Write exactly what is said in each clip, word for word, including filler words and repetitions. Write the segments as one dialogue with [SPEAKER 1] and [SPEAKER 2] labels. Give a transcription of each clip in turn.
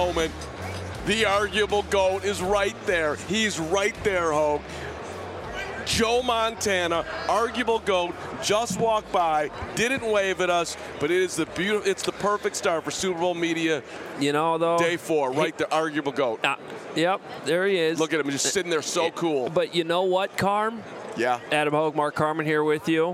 [SPEAKER 1] moment. The arguable GOAT is right there. He's right there, Hogue. Joe Montana, arguable GOAT, just walked by, didn't wave at us, but it is the beautiful. It's the perfect start for Super Bowl media.
[SPEAKER 2] You know, though,
[SPEAKER 1] day four, right
[SPEAKER 2] he,
[SPEAKER 1] there, arguable GOAT.
[SPEAKER 2] Uh, yep, there he is.
[SPEAKER 1] Look at him, just sitting there, so cool.
[SPEAKER 2] But you know what, Carm?
[SPEAKER 1] Yeah.
[SPEAKER 2] Adam Hogue, Mark Carman here with you.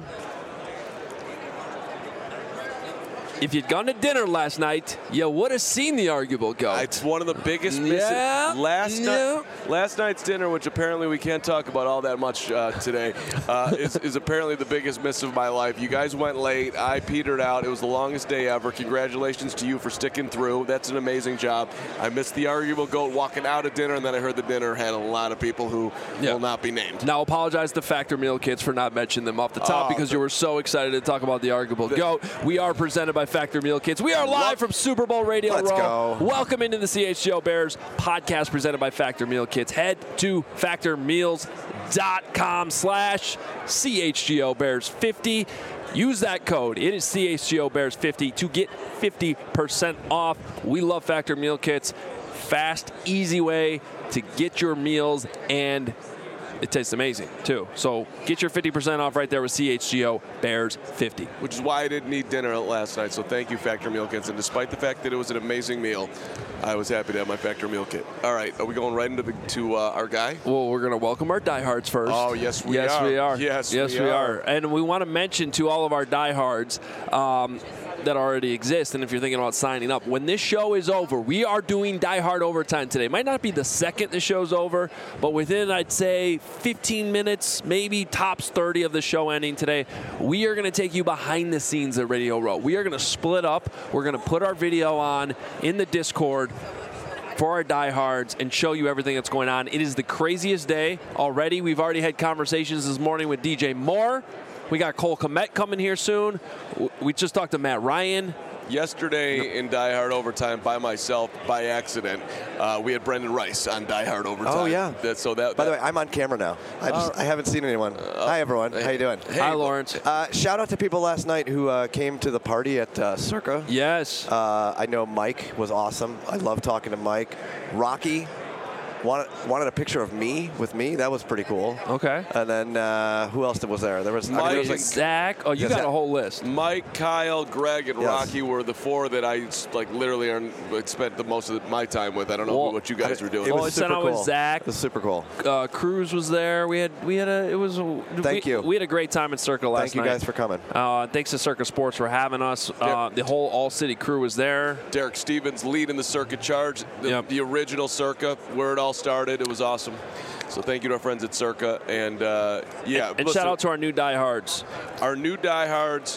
[SPEAKER 2] If you'd gone to dinner last night, you would have seen the arguable GOAT.
[SPEAKER 1] It's one of the biggest misses.
[SPEAKER 2] Yeah,
[SPEAKER 1] last,
[SPEAKER 2] yeah.
[SPEAKER 1] night, last night's dinner, which apparently we can't talk about all that much uh, today, uh, is, is apparently the biggest miss of my life. You guys went late. I petered out. It was the longest day ever. Congratulations to you for sticking through. That's an amazing job. I missed the arguable GOAT walking out of dinner, and then I heard the dinner had a lot of people who yeah. will not be named.
[SPEAKER 2] Now, apologize to Factor Meal Kits for not mentioning them off the top oh, because the, you were so excited to talk about the arguable the, GOAT. We are presented by Factor Meal Kits. We are live from Super Bowl Radio
[SPEAKER 3] Let's
[SPEAKER 2] Row.
[SPEAKER 3] Go.
[SPEAKER 2] Welcome into the C H G O Bears podcast presented by Factor Meal Kits. Head to factor meals dot com slash C H G O Bears fifty. Use that code. It is C H G O Bears fifty to get fifty percent off. We love Factor Meal Kits. Fast, easy way to get your meals, and it tastes amazing, too. So get your fifty percent off right there with C H G O Bears fifty.
[SPEAKER 1] Which is why I didn't eat dinner last night, so thank you, Factor Meal Kits. And despite the fact that it was an amazing meal, I was happy to have my Factor Meal Kit. All right, are we going right into the, to uh, our guy?
[SPEAKER 2] Well, we're going to welcome our diehards first.
[SPEAKER 1] Oh, yes, we
[SPEAKER 2] yes,
[SPEAKER 1] are.
[SPEAKER 2] We are.
[SPEAKER 1] Yes,
[SPEAKER 2] yes,
[SPEAKER 1] we,
[SPEAKER 2] we
[SPEAKER 1] are.
[SPEAKER 2] are. And we want to mention to all of our diehards um, that already exist, and if you're thinking about signing up, when this show is over, we are doing Die Hard Overtime today. It might not be the second the show's over, but within, I'd say, fifteen minutes, maybe tops thirty of the show ending today, we are going to take you behind the scenes at Radio Row. We are going to split up. We're going to put our video on in the Discord for our diehards and show you everything that's going on. It is the craziest day already. We've already had conversations this morning with D J Moore. We got Cole Kmet coming here soon. We just talked to Matt Ryan.
[SPEAKER 1] Yesterday in Die Hard Overtime by myself, by accident, uh, we had Brendan Rice on Die Hard Overtime.
[SPEAKER 3] Oh, yeah.
[SPEAKER 1] That, so that,
[SPEAKER 3] By
[SPEAKER 1] that,
[SPEAKER 3] the way, I'm on camera now. I just uh, I haven't seen anyone. Uh, Hi, everyone. Hey, How you doing?
[SPEAKER 1] Hey,
[SPEAKER 2] Hi, Lawrence.
[SPEAKER 3] Uh, shout out to people last night who uh, came to the party at uh, Circa.
[SPEAKER 2] Yes.
[SPEAKER 3] Uh, I know Mike was awesome. I love talking to Mike. Rocky wanted, wanted a picture of me with me. That was pretty cool.
[SPEAKER 2] Okay.
[SPEAKER 3] And then uh, who else was there? There was,
[SPEAKER 1] Mike,
[SPEAKER 3] I mean, there was
[SPEAKER 2] like,
[SPEAKER 3] like
[SPEAKER 2] Zach. Oh, you
[SPEAKER 3] yeah,
[SPEAKER 2] got
[SPEAKER 3] Zach.
[SPEAKER 2] a whole list.
[SPEAKER 1] Mike, Kyle, Greg, and
[SPEAKER 3] Yes.
[SPEAKER 1] Rocky were the four that I like literally are, spent the most of my time with. I don't know
[SPEAKER 2] Well,
[SPEAKER 1] what you guys were doing.
[SPEAKER 3] It
[SPEAKER 2] Well,
[SPEAKER 3] was
[SPEAKER 2] I sent
[SPEAKER 3] super
[SPEAKER 2] out
[SPEAKER 3] cool.
[SPEAKER 2] with Zach.
[SPEAKER 3] It was super cool.
[SPEAKER 2] Uh, Cruz was there. We had we had a it was.
[SPEAKER 3] Thank
[SPEAKER 2] we,
[SPEAKER 3] you.
[SPEAKER 2] We had a great time at Circa last
[SPEAKER 3] Thank you
[SPEAKER 2] night.
[SPEAKER 3] guys for coming.
[SPEAKER 2] Uh, thanks to Circa Sports for having us. Uh, the whole All City crew was there.
[SPEAKER 1] Derek Stevens leading the Circa charge, the,
[SPEAKER 2] Yep.
[SPEAKER 1] the original Circa, where it all started. It was awesome. So thank you to our friends at Circa. And, uh, yeah.
[SPEAKER 2] And, and
[SPEAKER 1] listen,
[SPEAKER 2] shout out to our new diehards.
[SPEAKER 1] our new diehards,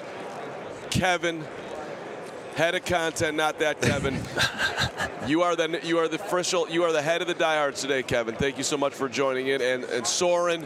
[SPEAKER 1] Kevin, head of content, not that Kevin. you are the you are the official, you are the head of the diehards today, Kevin. Thank you so much for joining in. And, and Soren,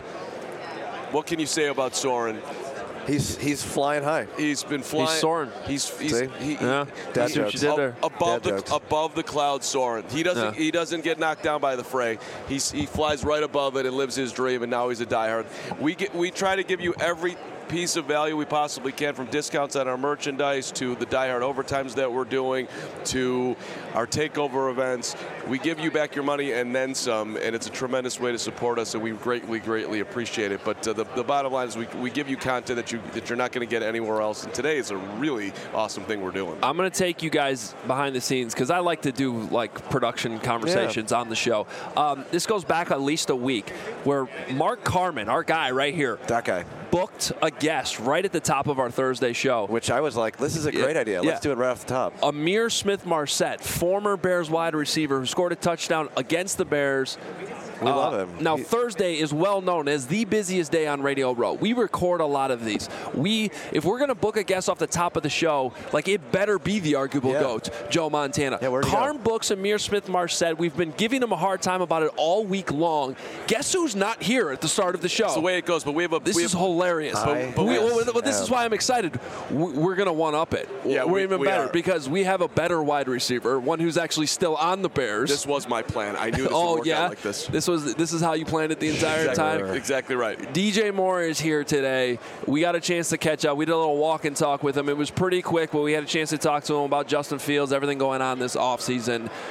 [SPEAKER 1] what can you say about Soren?
[SPEAKER 3] He's he's flying high.
[SPEAKER 1] He's been flying.
[SPEAKER 2] He's soaring.
[SPEAKER 1] He's he's
[SPEAKER 3] See?
[SPEAKER 1] he,
[SPEAKER 2] Yeah.
[SPEAKER 3] Dad
[SPEAKER 2] See what you
[SPEAKER 3] jokes.
[SPEAKER 2] did there.
[SPEAKER 1] above
[SPEAKER 3] Dad
[SPEAKER 1] the
[SPEAKER 3] jokes.
[SPEAKER 1] above the clouds soaring. He doesn't
[SPEAKER 2] Yeah.
[SPEAKER 1] he doesn't get knocked down by the fray. He's he flies right above it and lives his dream. And now he's a diehard. We get we try to give you every piece of value we possibly can, from discounts on our merchandise to the Die Hard Overtimes that we're doing to our takeover events. We give you back your money and then some, and it's a tremendous way to support us, and we greatly, greatly appreciate it. But uh, the, the bottom line is we, we give you content that, you, that you're not going to get anywhere else, and today is a really awesome thing we're doing.
[SPEAKER 2] I'm going to take you guys behind the scenes because I like to do like production conversations
[SPEAKER 3] Yeah.
[SPEAKER 2] on the show. Um, this goes back at least a week where Mark Carman, our guy right here,
[SPEAKER 3] That guy.
[SPEAKER 2] booked a guest right at the top of our Thursday show.
[SPEAKER 3] Which I was like, this is a
[SPEAKER 2] Yeah.
[SPEAKER 3] great idea. Let's
[SPEAKER 2] Yeah.
[SPEAKER 3] do it right off the top.
[SPEAKER 2] Amir Smith-Marset, former Bears wide receiver who scored a touchdown against the Bears.
[SPEAKER 3] We
[SPEAKER 2] Uh,
[SPEAKER 3] love him.
[SPEAKER 2] Now,
[SPEAKER 3] He-
[SPEAKER 2] Thursday is well known as the busiest day on Radio Row. We record a lot of these. We, if we're going to book a guest off the top of the show, like it better be the arguable
[SPEAKER 3] Yeah.
[SPEAKER 2] GOAT, Joe Montana.
[SPEAKER 3] Yeah, where'd he
[SPEAKER 2] Carm
[SPEAKER 3] go?
[SPEAKER 2] books Amir Smith-Marset. We've been giving him a hard time about it all week long. Guess who's not here at the start of the show?
[SPEAKER 1] It's the way it goes, but we have a
[SPEAKER 2] This
[SPEAKER 1] we
[SPEAKER 2] is
[SPEAKER 1] have,
[SPEAKER 2] hilarious.
[SPEAKER 3] I
[SPEAKER 2] But we,
[SPEAKER 3] yes,
[SPEAKER 2] well, well, this is
[SPEAKER 3] am.
[SPEAKER 2] why I'm excited. We- We're going to one-up it.
[SPEAKER 1] Yeah,
[SPEAKER 2] We're
[SPEAKER 1] we-
[SPEAKER 2] even
[SPEAKER 1] we
[SPEAKER 2] better
[SPEAKER 1] are.
[SPEAKER 2] because we have a better wide receiver, one who's actually still on the Bears.
[SPEAKER 1] This was my plan. I knew this
[SPEAKER 2] oh,
[SPEAKER 1] would work
[SPEAKER 2] yeah?
[SPEAKER 1] out like this.
[SPEAKER 2] This was this is how you planned it the entire
[SPEAKER 1] exactly,
[SPEAKER 2] time?
[SPEAKER 1] Right. Exactly right.
[SPEAKER 2] D J Moore is here today. We got a chance to catch up. We did a little walk and talk with him. It was pretty quick, but we had a chance to talk to him about Justin Fields, everything going on this offseason.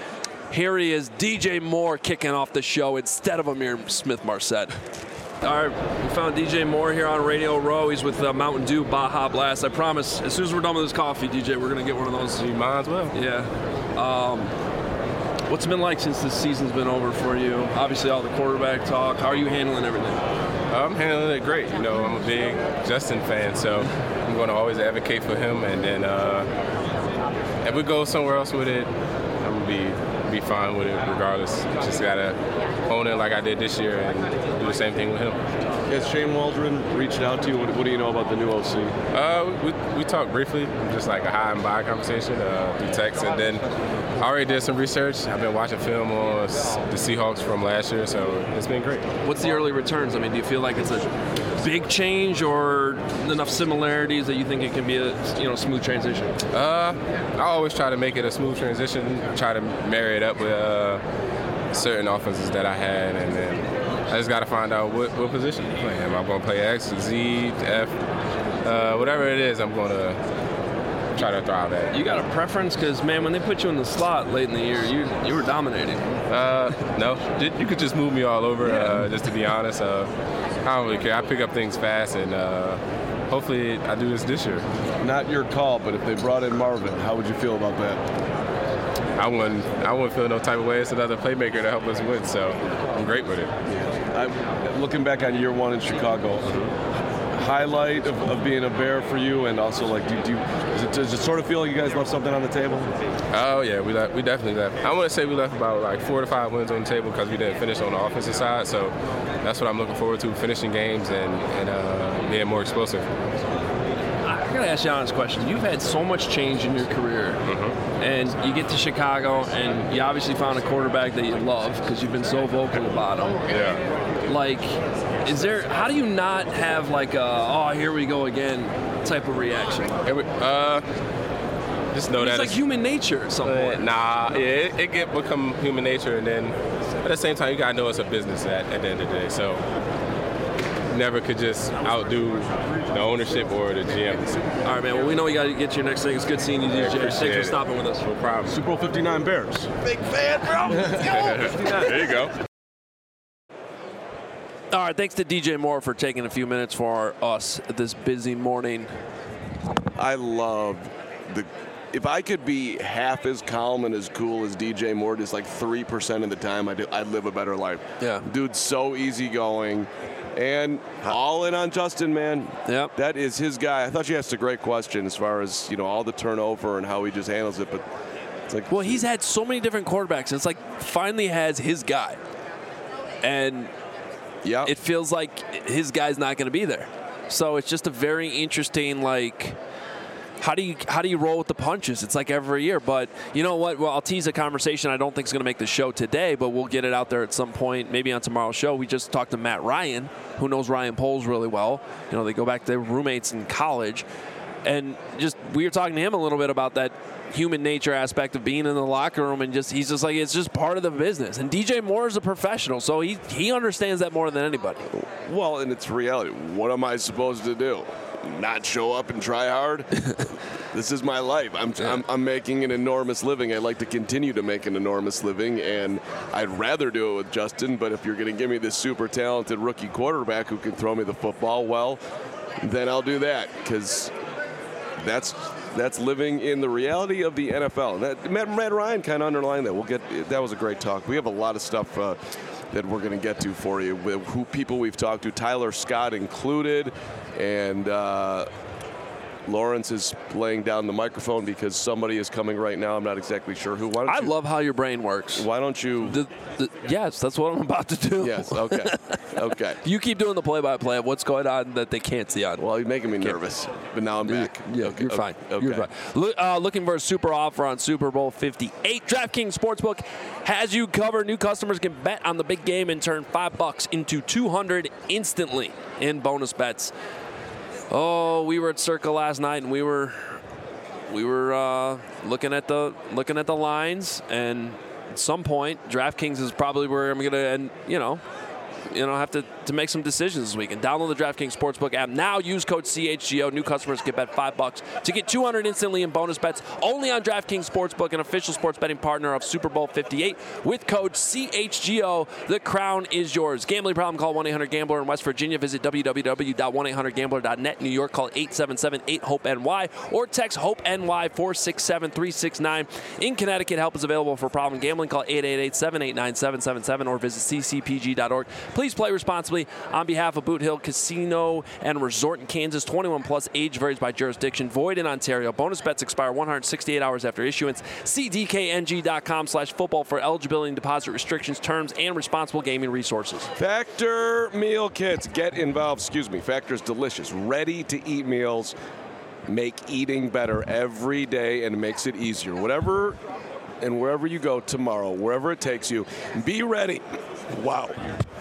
[SPEAKER 2] Here he is, D J Moore, kicking off the show instead of Amir Smith-Marset. All right, we found D J Moore here on Radio Row. He's with uh, Mountain Dew Baja Blast. I promise, as soon as we're done with this coffee, D J, we're going to get one of those.
[SPEAKER 4] You might as well.
[SPEAKER 2] Yeah. Um, what's it been like since this season's been over for you? Obviously, all the quarterback talk. How are you handling everything?
[SPEAKER 4] I'm handling it great. You know, I'm a big Justin fan, so I'm going to always advocate for him. And then uh, if we go somewhere else with it, I'm going to be be fine with it regardless. Just got to own it like I did this year and do the same thing with him.
[SPEAKER 1] Has Shane Waldron reached out to you? What, what do you know about the new O C?
[SPEAKER 4] Uh, we, we talked briefly, just like a hi and bye conversation uh, through text. And then I already did some research. I've been watching film on the Seahawks from last year, so it's been great.
[SPEAKER 2] What's the early returns? I mean, do you feel like it's a big change or enough similarities that you think it can be a you know smooth transition?
[SPEAKER 4] Uh, I always try to make it a smooth transition, try to marry it up with uh, certain offenses that I had, and then I just got to find out what, what position to play. Am I going to play X, Z, F, uh, whatever it is, I'm going to try to thrive at.
[SPEAKER 2] You got a preference? Because, man, when they put you in the slot late in the year, you you were dominating.
[SPEAKER 4] Uh, no, you could just move me all over, uh, just to be honest. Uh, I don't really care. I pick up things fast, and uh, hopefully I do this this year.
[SPEAKER 1] Not your call, but if they brought in Marvin, how would you feel about that?
[SPEAKER 4] I wouldn't, I wouldn't feel no type of way. It's another playmaker to help us win, so I'm great with it.
[SPEAKER 1] I'm looking back on year one in Chicago, highlight of, of being a Bear for you, and also like, do, do you, does it, does it sort of feel like you guys left something on the table?
[SPEAKER 4] Oh yeah, we left, we definitely left. I want to say we left about like four to five wins on the table because we didn't finish on the offensive side. So that's what I'm looking forward to: finishing games and and uh, being more explosive.
[SPEAKER 2] I gotta ask you an honest question. You've had so much change in your career,
[SPEAKER 4] mm-hmm.
[SPEAKER 2] and you get to Chicago, and you obviously found a quarterback that you love because you've been so vocal about him.
[SPEAKER 4] Yeah.
[SPEAKER 2] Like, is there? How do you not have like a "oh, here we go again" type of reaction?
[SPEAKER 4] Uh, just know
[SPEAKER 2] it's
[SPEAKER 4] that
[SPEAKER 2] like
[SPEAKER 4] it's
[SPEAKER 2] human nature at some point.
[SPEAKER 4] Nah, yeah, it, it get become human nature, and then at the same time, you gotta know it's a business at, at the end of the day. So. Never could just outdo the ownership or the G Ms.
[SPEAKER 2] All right, man. Well, we know we got to get to your next thing. It's good seeing you, D J.
[SPEAKER 4] Yeah,
[SPEAKER 2] Thanks for
[SPEAKER 4] it.
[SPEAKER 2] stopping with us.
[SPEAKER 4] No problem.
[SPEAKER 1] Super Bowl fifty-nine Bears.
[SPEAKER 3] Big fan, bro. Let's go.
[SPEAKER 4] There you go.
[SPEAKER 2] All right, thanks to D J Moore for taking a few minutes for us this busy morning.
[SPEAKER 1] I love the. If I could be half as calm and as cool as D J Moore, just like three percent of the time, I'd, I'd live a better life.
[SPEAKER 2] Yeah.
[SPEAKER 1] Dude's so easygoing. And all in on Justin, man.
[SPEAKER 2] Yep.
[SPEAKER 1] That is his guy. I thought you asked a great question as far as, you know, all the turnover and how he just handles it. But it's like,
[SPEAKER 2] well, he's had so many different quarterbacks. It's like finally has his guy. And
[SPEAKER 1] yeah,
[SPEAKER 2] it feels like his guy's not going to be there. So it's just a very interesting, like, how do you how do you roll with the punches? It's like every year. But you know what? Well, I'll tease a conversation I don't think is going to make the show today, but we'll get it out there at some point, maybe on tomorrow's show. We just talked to Matt Ryan, who knows Ryan Poles really well. You know, they go back to their roommates in college. And just we were talking to him a little bit about that human nature aspect of being in the locker room, and just he's just like, it's just part of the business. And D J Moore is a professional, so he, he understands that more than anybody.
[SPEAKER 1] Well, and it's reality. What am I supposed to do? Not show up and try hard? This is my life. I'm,
[SPEAKER 2] Yeah.
[SPEAKER 1] I'm I'm making an enormous living. I'd like to continue to make an enormous living, and I'd rather do it with Justin. But if you're going to give me this super talented rookie quarterback who can throw me the football well, then I'll do that, because that's that's living in the reality of the N F L. That Matt, Matt Ryan kind of underlined that. We'll get that was a great talk. We have a lot of stuff uh, that we're going to get to for you with who people we've talked to, Tyler Scott included, and uh, Lawrence is laying down the microphone because somebody is coming right now. I'm not exactly sure who. Why don't
[SPEAKER 2] I
[SPEAKER 1] you,
[SPEAKER 2] love how your brain works.
[SPEAKER 1] Why don't you?
[SPEAKER 2] The, the, yes, that's what I'm about to do.
[SPEAKER 1] Yes. Okay. Okay.
[SPEAKER 2] You keep doing the play-by-play of what's going on that they can't see on.
[SPEAKER 1] Well, you're making me nervous, but now I'm back.
[SPEAKER 2] Yeah,
[SPEAKER 1] okay.
[SPEAKER 2] you're fine.
[SPEAKER 1] Okay.
[SPEAKER 2] You're fine. Look, uh, looking for a super offer on Super Bowl fifty-eight. DraftKings Sportsbook has you covered. New customers can bet on the big game and turn five bucks into two hundred instantly in bonus bets. Oh, we were at Circa last night, and we were we were uh, looking at the looking at the lines, and at some point, DraftKings is probably where I'm going to, and you know, you know, have to, to make some decisions this weekend. Download the DraftKings Sportsbook app now. Use code C H G O. New customers get bet five bucks to get two hundred instantly in bonus bets only on DraftKings Sportsbook, an official sports betting partner of Super Bowl fifty-eight. With code C H G O, the crown is yours. Gambling problem? Call one eight hundred gambler. In West Virginia, visit w w w dot one eight hundred gambler dot net. New York, call eight seven seven eight hope N Y or text HOPE-N Y four six seven three six nine. In Connecticut, help is available for problem gambling. Call eight eight eight, seven eight nine, seven seven seven or visit c c p g dot org. Please play responsibly. On behalf of Boot Hill Casino and Resort in Kansas, twenty-one plus, age varies by jurisdiction, void in Ontario. Bonus bets expire one hundred sixty-eight hours after issuance. See d k n g dot com slash football for eligibility and deposit restrictions, terms, and responsible gaming resources.
[SPEAKER 1] Factor meal kits. Get involved. Excuse me. Factor's delicious, ready-to-eat meals make eating better every day and makes it easier. Whatever and wherever you go tomorrow, wherever it takes you, be ready. Wow.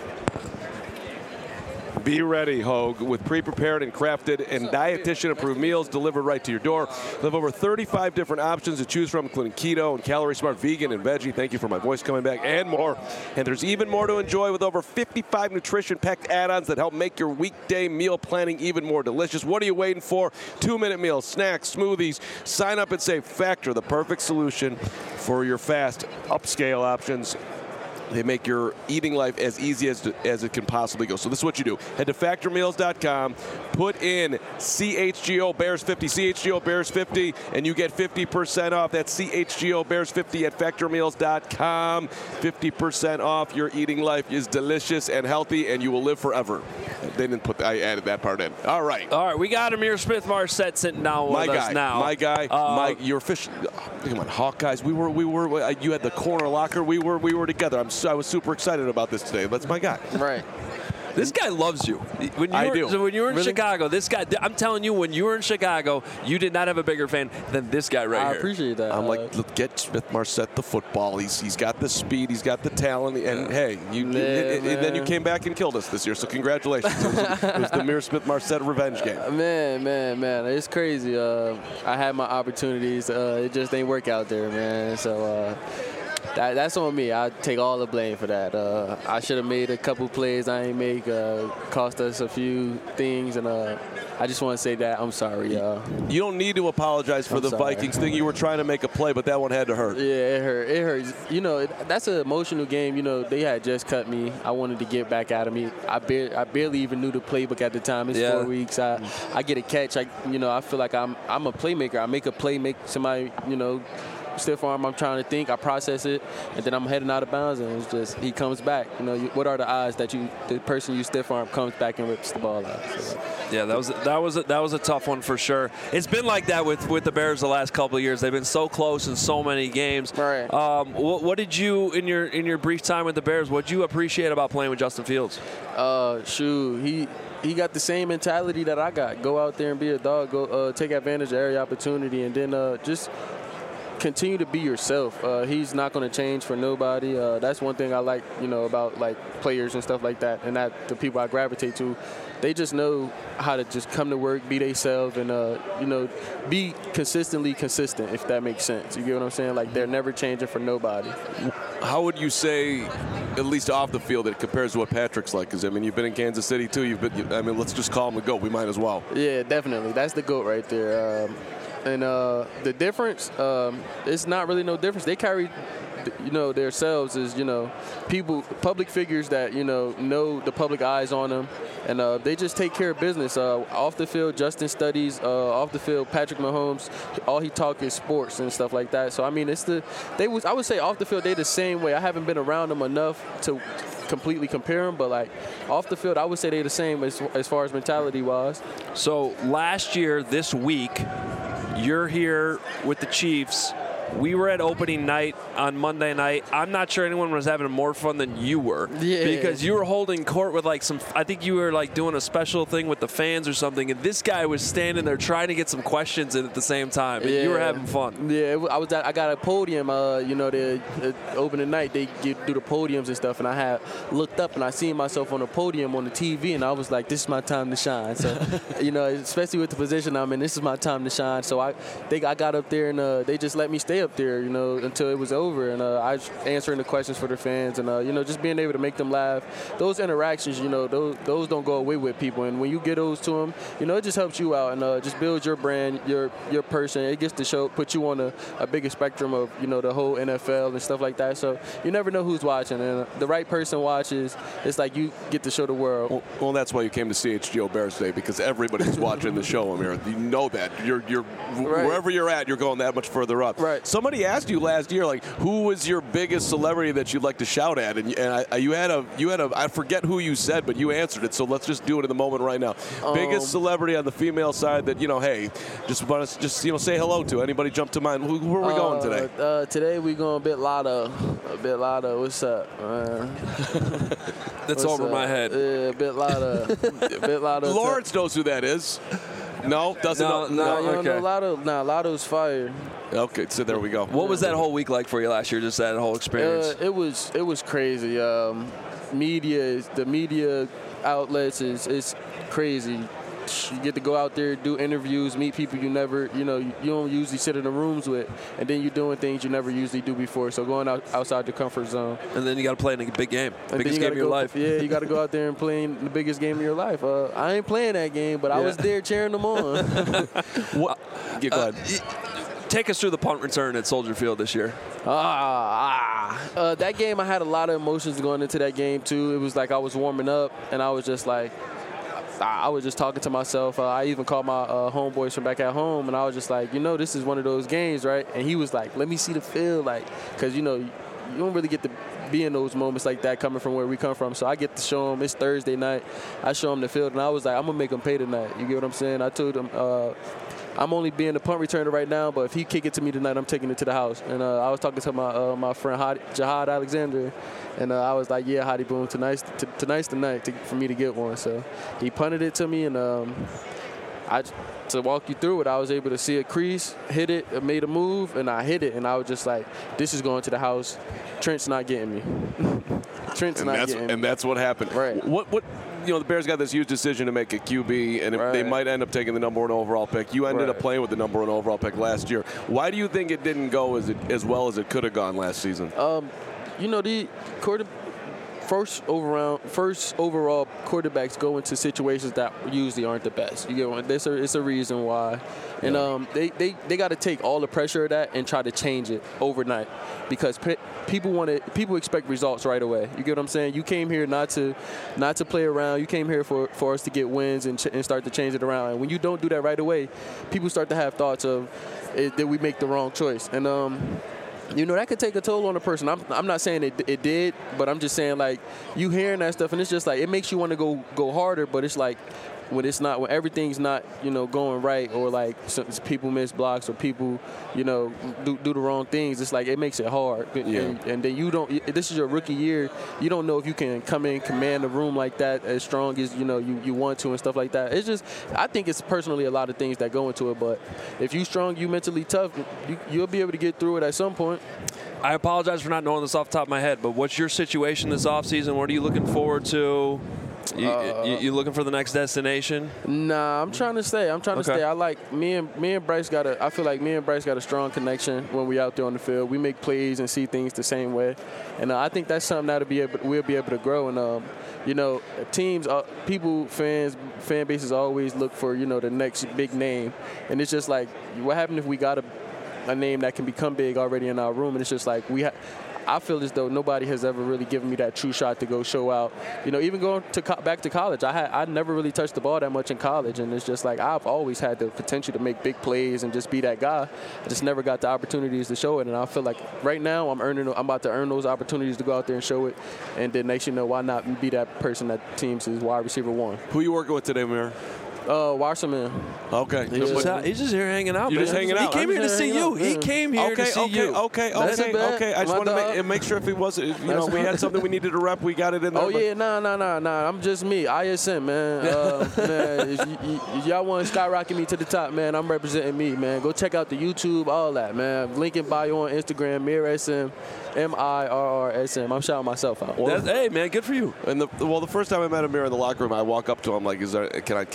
[SPEAKER 1] Be ready, Hogue, with pre-prepared and crafted and dietitian-approved meals delivered right to your door. They have over thirty-five different options to choose from, including keto and calorie-smart, vegan and veggie. Thank you for my voice coming back, and more. And there's even more to enjoy with over fifty-five nutrition-packed add-ons that help make your weekday meal planning even more delicious. What are you waiting for? Two-minute meals, snacks, smoothies. Sign up and save. Factor, the perfect solution for your fast, upscale options. They make your eating life as easy as, as it can possibly go. So this is what you do. Head to factor meals dot com, put in C H G O Bears fifty, C H G O Bears fifty, and you get fifty percent off. That's C H G O Bears fifty at factor meals dot com. fifty percent off. Your eating life is delicious and healthy, and you will live forever. They didn't put, I added that part in. All right.
[SPEAKER 2] All right, we got Amir Smith-Marset sitting down
[SPEAKER 1] my
[SPEAKER 2] with
[SPEAKER 1] guy,
[SPEAKER 2] us now.
[SPEAKER 1] My guy,
[SPEAKER 2] uh,
[SPEAKER 1] my you're official. Come on, Hawkeyes. We were, we were. You had the corner locker. We were, we were together. I'm, I was super excited about this today. That's my guy.
[SPEAKER 5] Right.
[SPEAKER 2] This guy loves you. When you
[SPEAKER 1] I
[SPEAKER 2] were,
[SPEAKER 1] do.
[SPEAKER 2] So when you were in
[SPEAKER 5] Really?
[SPEAKER 2] Chicago, this guy, I'm telling you, when you were in Chicago, you did not have a bigger fan than this guy right
[SPEAKER 5] I
[SPEAKER 2] here.
[SPEAKER 5] appreciate that.
[SPEAKER 1] I'm
[SPEAKER 5] uh,
[SPEAKER 1] like, look, get Smith-Marset the football. He's he's got the speed, he's got the talent, and hey, you,
[SPEAKER 5] Yeah,
[SPEAKER 1] and, and then you
[SPEAKER 5] man.
[SPEAKER 1] came back and killed us this year. So congratulations. It was, it was the Amir Smith-Marset revenge game.
[SPEAKER 5] Man, man, man, it's crazy. Uh, I had my opportunities. Uh, it just ain't work out there, man. So uh, that, that's on me. I take all the blame for that. Uh, I should have made a couple plays I ain't make. Uh, cost us a few things, and uh, I just want to say that I'm sorry, y'all.
[SPEAKER 1] You don't need to apologize for
[SPEAKER 5] I'm
[SPEAKER 1] the
[SPEAKER 5] sorry.
[SPEAKER 1] Vikings thing. You were trying to make a play, but that one had to hurt.
[SPEAKER 5] Yeah, it hurt. It hurts. You know, it, that's an emotional game. You know, they had just cut me. I wanted to get back at me. I, bar- I barely even knew the playbook at the time. It's
[SPEAKER 2] Yeah.
[SPEAKER 5] four weeks. I, I get a catch. I, you know, I feel like I'm I'm a playmaker. I make a play, make somebody, you know, stiff arm. I'm trying to think. I process it, and then I'm heading out of bounds, and it's just he comes back. You know, you, what are the odds that you the person you stiff arm comes back and rips the ball out? So,
[SPEAKER 2] Yeah, that was that was a, that was a tough one for sure. It's been like that with, with the Bears the last couple of years. They've been so close in so many games.
[SPEAKER 5] Right.
[SPEAKER 2] Um, what, what did you in your in your brief time with the Bears? What did you appreciate about playing with Justin Fields?
[SPEAKER 5] Uh, shoot, he he got the same mentality that I got. Go out there and be a dog. Go uh, take advantage of every opportunity, and then uh, just continue to be yourself. Uh, he's not going to change for nobody. Uh, that's one thing I like, you know, about like players and stuff like that, and that the people I gravitate to. They just know how to just come to work, be themselves, and uh, you know, be consistently consistent. If that makes sense, you get what I'm saying? Like they're never changing for nobody.
[SPEAKER 1] How would you say, at least off the field, it compares to what Patrick's like? Because I mean, you've been in Kansas City too. You've been. You, I mean, let's just call him the GOAT. We might as well.
[SPEAKER 5] Yeah, definitely. That's the GOAT right there. Um, and uh, the difference, um, it's not really no difference. They carry, you know, themselves as, you know, people, public figures that, you know, know the public eyes on them. And uh, they just take care of business. Uh, off the field, Justin studies. Uh, off the field, Patrick Mahomes, all he talk is sports and stuff like that. So, I mean, it's the, they was, I would say off the field, they the same way. I haven't been around them enough to completely compare them, but like off the field, I would say they're the same as, as far as mentality wise.
[SPEAKER 2] So last year, this week, you're here with the Chiefs. We were at opening night on Monday night. I'm not sure anyone was having more fun than you were.
[SPEAKER 5] Yeah.
[SPEAKER 2] Because you were holding court with like some, I think you were like doing a special thing with the fans or something, and this guy was standing there trying to get some questions in at the same time, and you were having fun.
[SPEAKER 5] Yeah, it wa- I was. At, I got a podium. Uh, you know, the uh, opening night they get do the podiums and stuff, and I had looked up and I seen myself on the podium on the T V, and I was like, "This is my time to shine." So, you know, especially with the position I'm in, this is my time to shine. So I, they, I got up there and uh, they just let me stay stay up there, you know, until it was over. And uh, I was answering the questions for the fans, and uh, you know, just being able to make them laugh. Those interactions, you know, those those don't go away with people. And when you get those to them, you know, it just helps you out and uh, just builds your brand, your your person. It gets to show, put you on a, a bigger spectrum of, you know, the whole N F L and stuff like that. So you never know who's watching, and the right person watches. It's like you get to show the world.
[SPEAKER 1] Well, well that's why you came to C H G O Bears Day, because everybody's watching the show, Amir. You know that. You're you're
[SPEAKER 5] right.
[SPEAKER 1] Wherever you're at, you're going that much further up.
[SPEAKER 5] Right.
[SPEAKER 1] Somebody asked you last year, like, who was your biggest celebrity that you'd like to shout at, and, and I, you had a you had a I forget who you said, but you answered it. So let's just do it in the moment right now. Um, biggest celebrity on the female side that, you know, hey, just want to just you know say hello to. Anybody jump to mind? Who, where are we
[SPEAKER 5] uh,
[SPEAKER 1] going today?
[SPEAKER 5] Uh, today we going a bit Lotto. A bit Lotto. What's up, man?
[SPEAKER 2] That's
[SPEAKER 5] What's
[SPEAKER 2] over
[SPEAKER 5] up?
[SPEAKER 2] my head.
[SPEAKER 5] Yeah, a bit Lotto. a bit Lotto.
[SPEAKER 1] Lawrence knows who that is. No, doesn't
[SPEAKER 2] No,
[SPEAKER 1] know.
[SPEAKER 2] no.
[SPEAKER 5] You don't
[SPEAKER 2] Okay.
[SPEAKER 5] know Lotto? Nah, Lotto's fire.
[SPEAKER 1] Okay, so there we go.
[SPEAKER 2] What was that whole week like for you last year? Just that whole experience.
[SPEAKER 5] Uh, it was it was crazy. Um, media, is, the media outlets is is crazy. You get to go out there, do interviews, meet people you never, you know, you don't usually sit in the rooms with, and then you're doing things you never usually do before. So going out outside your comfort zone.
[SPEAKER 2] And then you got to play in a big game,
[SPEAKER 5] And
[SPEAKER 2] biggest
[SPEAKER 5] then you
[SPEAKER 2] game
[SPEAKER 5] gotta
[SPEAKER 2] of your
[SPEAKER 5] go,
[SPEAKER 2] life.
[SPEAKER 5] Yeah, you got to go out there and play in the biggest game of your life. Uh, I ain't playing that game, but I
[SPEAKER 2] Yeah.
[SPEAKER 5] was there cheering them on.
[SPEAKER 1] What? Yeah, go
[SPEAKER 2] Uh,
[SPEAKER 1] ahead.
[SPEAKER 2] y- take us through the punt return at Soldier Field this year.
[SPEAKER 5] Ah, ah. Uh, that game, I had a lot of emotions going into that game too. It was like I was warming up, and I was just like, I I was just talking to myself. Uh, I even called my uh, homeboys from back at home, and I was just like, you know, this is one of those games, right? And he was like, let me see the field, like, because you know, you don't really get to be in those moments like that coming from where we come from. So I get to show him. It's Thursday night. I show him the field, and I was like, I'm gonna make him pay tonight. You get what I'm saying? I told him. Uh, I'm only being the punt returner right now, but if he kick it to me tonight, I'm taking it to the house. And uh, I was talking to my uh, my friend Hadi, Jihad Alexander, and uh, I was like, yeah, Hadi Boom, tonight's, t- tonight's the night to, for me to get one. So he punted it to me, and um, I, to walk you through it, I was able to see a crease, hit it, it made a move, and I hit it, and I was just like, this is going to the house. Trent's not getting me. Trent's
[SPEAKER 1] And
[SPEAKER 5] not
[SPEAKER 1] that's
[SPEAKER 5] getting me.
[SPEAKER 1] and that's what happened.
[SPEAKER 5] Right.
[SPEAKER 1] What what you know the Bears got this huge decision to make at Q B, and
[SPEAKER 5] Right.
[SPEAKER 1] they might end up taking the number one overall pick. You ended
[SPEAKER 5] Right.
[SPEAKER 1] up playing with the number one overall pick last year. Why do you think it didn't go as it, as well as it could have gone last season?
[SPEAKER 5] Um, you know, the quarter, first overall, first overall quarterbacks go into situations that usually aren't the best. You get one. There's a, it's a reason why, and um, they they, they got to take all the pressure of that and try to change it overnight, because pe- people want to people expect results right away. You get what I'm saying? You came here not to not to play around. You came here for, for us to get wins and, ch- and start to change it around. And when you don't do that right away, people start to have thoughts of eh, did we make the wrong choice? And um. You know, that could take a toll on a person. I'm, I'm not saying it, it did, but I'm just saying, like, you hearing that stuff, and it's just like, it makes you want to go go harder, but it's like, when it's not, when everything's not, you know, going right, or like some, people miss blocks, or people, you know, do, do the wrong things, it's like, it makes it hard.
[SPEAKER 1] Yeah.
[SPEAKER 5] And, and then you don't, this is your rookie year, you don't know if you can come in, command the room like that as strong as, you know, you, you want to and stuff like that. It's just, I think it's personally a lot of things that go into it, but if you strong, you mentally tough, you, you'll be able to get through it at some point.
[SPEAKER 2] I apologize for not knowing this off the top of my head, but what's your situation this offseason? What are you looking forward to? You,
[SPEAKER 5] Uh,
[SPEAKER 2] you, you looking for the next destination?
[SPEAKER 5] Nah, I'm trying to stay. I'm trying
[SPEAKER 2] Okay.
[SPEAKER 5] to stay. I like me and me and Bryce got a. I feel like me and Bryce got a strong connection when we out there on the field. We make plays and see things the same way, and uh, I think that's something that'll be able. We'll be able to grow. And um, you know, teams, uh, people, fans, fan bases always look for, you know, the next big name, and it's just like, what happened if we got a a name that can become big already in our room? And it's just like we have. I feel as though nobody has ever really given me that true shot to go show out. You know, even going to co- back to college, I had I never really touched the ball that much in college, and it's just like I've always had the potential to make big plays and just be that guy. I just never got the opportunities to show it, and I feel like right now I'm earning. I'm about to earn those opportunities to go out there and show it, and then next you know, why not be that person that teams is wide receiver one.
[SPEAKER 1] Who you working with today, Amir?
[SPEAKER 5] Uh, Wasserman.
[SPEAKER 1] Okay.
[SPEAKER 5] Yeah.
[SPEAKER 2] He's just, he's just here hanging out.
[SPEAKER 1] You're
[SPEAKER 2] man.
[SPEAKER 1] just hanging
[SPEAKER 2] He
[SPEAKER 1] out.
[SPEAKER 2] came
[SPEAKER 5] I'm
[SPEAKER 2] here to
[SPEAKER 5] just
[SPEAKER 2] see
[SPEAKER 5] hanging
[SPEAKER 2] you.
[SPEAKER 5] out,
[SPEAKER 2] He
[SPEAKER 5] yeah.
[SPEAKER 2] came here
[SPEAKER 1] Okay,
[SPEAKER 2] to see
[SPEAKER 1] okay,
[SPEAKER 2] you.
[SPEAKER 1] okay,
[SPEAKER 5] That's
[SPEAKER 1] okay,
[SPEAKER 5] it, man.
[SPEAKER 1] okay. I just
[SPEAKER 5] My
[SPEAKER 1] want to
[SPEAKER 5] dog.
[SPEAKER 1] make, make sure if he was, if, you know,
[SPEAKER 5] That's
[SPEAKER 1] we had
[SPEAKER 5] fine.
[SPEAKER 1] something we needed to rep, we got it in there.
[SPEAKER 5] Oh
[SPEAKER 1] but-
[SPEAKER 5] yeah, nah, nah, nah, nah. I'm just me. I S M, man. Uh, man, if, y- y- if y'all want to skyrocket me to the top, man, I'm representing me, man. Go check out the YouTube, all that, man. Link in bio on Instagram, Mir S M, M I R R S M. I'm shouting myself out.
[SPEAKER 2] That's, hey, man, good for you.
[SPEAKER 1] And the well, the first time I met Amir in the locker room, I walk up to him like, "Is there? Can I can I tell you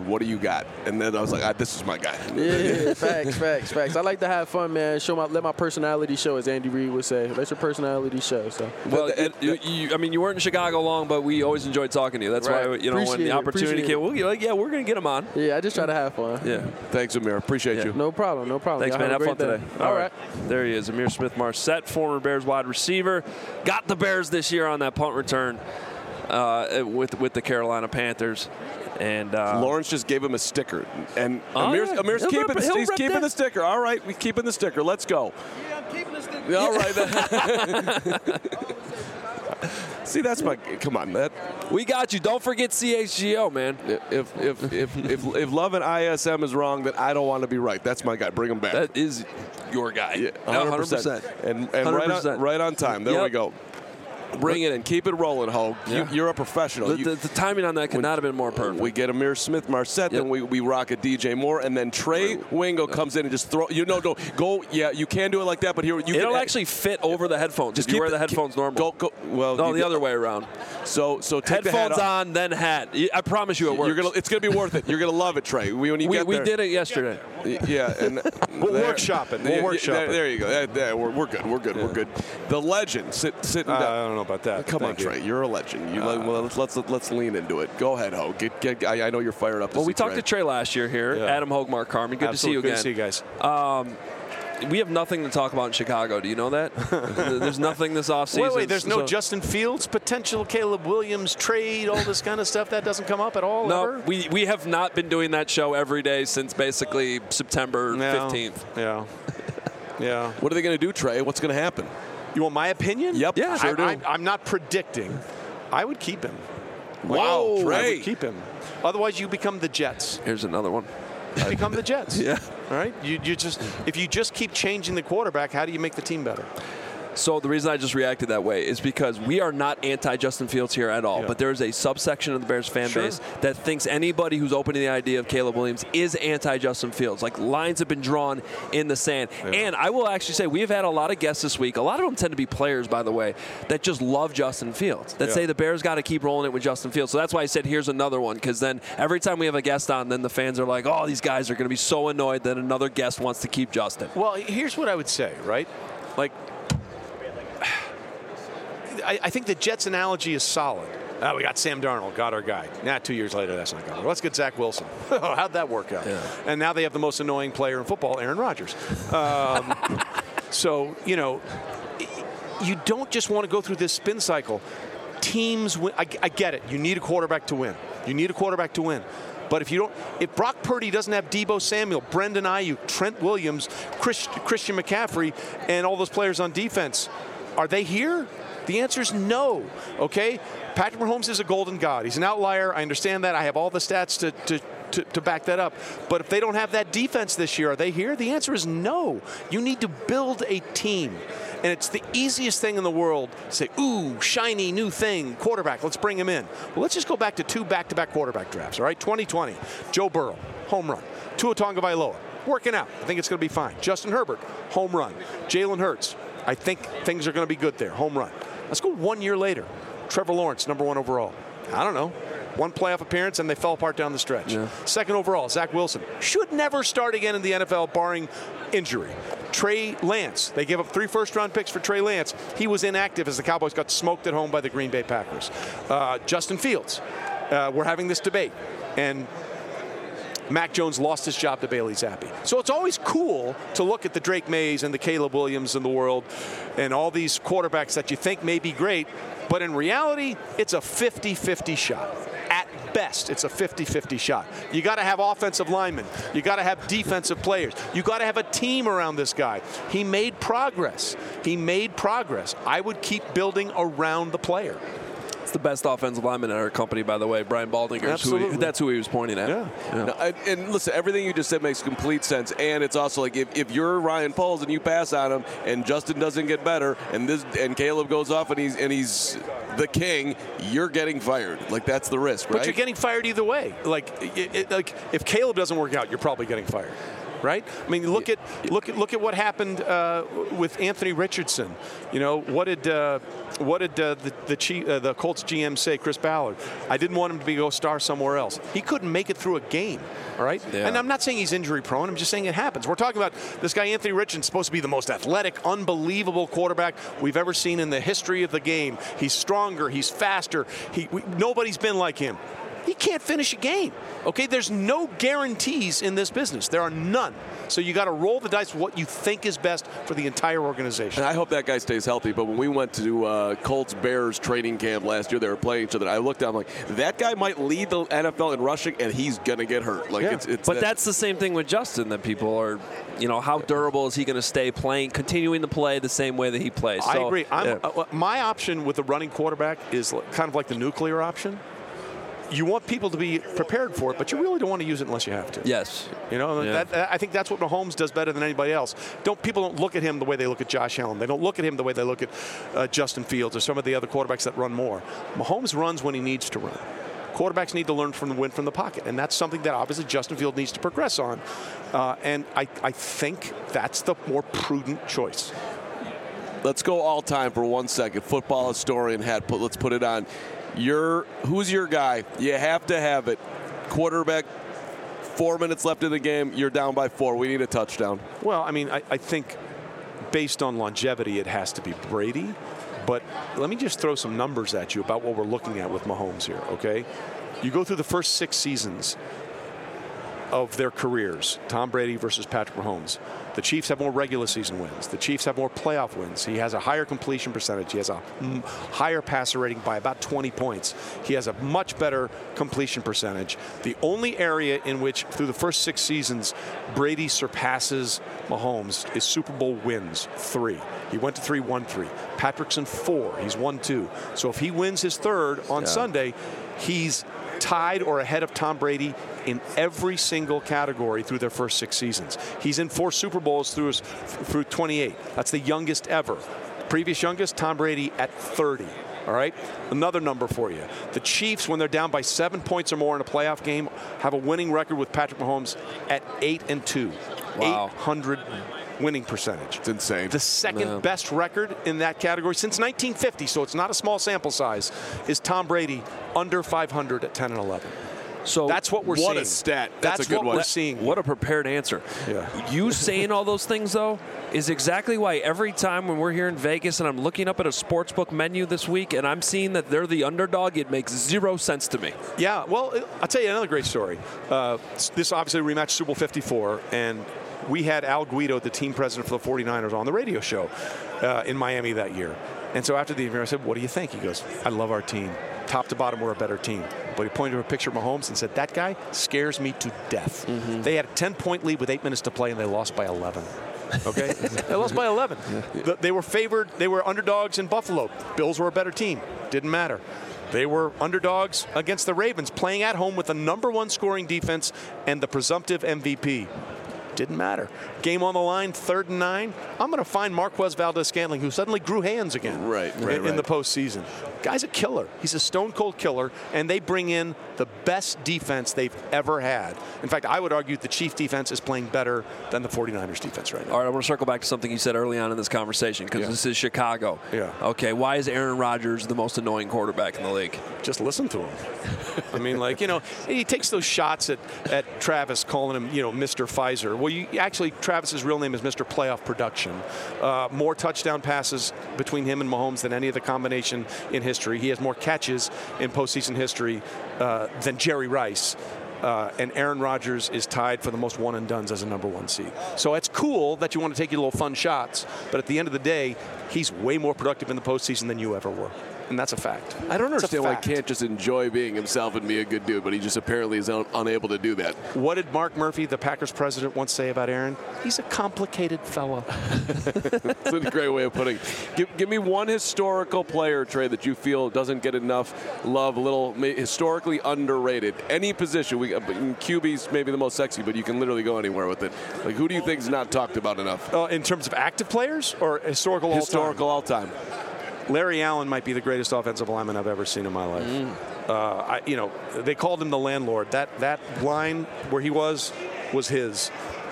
[SPEAKER 1] what do you got? And then I was like, ah, this is my guy.
[SPEAKER 5] Yeah, yeah, facts, facts, facts. I like to have fun, man. Show my, let my personality show, as Andy Reid would say. Let your personality show. So.
[SPEAKER 2] Well, it, you, you, I mean, you weren't in Chicago long, but we always enjoyed talking to you. That's
[SPEAKER 5] Right.
[SPEAKER 2] why, you know,
[SPEAKER 5] Appreciate
[SPEAKER 2] when the
[SPEAKER 5] it,
[SPEAKER 2] opportunity
[SPEAKER 5] appreciate
[SPEAKER 2] came, we'll, you're like, yeah, we're going to get him on.
[SPEAKER 5] Yeah, I just try to have fun.
[SPEAKER 2] Yeah.
[SPEAKER 1] Thanks, Amir. Appreciate
[SPEAKER 2] Yeah.
[SPEAKER 1] you.
[SPEAKER 5] No problem, no problem.
[SPEAKER 2] Thanks,
[SPEAKER 5] Y'all
[SPEAKER 2] man. Have
[SPEAKER 5] a
[SPEAKER 2] fun
[SPEAKER 5] great day.
[SPEAKER 2] today.
[SPEAKER 5] All right.
[SPEAKER 2] There he is, Amir Smith-Marset, former Bears wide receiver. Got the Bears this year on that punt return uh, with with the Carolina Panthers. And uh,
[SPEAKER 1] Lawrence just gave him a sticker, and
[SPEAKER 2] Oh,
[SPEAKER 1] Amir's,
[SPEAKER 2] yeah.
[SPEAKER 1] Amir's
[SPEAKER 2] He'll
[SPEAKER 1] keeping,
[SPEAKER 2] rep- he'll
[SPEAKER 1] he's
[SPEAKER 2] rep
[SPEAKER 1] keeping
[SPEAKER 2] that.
[SPEAKER 1] the sticker. All right, we're keeping the sticker. Let's go.
[SPEAKER 5] Yeah, I'm keeping this thing.
[SPEAKER 1] All right. See, that's my. Come on, that.
[SPEAKER 2] we got you. Don't forget C H G O, man.
[SPEAKER 1] If if if if, if Love and I S M is wrong, then I don't want to be right. That's my guy. Bring him back.
[SPEAKER 2] That is your guy.
[SPEAKER 1] Yeah,
[SPEAKER 2] No,
[SPEAKER 1] one hundred percent. And, and right,
[SPEAKER 2] one hundred percent.
[SPEAKER 1] on, right on time. There
[SPEAKER 2] Yep.
[SPEAKER 1] we go. Bring it in. Keep it rolling, Hogue.
[SPEAKER 2] Yeah.
[SPEAKER 1] You, you're a professional.
[SPEAKER 2] The,
[SPEAKER 1] You-
[SPEAKER 2] the, the timing on that could not have been more perfect.
[SPEAKER 1] we get Amir Smith-Marset,
[SPEAKER 2] Yep.
[SPEAKER 1] then we, we rock a D J Moore, and then Trey Wingo comes in and just throw. You know, no, go. Yeah, you can do it like that, but here you
[SPEAKER 2] It'll
[SPEAKER 1] can
[SPEAKER 2] actually fit over the headphones.
[SPEAKER 1] just
[SPEAKER 2] If you
[SPEAKER 1] keep
[SPEAKER 2] wear the
[SPEAKER 1] keep-
[SPEAKER 2] headphones normal.
[SPEAKER 1] Go, go. Well,
[SPEAKER 2] No,
[SPEAKER 1] you
[SPEAKER 2] the
[SPEAKER 1] do-
[SPEAKER 2] other way around.
[SPEAKER 1] So, so take the hat
[SPEAKER 2] Headphones
[SPEAKER 1] off.
[SPEAKER 2] on, then hat. I promise you it works.
[SPEAKER 1] You're gonna. It's gonna be worth it. You're gonna love it, Trey. We, when you
[SPEAKER 2] we
[SPEAKER 1] get
[SPEAKER 2] we
[SPEAKER 1] there,
[SPEAKER 2] did it yesterday.
[SPEAKER 1] Yeah, and
[SPEAKER 6] We'll
[SPEAKER 1] there-
[SPEAKER 6] workshop it. We'll
[SPEAKER 1] yeah,
[SPEAKER 6] workshop
[SPEAKER 1] there,
[SPEAKER 6] it.
[SPEAKER 1] There you go. There, there, we're, we're good. We're good. We're good. The legend sit, sitting
[SPEAKER 6] Uh,
[SPEAKER 1] down.
[SPEAKER 6] I don't know about that.
[SPEAKER 1] Come on,
[SPEAKER 6] Thank you.
[SPEAKER 1] Trey. You're a legend. You like, well, let's, let's let's lean into it. Go ahead, Ho. Get get. I, I know you're fired up. To
[SPEAKER 2] Well,
[SPEAKER 1] see
[SPEAKER 2] we talked
[SPEAKER 1] Trey.
[SPEAKER 2] to Trey last year here.
[SPEAKER 6] Yeah.
[SPEAKER 2] Adam Hogue, Mark Carmen. Good
[SPEAKER 6] Absolutely.
[SPEAKER 2] to see you
[SPEAKER 6] Good
[SPEAKER 2] again.
[SPEAKER 6] to see you guys.
[SPEAKER 2] We have nothing to talk about in Chicago. Do you know that? There's nothing this offseason.
[SPEAKER 6] Wait, wait. There's no
[SPEAKER 2] so-
[SPEAKER 6] Justin Fields potential, Caleb Williams trade, all this kind of stuff. That doesn't come up at all.
[SPEAKER 2] No,
[SPEAKER 6] ever?
[SPEAKER 2] we, we have not been doing that show every day since basically September
[SPEAKER 6] No.
[SPEAKER 2] fifteenth.
[SPEAKER 6] Yeah. Yeah.
[SPEAKER 1] What are they going to do, Trey? What's going to happen?
[SPEAKER 6] You want my opinion?
[SPEAKER 1] Yep.
[SPEAKER 2] Yeah,
[SPEAKER 1] sure
[SPEAKER 6] I,
[SPEAKER 1] do.
[SPEAKER 6] I, I'm not predicting. I would keep him.
[SPEAKER 1] Wow,
[SPEAKER 6] I
[SPEAKER 1] Trey.
[SPEAKER 6] would keep him. Otherwise, you become the Jets.
[SPEAKER 2] Here's another one.
[SPEAKER 6] You become the Jets.
[SPEAKER 2] Yeah.
[SPEAKER 6] All right. You, you just if you just keep changing the quarterback, how do you make the team better?
[SPEAKER 2] So the reason I just reacted that way is because we are not anti-Justin Fields here at all,
[SPEAKER 6] Yeah.
[SPEAKER 2] but there is a subsection of the Bears fan
[SPEAKER 6] Sure.
[SPEAKER 2] base that thinks anybody who's open to the idea of Caleb Williams is anti-Justin Fields. Like, lines have been drawn in the sand. And I will actually say we have had a lot of guests this week. A lot of them tend to be players, by the way, that just love Justin Fields, that
[SPEAKER 6] Yeah.
[SPEAKER 2] say the Bears got to keep rolling it with Justin Fields. So that's why I said here's another one, because then every time we have a guest on, then the fans are like, oh, these guys are going to be so annoyed that another guest wants to keep Justin.
[SPEAKER 6] Well, here's what I would say, right? Like, I, I think the Jets analogy is solid. Oh, we got Sam Darnold, got our guy. Nah, two years later, that's not going to work. Let's get Zach Wilson. How'd that work out?
[SPEAKER 2] Yeah.
[SPEAKER 6] And now they have the most annoying player in football, Aaron Rodgers. Um, so, you know, you don't just want to go through this spin cycle. Teams win. I, I get it. You need a quarterback to win. You need a quarterback to win. But if you don't, if Brock Purdy doesn't have Deebo Samuel, Brendan Ayuk, Trent Williams, Chris, Christian McCaffrey, and all those players on defense, are they here? The answer is no. Okay, Patrick Mahomes is a golden god. He's an outlier. I understand that. I have all the stats to, to to to back that up. But if they don't have that defense this year, are they here? The answer is no. You need to build a team. And it's the easiest thing in the world to say, ooh, shiny new thing, quarterback, let's bring him in. Well, let's just go back to two back-to-back quarterback drafts, all right? twenty twenty, Joe Burrow, home run. Tua Tagovailoa, working out. I think it's going to be fine. Justin Herbert, home run. Jalen Hurts, I think things are going to be good there, home run. Let's go one year later. Trevor Lawrence, number one overall. I don't know. One playoff appearance, and they fell apart down the stretch.
[SPEAKER 2] Yeah.
[SPEAKER 6] Second overall, Zach Wilson. Should never start again in the N F L, barring injury. Trey Lance. They gave up three first-round picks for Trey Lance. He was inactive as the Cowboys got smoked at home by the Green Bay Packers. Uh, Justin Fields. Uh, we're having this debate. And Mac Jones lost his job to Bailey Zappi. So it's always cool to look at the Drake Mays and the Caleb Williams in the world and all these quarterbacks that you think may be great, but in reality, it's a fifty-fifty shot. At best, it's a fifty-fifty shot. You got to have offensive linemen. You got to have defensive players. You got to have a team around this guy. He made progress. He made progress. I would keep building around the player.
[SPEAKER 2] It's the best offensive lineman in our company, by the way, Brian Baldinger. Who he,
[SPEAKER 6] Absolutely.
[SPEAKER 2] that's who he was pointing at.
[SPEAKER 6] Yeah.
[SPEAKER 2] Yeah.
[SPEAKER 1] No, and, and listen, everything you just said makes complete sense. And it's also like if, if you're Ryan Poles and you pass on him, and Justin doesn't get better, and this and Caleb goes off and he's and he's the king, you're getting fired. Like that's the risk, right?
[SPEAKER 6] But you're getting fired either way. Like, it, it, like if Caleb doesn't work out, you're probably getting fired. right? I mean, look at look at look at what happened uh, with Anthony Richardson. You know, what did uh, what did uh, the the, Chief, uh, the Colts G M say, Chris Ballard? I didn't want him to be go star somewhere else. He couldn't make it through a game. All right,
[SPEAKER 2] yeah.
[SPEAKER 6] and I'm not saying he's injury prone. I'm just saying it happens. We're talking about this guy Anthony Richardson, supposed to be the most athletic, unbelievable quarterback we've ever seen in the history of the game. He's stronger. He's faster. He we, nobody's been like him. He can't finish a game. Okay, there's no guarantees in this business. There are none. So you got to roll the dice with what you think is best for the entire organization.
[SPEAKER 1] And I hope that guy stays healthy. But when we went to uh, Colts Bears training camp last year, they were playing each other. I looked down, I'm like, that guy might lead the N F L in rushing, and he's gonna get hurt. Like,
[SPEAKER 6] Yeah.
[SPEAKER 1] it's, it's
[SPEAKER 2] But
[SPEAKER 1] that,
[SPEAKER 2] that's the same thing with Justin, that people are, you know, how durable is he going to stay playing, continuing to play the same way that he plays?
[SPEAKER 6] I
[SPEAKER 2] So,
[SPEAKER 6] agree. I'm,
[SPEAKER 2] yeah.
[SPEAKER 6] uh, my option with the running quarterback is li- kind of like the nuclear option. You want people to be prepared for it, but you really don't want to use it unless you have to.
[SPEAKER 2] Yes.
[SPEAKER 6] You know,
[SPEAKER 2] Yeah.
[SPEAKER 6] that, that, I think that's what Mahomes does better than anybody else. Don't people don't look at him the way they look at Josh Allen. They don't look at him the way they look at uh, Justin Fields or some of the other quarterbacks that run more. Mahomes runs when he needs to run. Quarterbacks need to learn from the win from the pocket, and that's something that obviously Justin Fields needs to progress on. Uh, and I, I think that's the more prudent choice.
[SPEAKER 1] Let's go all time for one second. Football historian hat. Put, let's put it on. Your who's your guy? You have to have it. Quarterback. Four minutes left in the game. You're down by four. We need a touchdown.
[SPEAKER 6] Well, I mean, I, I think based on longevity, it has to be Brady. But let me just throw some numbers at you about what we're looking at with Mahomes here, okay? You go through the first six seasons of their careers, Tom Brady versus Patrick Mahomes. The Chiefs have more regular season wins. The Chiefs have more playoff wins. He has a higher completion percentage. He has a mm, higher passer rating by about twenty points. He has a much better completion percentage. The only area in which, through the first six seasons, Brady surpasses Mahomes is Super Bowl wins, three. He went to three, won three. Patrick's in four. He's won two. So if he wins his third on
[SPEAKER 2] Yeah.
[SPEAKER 6] Sunday, he's tied or ahead of Tom Brady in every single category through their first six seasons. He's in four Super Bowls through his, through twenty-eight. That's the youngest ever. Previous youngest, Tom Brady at thirty. All right? Another number for you. The Chiefs, when they're down by seven points or more in a playoff game, have a winning record with Patrick Mahomes at eight and two.
[SPEAKER 2] Wow.
[SPEAKER 6] eight hundred winning percentage.
[SPEAKER 1] It's insane.
[SPEAKER 6] The second
[SPEAKER 2] Man.
[SPEAKER 6] best record in that category since nineteen fifty, so it's not a small sample size, is Tom Brady under five hundred at ten and eleven.
[SPEAKER 2] So
[SPEAKER 6] That's what we're
[SPEAKER 1] What
[SPEAKER 6] seeing.
[SPEAKER 1] a stat. That's
[SPEAKER 6] That's
[SPEAKER 1] a good
[SPEAKER 6] what
[SPEAKER 1] one.
[SPEAKER 6] we're seeing.
[SPEAKER 2] What a prepared answer.
[SPEAKER 6] Yeah.
[SPEAKER 2] You saying all those things, though, is exactly why every time when we're here in Vegas and I'm looking up at a sportsbook menu this week and I'm seeing that they're the underdog, it makes zero sense to me.
[SPEAKER 6] Yeah, well, I'll tell you another great story. Uh, this obviously rematched Super Bowl fifty-four, and we had Al Guido, the team president for the forty-niners, on the radio show uh, in Miami that year. And so after the event, I said, what do you think? He goes, I love our team. Top to bottom, we're a better team. But he pointed to a picture of Mahomes and said, that guy scares me to death. Mm-hmm. They had a ten-point lead with eight minutes to play, and they lost by eleven. Okay? They lost by eleven. The, they were favored. They were underdogs in Buffalo. Bills were a better team. Didn't matter. They were underdogs against the Ravens, playing at home with the number one scoring defense and the presumptive M V P. Didn't matter. Game on the line, third and nine. I'm going to find Marquez Valdez-Scantling, who suddenly grew hands again
[SPEAKER 1] Right,
[SPEAKER 6] in,
[SPEAKER 1] right,
[SPEAKER 6] in
[SPEAKER 1] right.
[SPEAKER 6] the postseason. Guy's a killer. He's a stone-cold killer, and they bring in the best defense they've ever had. In fact, I would argue the Chief defense is playing better than the forty-niners defense right now.
[SPEAKER 2] All right, I want to circle back to something you said early on in this conversation because
[SPEAKER 6] Yeah.
[SPEAKER 2] this is Chicago.
[SPEAKER 6] Yeah.
[SPEAKER 2] Okay, why is Aaron Rodgers the most annoying quarterback in the league?
[SPEAKER 6] Just listen to him. I mean, like, you know, he takes those shots at, at Travis, calling him, you know, Mister Pfizer. Well, you actually, Travis's real name is Mister Playoff Production. Uh, more touchdown passes between him and Mahomes than any other combination in history. He has more catches in postseason history uh, than Jerry Rice. Uh, and Aaron Rodgers is tied for the most one and dones as a number one seed. So it's cool that you want to take your little fun shots, but at the end of the day, he's way more productive in the postseason than you ever were. And that's a fact.
[SPEAKER 1] I don't
[SPEAKER 6] It's a
[SPEAKER 1] understand why he
[SPEAKER 6] fact.
[SPEAKER 1] can't just enjoy being himself and be a good dude, but he just apparently is un- unable to do that.
[SPEAKER 6] What did Mark Murphy, the Packers president, once say about Aaron? He's a complicated fella.
[SPEAKER 1] That's a great way of putting it. Give, give me one historical player, Trey, that you feel doesn't get enough love, a little ma- historically underrated. Any position. We, Q B's maybe the most sexy, but you can literally go anywhere with it. Like, who do you think is not talked about enough?
[SPEAKER 6] Uh, in terms of active players or historical all-time?
[SPEAKER 1] Historical all-time.
[SPEAKER 6] Larry Allen might be the greatest offensive lineman I've ever seen in my life.
[SPEAKER 1] Mm.
[SPEAKER 6] Uh, I, you know, they called him the landlord. That that line where he was was his.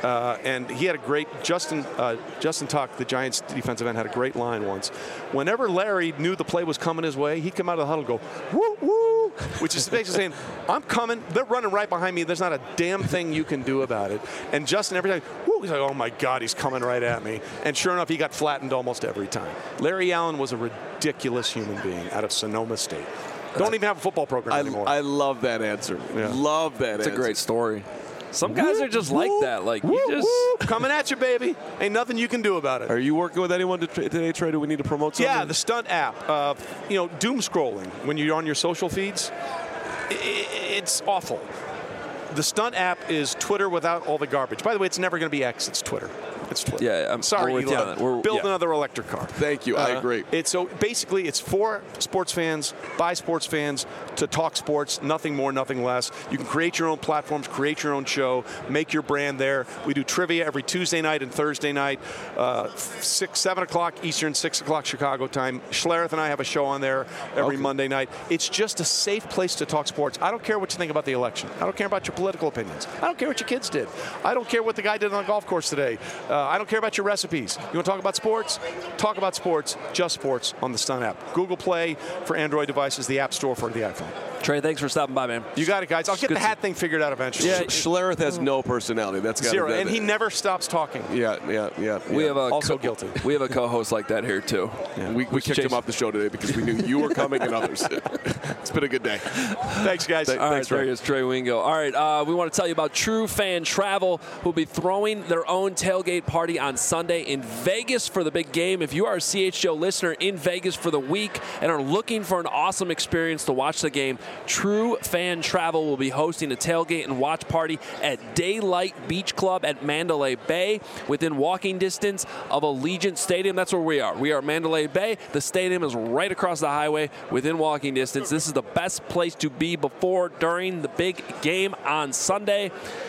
[SPEAKER 6] Uh, and he had a great, Justin uh, Justin Tuck, the Giants defensive end, had a great line once. Whenever Larry knew the play was coming his way, he'd come out of the huddle and go, woo, woo, which is basically saying, I'm coming, they're running right behind me, there's not a damn thing you can do about it. And Justin, every time, woo, he's like, oh my God, he's coming right at me. And sure enough, he got flattened almost every time. Larry Allen was a ridiculous human being out of Sonoma State. Don't even have a football program
[SPEAKER 1] I,
[SPEAKER 6] anymore.
[SPEAKER 1] I love that answer.
[SPEAKER 6] Yeah.
[SPEAKER 1] Love that
[SPEAKER 2] It's
[SPEAKER 1] answer.
[SPEAKER 2] a great story. Some guys
[SPEAKER 6] Woo,
[SPEAKER 2] are just
[SPEAKER 6] woo,
[SPEAKER 2] like that. Like,
[SPEAKER 6] woo,
[SPEAKER 2] you just.
[SPEAKER 6] woo, coming at you, baby. Ain't nothing you can do about it.
[SPEAKER 1] Are you working with anyone to tra- today, Trey? Do we need to promote something?
[SPEAKER 6] Yeah, the Stunt app. Uh, you know, doom scrolling when you're on your social feeds, i- i- it's awful. The Stunt app is Twitter without all the garbage. By the way, it's never going to be X. It's Twitter. It's Twitter.
[SPEAKER 2] Yeah, I'm
[SPEAKER 6] sorry,
[SPEAKER 2] we're with you
[SPEAKER 6] Elon.
[SPEAKER 2] on that. We're-
[SPEAKER 6] Build
[SPEAKER 2] yeah.
[SPEAKER 6] another electric car.
[SPEAKER 1] Thank you. I
[SPEAKER 6] Uh,
[SPEAKER 1] agree.
[SPEAKER 6] It's so basically it's for sports fans, by sports fans to talk sports, nothing more, nothing less. You can create your own platforms, create your own show, make your brand there. We do trivia every Tuesday night and Thursday night, uh, six, seven o'clock Eastern, six o'clock Chicago time. Schlereth and I have a show on there every
[SPEAKER 1] Okay.
[SPEAKER 6] Monday night. It's just a safe place to talk sports. I don't care what you think about the election. I don't care about your political opinions. I don't care what your kids did. I don't care what the guy did on the golf course today. Uh, I don't care about your recipes. You want to talk about sports? Talk about sports, just sports on the Stunt app. Google Play for Android devices, the App Store for the iPhone.
[SPEAKER 2] Trey, thanks for stopping by, man.
[SPEAKER 6] You got it, guys. I'll get
[SPEAKER 2] Good
[SPEAKER 6] the hat thing figured out eventually.
[SPEAKER 1] Yeah, Schlereth has no personality. That's got
[SPEAKER 6] Zero. And he never stops talking.
[SPEAKER 1] Yeah, yeah, yeah.
[SPEAKER 2] We
[SPEAKER 1] yeah.
[SPEAKER 2] have a
[SPEAKER 6] Also
[SPEAKER 2] co-
[SPEAKER 6] guilty.
[SPEAKER 2] We have a co-host like that here too.
[SPEAKER 1] We, we kicked
[SPEAKER 2] Chase-
[SPEAKER 1] him off the show today because we knew you were coming and others. It's been a good day.
[SPEAKER 6] Thanks, guys.
[SPEAKER 2] All right,
[SPEAKER 6] Thanks,
[SPEAKER 2] there
[SPEAKER 6] Ray.
[SPEAKER 2] he is, Trey Wingo. All right, uh, we want to tell you about True Fan Travel, who will be throwing their own tailgate party on Sunday in Vegas for the big game. If you are a C H G O listener in Vegas for the week and are looking for an awesome experience to watch the game, True Fan Travel will be hosting a tailgate and watch party at Daylight Beach Club at Mandalay Bay, within walking distance of Allegiant Stadium. That's where we are. We are at Mandalay Bay. The stadium is right across the highway, within walking distance. This is the best place to be before, during the big game on Sunday.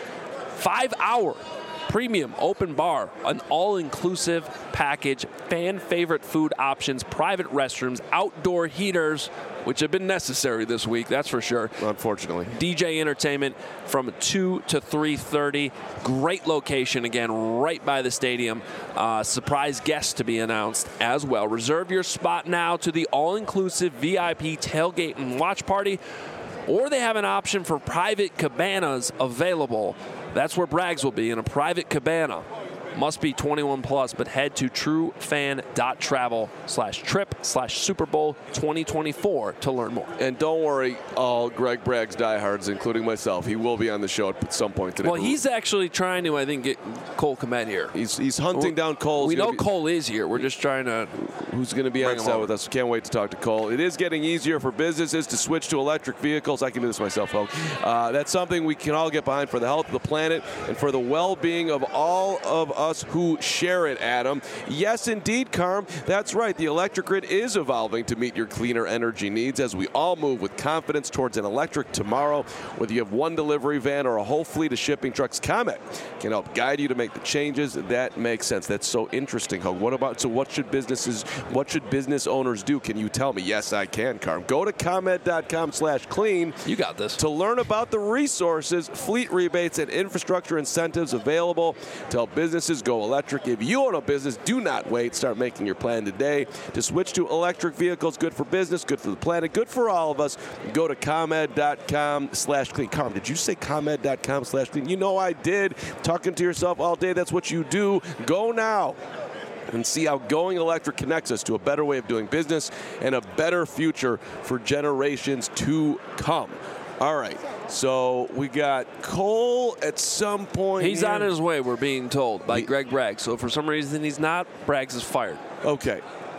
[SPEAKER 2] Five-hour premium open bar, an all-inclusive package, fan-favorite food options, private restrooms, outdoor heaters, which have been necessary this week, that's for sure.
[SPEAKER 1] Unfortunately.
[SPEAKER 2] D J entertainment from two to three thirty. Great location, again, right by the stadium. Uh, surprise guests to be announced as well. Reserve your spot now to the all-inclusive V I P tailgate and watch party, or they have an option for private cabanas available. That's where Braggs will be, in a private cabana. Must be twenty-one plus, but head to truefan.travel slash trip slash Super Bowl twenty twenty-four to learn more.
[SPEAKER 1] And don't worry, all Greg Bragg's diehards, including myself, he will be on the show at some point today.
[SPEAKER 2] Well, he's actually trying to, I think, get Cole Kmet here.
[SPEAKER 1] He's, he's hunting down Cole.
[SPEAKER 2] We
[SPEAKER 1] He's
[SPEAKER 2] know
[SPEAKER 1] gonna be-
[SPEAKER 2] Cole is here. We're just trying to.
[SPEAKER 1] who's going to be
[SPEAKER 2] Bring
[SPEAKER 1] on
[SPEAKER 2] him
[SPEAKER 1] set
[SPEAKER 2] over.
[SPEAKER 1] with us. Can't wait to talk to Cole. It is getting easier for businesses to switch to electric vehicles. I can do this myself, folks. Uh, that's something we can all get behind for the health of the planet and for the well-being of all of us who share it, Adam. Yes, indeed, Carm. That's right. The electric grid is evolving to meet your cleaner energy needs as we all move with confidence towards an electric tomorrow. Whether you have one delivery van or a whole fleet of shipping trucks, Comet can help guide you to make the changes that make sense. That's so interesting, Hogue. What about, so what should businesses, what should business owners do? Can you tell me? Yes, I can, Carm. Go to comet.com slash clean.
[SPEAKER 2] You got this.
[SPEAKER 1] To learn about the resources, fleet rebates, and infrastructure incentives available to help businesses go electric. If you own a business, do not wait. Start making your plan today to switch to electric vehicles. Good for business, good for the planet, good for all of us. Go to comed.com slash clean. Carm, did you say comed.com slash clean? You know I did. Talking to yourself all day, that's what you do. Go now and see how going electric connects us to a better way of doing business and a better future for generations to come. All right, so we got Cole at some point.
[SPEAKER 2] He's
[SPEAKER 1] here.
[SPEAKER 2] on his way, we're being told, by
[SPEAKER 1] He-
[SPEAKER 2] Greg Braggs. So if for some reason he's not, Braggs is fired.
[SPEAKER 1] Okay.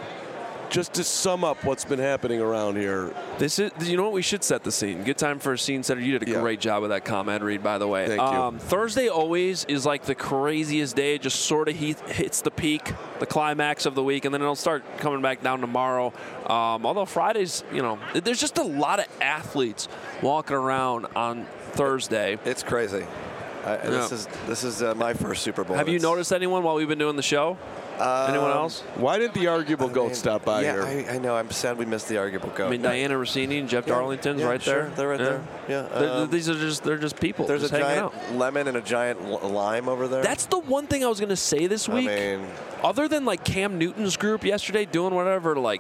[SPEAKER 1] Just to sum up what's been happening around here.
[SPEAKER 2] This is, you know what? We should set the scene. Good time for a scene setter. You did a
[SPEAKER 1] Yeah.
[SPEAKER 2] great job with that comment read, by the way.
[SPEAKER 1] Thank you.
[SPEAKER 2] Um, Thursday always is like the craziest day. It just sort of he- hits the peak, the climax of the week, and then it'll start coming back down tomorrow. Um, although Fridays, you know, there's just a lot of athletes walking around on Thursday.
[SPEAKER 3] It's crazy. I, This
[SPEAKER 2] Yeah.
[SPEAKER 3] is this is uh, my first Super Bowl.
[SPEAKER 2] Have you
[SPEAKER 3] It's-
[SPEAKER 2] noticed anyone while we've been doing the show?
[SPEAKER 3] Um,
[SPEAKER 2] Anyone else?
[SPEAKER 1] Why didn't the arguable
[SPEAKER 3] I
[SPEAKER 1] goat
[SPEAKER 3] mean,
[SPEAKER 1] stop by
[SPEAKER 3] yeah,
[SPEAKER 1] here?
[SPEAKER 3] I, I know. I'm sad we missed the arguable goat.
[SPEAKER 2] I mean,
[SPEAKER 3] Yeah.
[SPEAKER 2] Diana Rossini and Jeff
[SPEAKER 3] Yeah,
[SPEAKER 2] Darlington's
[SPEAKER 3] yeah,
[SPEAKER 2] right
[SPEAKER 3] sure,
[SPEAKER 2] there.
[SPEAKER 3] they're right there. Yeah,
[SPEAKER 2] They're-
[SPEAKER 3] um,
[SPEAKER 2] these are just they're just people.
[SPEAKER 3] There's
[SPEAKER 2] just
[SPEAKER 3] a
[SPEAKER 2] hanging
[SPEAKER 3] giant
[SPEAKER 2] out.
[SPEAKER 3] lemon and a giant l- lime over there.
[SPEAKER 2] That's the one thing I was going to say this
[SPEAKER 3] I
[SPEAKER 2] week.
[SPEAKER 3] mean,
[SPEAKER 2] Other than like Cam Newton's group yesterday doing whatever, like,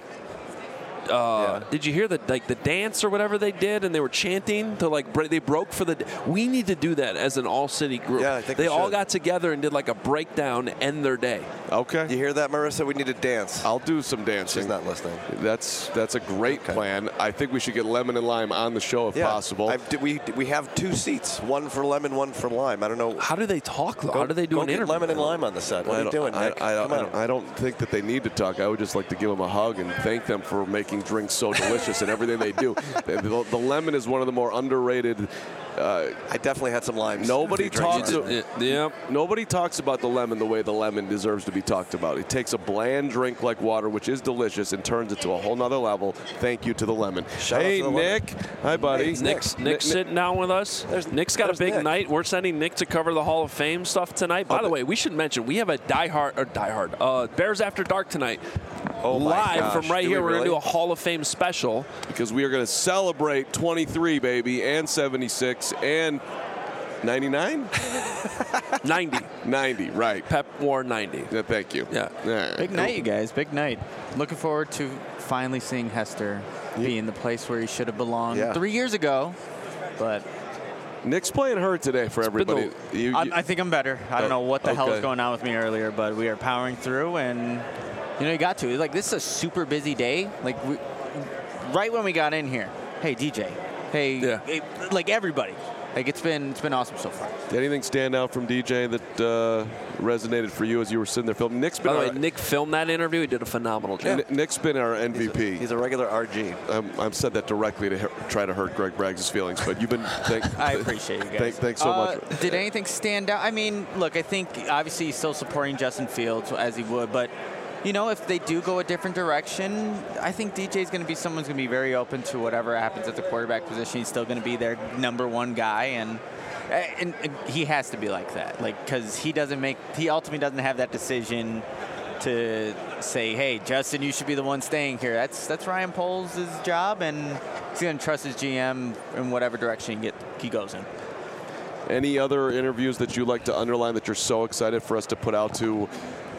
[SPEAKER 2] uh,
[SPEAKER 3] Yeah.
[SPEAKER 2] did you hear the like the dance or whatever they did, and they were chanting to like break, they broke for the. We need to do that as an all city group.
[SPEAKER 3] Yeah, I think
[SPEAKER 2] they
[SPEAKER 3] we
[SPEAKER 2] all
[SPEAKER 3] should.
[SPEAKER 2] got together and did like a breakdown to end their day.
[SPEAKER 1] Okay.
[SPEAKER 3] you hear that, Marissa? We need to dance.
[SPEAKER 1] I'll do some dancing.
[SPEAKER 3] She's not listening.
[SPEAKER 1] That's that's a great
[SPEAKER 3] Okay.
[SPEAKER 1] plan. I think we should get Lemon and Lime on the show if possible.
[SPEAKER 3] I've, d- we we have two seats, one for lemon, one for lime. I don't know.
[SPEAKER 2] How do they talk though?
[SPEAKER 3] Go-
[SPEAKER 2] How do they do
[SPEAKER 3] go
[SPEAKER 2] an
[SPEAKER 3] get
[SPEAKER 2] interview?
[SPEAKER 3] lemon and lime on the set. What
[SPEAKER 1] I
[SPEAKER 3] are you
[SPEAKER 1] don't-
[SPEAKER 3] doing,
[SPEAKER 1] I,
[SPEAKER 3] Nick?
[SPEAKER 1] I,
[SPEAKER 3] Come
[SPEAKER 1] I,
[SPEAKER 3] on.
[SPEAKER 1] don't, I don't think that they need to talk. I would just like to give them a hug and thank them for making drinks so delicious and everything they do. The, the, the lemon is one of the more underrated. Uh,
[SPEAKER 3] I definitely had some limes.
[SPEAKER 1] Nobody
[SPEAKER 3] Three drinks
[SPEAKER 1] talks.
[SPEAKER 3] in.
[SPEAKER 1] a-
[SPEAKER 2] Yep.
[SPEAKER 1] Nobody talks about the lemon the way the lemon deserves to be talked about. It takes a bland drink like water, which is delicious, and turns it to a whole nother level. Thank you to the lemon.
[SPEAKER 3] Shout out
[SPEAKER 1] hey,
[SPEAKER 3] to the lemon.
[SPEAKER 1] Nick. Hi, buddy.
[SPEAKER 3] Hey, it's
[SPEAKER 2] Nick's,
[SPEAKER 3] Nick.
[SPEAKER 2] Nick's
[SPEAKER 1] Nick-
[SPEAKER 2] sitting down with us.
[SPEAKER 3] There's-
[SPEAKER 2] Nick's got a
[SPEAKER 3] there's
[SPEAKER 2] big
[SPEAKER 3] Nick.
[SPEAKER 2] night. We're sending Nick to cover the Hall of Fame stuff tonight. By
[SPEAKER 3] Oh,
[SPEAKER 2] the
[SPEAKER 3] the-
[SPEAKER 2] way, we should mention we have a Die Hard or Die Hard uh, Bears After Dark tonight.
[SPEAKER 3] Oh my
[SPEAKER 2] Live
[SPEAKER 3] gosh.
[SPEAKER 2] from right
[SPEAKER 3] Do
[SPEAKER 2] here.
[SPEAKER 3] we
[SPEAKER 2] We're gonna
[SPEAKER 3] really?
[SPEAKER 2] do a Hall of Fame special.
[SPEAKER 1] Because we are going to celebrate twenty-three, baby, and seventy-six, and ninety-nine?
[SPEAKER 2] ninety.
[SPEAKER 1] ninety, right.
[SPEAKER 2] Pep wore ninety.
[SPEAKER 1] Yeah, thank you.
[SPEAKER 2] Yeah.
[SPEAKER 1] Yeah.
[SPEAKER 7] Big night, you guys. Big night. Looking forward to finally seeing Hester be in the place where he should have belonged
[SPEAKER 3] Yeah.
[SPEAKER 7] three years ago. But
[SPEAKER 1] Nick's playing hurt today for
[SPEAKER 2] been
[SPEAKER 1] everybody.
[SPEAKER 2] the-
[SPEAKER 1] You-
[SPEAKER 7] I,
[SPEAKER 1] you-
[SPEAKER 7] I think I'm better. I
[SPEAKER 1] Oh,
[SPEAKER 7] don't know what the hell was
[SPEAKER 1] okay.
[SPEAKER 7] going on with me earlier, but we are powering through, and you know, you got to. Like, this is a super busy day. Like, we, right when we got in here, hey D J, hey,
[SPEAKER 2] Yeah.
[SPEAKER 7] hey, like everybody. Like, it's been it's been awesome so far.
[SPEAKER 1] Did anything stand out from D J that uh, resonated for you as you were sitting there filming? Nick's
[SPEAKER 2] By
[SPEAKER 1] been
[SPEAKER 2] the
[SPEAKER 1] our,
[SPEAKER 2] way, Nick filmed that interview. He did a phenomenal job.
[SPEAKER 1] N- Nick's been our M V
[SPEAKER 3] He's
[SPEAKER 1] P.
[SPEAKER 3] a, he's a regular R G.
[SPEAKER 1] Um, I've said that directly to hu- try to hurt Greg Braggs' feelings, but you've been. Thank,
[SPEAKER 7] I appreciate you guys.
[SPEAKER 1] Thank, thanks so
[SPEAKER 7] Uh,
[SPEAKER 1] much.
[SPEAKER 7] Did anything stand out? I mean, look, I think obviously he's still supporting Justin Fields as he would, but you know, if they do go a different direction, I think D J's going to be someone's going to be very open to whatever happens at the quarterback position. He's still going to be their number one guy, and and, and he has to be like that, like because he doesn't make he ultimately doesn't have that decision to say, hey, Justin, you should be the one staying here. That's that's Ryan Poles' job, and he's going to trust his G M in whatever direction he, get, he goes in.
[SPEAKER 1] Any other interviews that you'd like to underline that you're so excited for us to put out to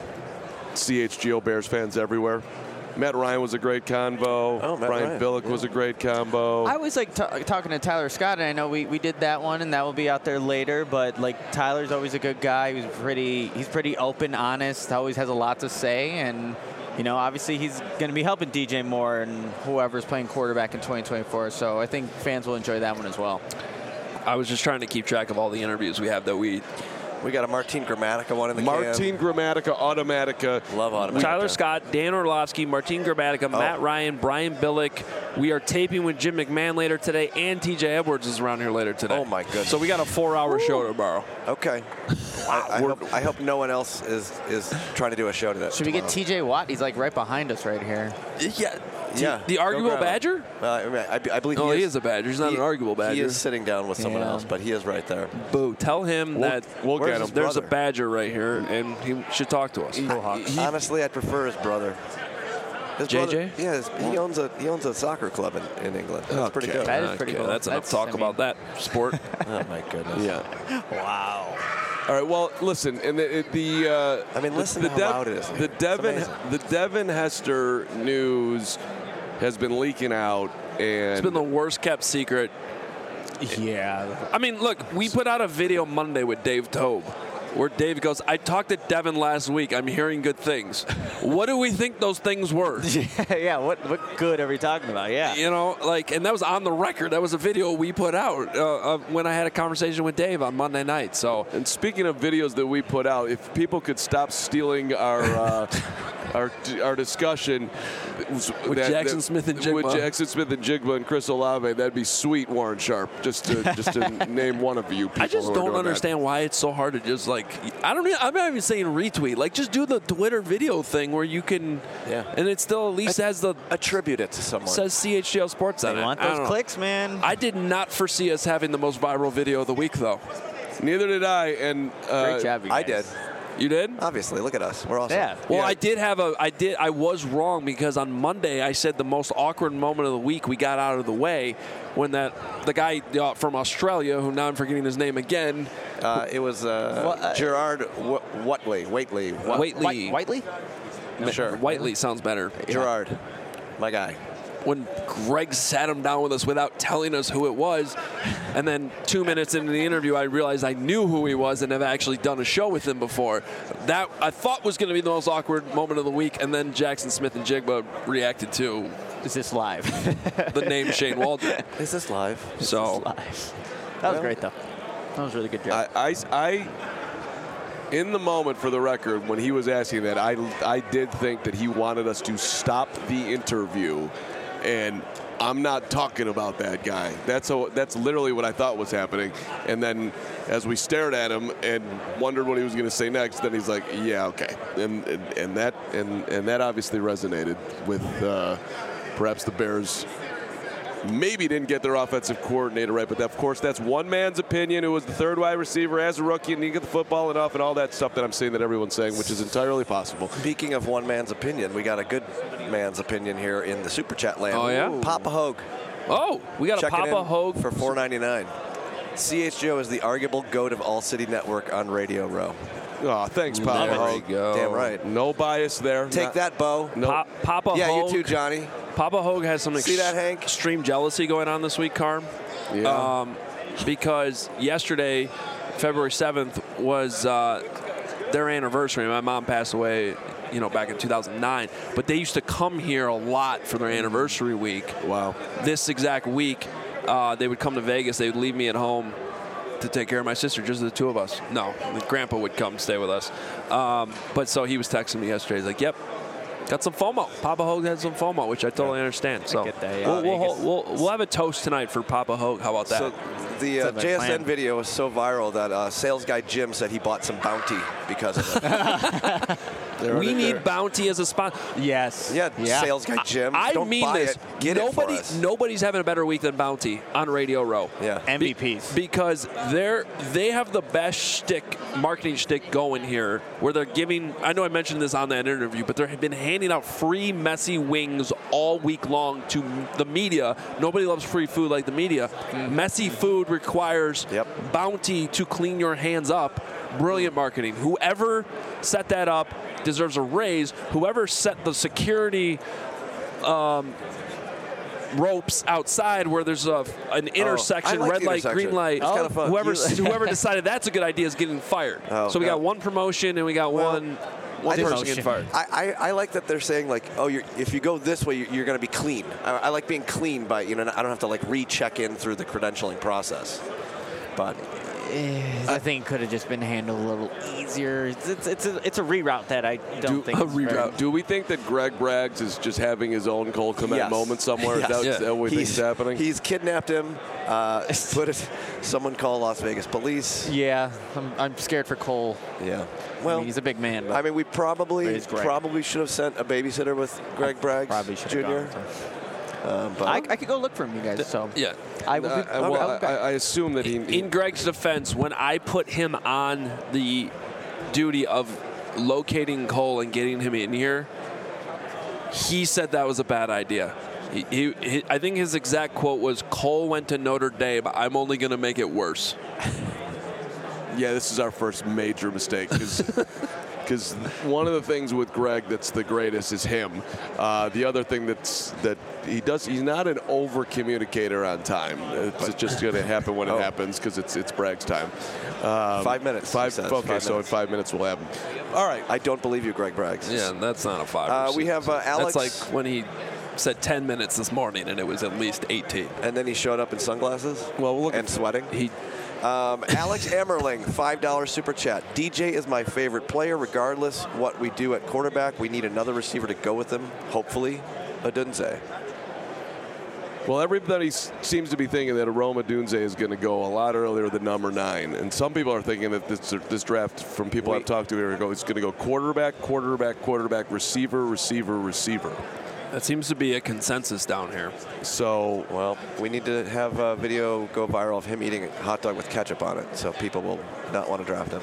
[SPEAKER 1] C H G O Bears fans everywhere? Matt Ryan was a great convo.
[SPEAKER 3] Oh, Matt
[SPEAKER 1] Brian
[SPEAKER 3] Ryan,
[SPEAKER 1] Billick
[SPEAKER 3] yeah.
[SPEAKER 1] was a great combo.
[SPEAKER 7] I always like t- talking to Tyler Scott, and I know we, we did that one, and that will be out there later. But like Tyler's always a good guy. He's pretty he's pretty open, honest. Always has a lot to say, and you know, obviously he's going to be helping D J Moore and whoever's playing quarterback in twenty twenty-four. So I think fans will enjoy that one as well.
[SPEAKER 2] I was just trying to keep track of all the interviews we have that we.
[SPEAKER 3] We got a Martin Gramatica one in the
[SPEAKER 1] Martin Gramatica, Automatica.
[SPEAKER 3] can. Love Automatica.
[SPEAKER 2] Tyler Scott, Dan Orlovsky, Martin Gramatica, Matt Ryan, Brian Billick. We are taping with Jim McMahon later today, and T J Edwards is around here later today.
[SPEAKER 3] Oh, my goodness.
[SPEAKER 2] So we got a four-hour show tomorrow.
[SPEAKER 3] Okay. I, I, hope, I hope no one else is is trying to do a show to that.
[SPEAKER 7] Should we get T J Watt? He's like right behind us right here.
[SPEAKER 2] Yeah.
[SPEAKER 3] Yeah.
[SPEAKER 2] The
[SPEAKER 3] Go
[SPEAKER 2] arguable
[SPEAKER 3] grab him.
[SPEAKER 2] Badger?
[SPEAKER 3] Uh, I, mean, I, I believe
[SPEAKER 2] Oh,
[SPEAKER 3] he,
[SPEAKER 2] he is a Badger. He's not
[SPEAKER 3] he-
[SPEAKER 2] an arguable Badger.
[SPEAKER 3] He is sitting down with someone
[SPEAKER 7] Yeah.
[SPEAKER 3] else, but he is right there.
[SPEAKER 2] Boo. Tell him
[SPEAKER 1] We'll-
[SPEAKER 2] that
[SPEAKER 1] we'll
[SPEAKER 3] Where's
[SPEAKER 1] get
[SPEAKER 3] his
[SPEAKER 1] him.
[SPEAKER 2] there's a
[SPEAKER 3] brother?
[SPEAKER 2] Badger right here, and he should talk to us.
[SPEAKER 3] He- honestly, I'd prefer his brother. His
[SPEAKER 2] J J?
[SPEAKER 3] brother- yeah, his, he owns a he owns a soccer club in, in England. That's pretty
[SPEAKER 1] Okay.
[SPEAKER 3] good.
[SPEAKER 7] That is pretty
[SPEAKER 2] Okay,
[SPEAKER 7] cool.
[SPEAKER 2] That's enough
[SPEAKER 7] That's-
[SPEAKER 2] talk
[SPEAKER 7] I mean-
[SPEAKER 2] about that sport.
[SPEAKER 3] Oh my goodness.
[SPEAKER 1] Yeah.
[SPEAKER 7] Wow.
[SPEAKER 1] All right. Well, listen, and the the. Uh,
[SPEAKER 3] I mean,
[SPEAKER 1] the-
[SPEAKER 3] listen
[SPEAKER 1] the
[SPEAKER 3] how loud it is.
[SPEAKER 1] The
[SPEAKER 3] It's
[SPEAKER 1] Devin
[SPEAKER 3] amazing.
[SPEAKER 1] the Devin Hester news has been leaking out, and
[SPEAKER 2] It's been the worst kept secret.
[SPEAKER 7] Yeah.
[SPEAKER 2] I mean, look, we put out a video Monday with Dave Tobe where Dave goes, I talked to Devin last week. I'm hearing good things. What do we think those things were?
[SPEAKER 7] yeah. Yeah. What what good are we talking about? Yeah.
[SPEAKER 2] You know, like, and that was on the record. That was a video we put out uh, of when I had a conversation with Dave on Monday night. So,
[SPEAKER 1] And speaking of videos that we put out, if people could stop stealing our uh, our our discussion
[SPEAKER 2] With Jackson Smith and Jigba.
[SPEAKER 1] with Jackson Smith and Jigba and Chris Olave, that'd be sweet, Warren Sharp. Just to just to name one of you people.
[SPEAKER 2] I just
[SPEAKER 1] who are
[SPEAKER 2] don't
[SPEAKER 1] doing that.
[SPEAKER 2] understand why it's so hard to just like I don't even, I'm not even saying retweet. Like just do the Twitter video thing where you can
[SPEAKER 3] Yeah.
[SPEAKER 2] and it still at least has the
[SPEAKER 3] Attribute it to someone.
[SPEAKER 2] says C H G L Sports on
[SPEAKER 7] They
[SPEAKER 2] it.
[SPEAKER 7] want
[SPEAKER 2] I don't
[SPEAKER 7] those
[SPEAKER 2] know.
[SPEAKER 7] clicks, man.
[SPEAKER 2] I did not foresee us having the most viral video of the week though.
[SPEAKER 1] Neither did I. And uh,
[SPEAKER 7] Great job, you
[SPEAKER 3] I
[SPEAKER 7] guys.
[SPEAKER 3] did.
[SPEAKER 2] You did?
[SPEAKER 3] Obviously, look at us. We're awesome.
[SPEAKER 7] Yeah.
[SPEAKER 2] Well,
[SPEAKER 1] Yeah.
[SPEAKER 2] I did have a. I did. I was wrong because on Monday I said the most awkward moment of the week we got out of the way when that the guy uh, from Australia, who now I'm forgetting his name again,
[SPEAKER 3] Uh, it was uh,
[SPEAKER 7] Well, uh,
[SPEAKER 3] Gerard w- Whatley. Waitley. What?
[SPEAKER 2] Waitley.
[SPEAKER 7] White, Whiteley?
[SPEAKER 3] Sure.
[SPEAKER 2] Whiteley sounds better.
[SPEAKER 3] Gerard. My guy.
[SPEAKER 2] When Greg sat him down with us without telling us who it was, and then two minutes into the interview, I realized I knew who he was and have actually done a show with him before. That I thought was going to be the most awkward moment of the week, and then Jackson Smith and Jigba reacted to
[SPEAKER 7] Is this live?
[SPEAKER 2] the name Shane Waldron.
[SPEAKER 3] Is this live?
[SPEAKER 2] So
[SPEAKER 7] live. That was great, though. That was really good job.
[SPEAKER 1] I, I, I, in the moment, for the record, when he was asking that, I, I did think that he wanted us to stop the interview, and I'm not talking about that guy. That's a, that's literally what I thought was happening. And then, as we stared at him and wondered what he was going to say next, then he's like, "Yeah, okay," and and, and that and and that obviously resonated with uh, perhaps the Bears. Maybe didn't get their offensive coordinator right, but that, of course, that's one man's opinion who was the third wide receiver as a rookie and didn't get the football enough and all that stuff that I'm saying that everyone's saying, which is entirely possible.
[SPEAKER 3] Speaking of one man's opinion, we got a good man's opinion here in the Super Chat land.
[SPEAKER 2] Oh, yeah?
[SPEAKER 3] Papa Hogue.
[SPEAKER 2] Oh, we got a
[SPEAKER 3] Checking
[SPEAKER 2] Papa
[SPEAKER 3] in
[SPEAKER 2] Hogue
[SPEAKER 3] for four ninety-nine. C H G O is the arguable goat of All City Network on Radio Row.
[SPEAKER 1] Oh, thanks, Papa
[SPEAKER 2] There
[SPEAKER 1] Hogue.
[SPEAKER 2] we go.
[SPEAKER 3] Damn right.
[SPEAKER 1] No bias there.
[SPEAKER 3] Take
[SPEAKER 1] Not-
[SPEAKER 3] that, Bo.
[SPEAKER 1] No.
[SPEAKER 2] Pa- Papa
[SPEAKER 3] Yeah,
[SPEAKER 2] Hogue.
[SPEAKER 3] you too, Johnny.
[SPEAKER 2] Papa Hogue has some
[SPEAKER 3] See that, Hank?
[SPEAKER 2] extreme jealousy going on this week, Carm.
[SPEAKER 1] Yeah.
[SPEAKER 2] Um, because yesterday, February seventh, was uh, their anniversary. My mom passed away, you know, back in two thousand nine. But they used to come here a lot for their anniversary week.
[SPEAKER 1] Wow.
[SPEAKER 2] This exact week, uh, they would come to Vegas. They would leave me at home to take care of my sister, just the two of us. No, Grandpa would come stay with us. Um, but so he was texting me yesterday. He's like, "Yep, got some FOMO. Papa Hogue had some FOMO," which I totally understand. So
[SPEAKER 7] get that, yeah.
[SPEAKER 2] we'll, we'll,
[SPEAKER 7] Vegas.
[SPEAKER 2] we'll, we'll have a toast tonight for Papa Hogue. How about that?
[SPEAKER 3] So the uh,
[SPEAKER 7] Sounds like
[SPEAKER 3] J S N
[SPEAKER 7] plan.
[SPEAKER 3] video was so viral that uh, sales guy Jim said he bought some Bounty because of it.
[SPEAKER 2] we need Bounty as a sponsor.
[SPEAKER 7] Yes.
[SPEAKER 3] Yeah,
[SPEAKER 7] Yeah.
[SPEAKER 3] sales guy Jim.
[SPEAKER 2] I
[SPEAKER 3] Don't
[SPEAKER 2] mean
[SPEAKER 3] buy
[SPEAKER 2] this.
[SPEAKER 3] it. Get
[SPEAKER 2] Nobody,
[SPEAKER 3] it for us.
[SPEAKER 2] nobody's having a better week than Bounty on Radio Row.
[SPEAKER 3] Yeah.
[SPEAKER 7] M V Ps.
[SPEAKER 2] Because they're they have the best shtick, marketing shtick going here, where they're giving. I know I mentioned this on that interview, but they've been handing out free messy wings all week long to the media. Nobody loves free food like the media. Messy food requires
[SPEAKER 3] Yep.
[SPEAKER 2] Bounty to clean your hands up. Brilliant marketing. Whoever set that up deserves a raise. Whoever set the security um, ropes outside where there's a, an intersection,
[SPEAKER 3] Oh, I like
[SPEAKER 2] red
[SPEAKER 3] the
[SPEAKER 2] light,
[SPEAKER 3] intersection.
[SPEAKER 2] green light.
[SPEAKER 3] It's kinda fun.
[SPEAKER 2] Whoever
[SPEAKER 3] You-
[SPEAKER 2] whoever decided that's a good idea is getting fired.
[SPEAKER 3] Oh,
[SPEAKER 2] so we
[SPEAKER 3] no.
[SPEAKER 2] got one promotion and we got
[SPEAKER 3] Well,
[SPEAKER 2] one one
[SPEAKER 3] I
[SPEAKER 2] person
[SPEAKER 3] just-
[SPEAKER 2] getting fired.
[SPEAKER 3] I, I, I like that they're saying like, oh, you're, if you go this way, you're, you're going to be clean. I, I like being clean, by you know, I don't have to like recheck in through the credentialing process. But
[SPEAKER 7] I think could have just been handled a little easier. It's, it's, it's, a, it's a reroute that I don't
[SPEAKER 1] Do,
[SPEAKER 7] think
[SPEAKER 2] a
[SPEAKER 7] is very-
[SPEAKER 2] reroute.
[SPEAKER 1] do we think that Greg Braggs is just having his own Cole Kmet
[SPEAKER 3] Yes.
[SPEAKER 1] moment somewhere?
[SPEAKER 3] Yes.
[SPEAKER 1] Is that,
[SPEAKER 2] Yeah.
[SPEAKER 1] is that what we think is
[SPEAKER 3] he's
[SPEAKER 1] happening?
[SPEAKER 3] He's kidnapped him. Uh, put it. Someone call Las Vegas police.
[SPEAKER 7] Yeah, I'm, I'm scared for Cole.
[SPEAKER 3] Yeah.
[SPEAKER 7] I
[SPEAKER 3] Well,
[SPEAKER 7] mean, he's a big man. But
[SPEAKER 3] I mean, we probably
[SPEAKER 7] But he's great.
[SPEAKER 3] probably should have sent a babysitter with Greg Braggs
[SPEAKER 7] probably should
[SPEAKER 3] Junior
[SPEAKER 7] have gone.
[SPEAKER 3] Um, but
[SPEAKER 7] I, I could go look for him, you guys. So
[SPEAKER 2] Yeah.
[SPEAKER 7] I will. Be,
[SPEAKER 1] Uh,
[SPEAKER 7] I'll-
[SPEAKER 1] well,
[SPEAKER 7] I'll be
[SPEAKER 1] I,
[SPEAKER 7] back.
[SPEAKER 1] I assume that he. he
[SPEAKER 2] In Greg's defense, when I put him on the duty of locating Cole and getting him in here, he said that was a bad idea. He, he, he, I think his exact quote was, "Cole went to Notre Dame. I'm only going to make it worse."
[SPEAKER 1] yeah, this is our first major mistake because one of the things with Greg that's the greatest is him. Uh, the other thing that's that he does, he's not an over communicator on time. It's just going to happen when
[SPEAKER 3] Oh.
[SPEAKER 1] it happens because it's it's Bragg's time. Um,
[SPEAKER 3] Five minutes,
[SPEAKER 1] Five.
[SPEAKER 3] he says.
[SPEAKER 1] Okay,
[SPEAKER 3] Five
[SPEAKER 1] so
[SPEAKER 3] minutes.
[SPEAKER 1] in five minutes we'll have him. All right.
[SPEAKER 3] I don't believe you, Greg Braggs.
[SPEAKER 2] Yeah, that's not a five.
[SPEAKER 3] Uh, we have uh, Alex.
[SPEAKER 2] That's like when he said ten minutes this morning, and it was at least eighteen.
[SPEAKER 3] And then he showed up in sunglasses.
[SPEAKER 1] Well, look
[SPEAKER 3] and sweating.
[SPEAKER 2] He
[SPEAKER 3] Um, Alex Emmerling, five dollars super chat. D J is my favorite player, regardless what we do at quarterback. We need another receiver to go with him. Hopefully, Odunze.
[SPEAKER 1] Well, everybody s- seems to be thinking that Aroma Dunze is going to go a lot earlier than number nine, and some people are thinking that this this draft, from people I've talked to here, go it's going to go quarterback, quarterback, quarterback, receiver, receiver, receiver.
[SPEAKER 2] that seems to be a consensus down here.
[SPEAKER 1] So,
[SPEAKER 3] Well, we need to have a video go viral of him eating a hot dog with ketchup on it, so people will not want to draft him.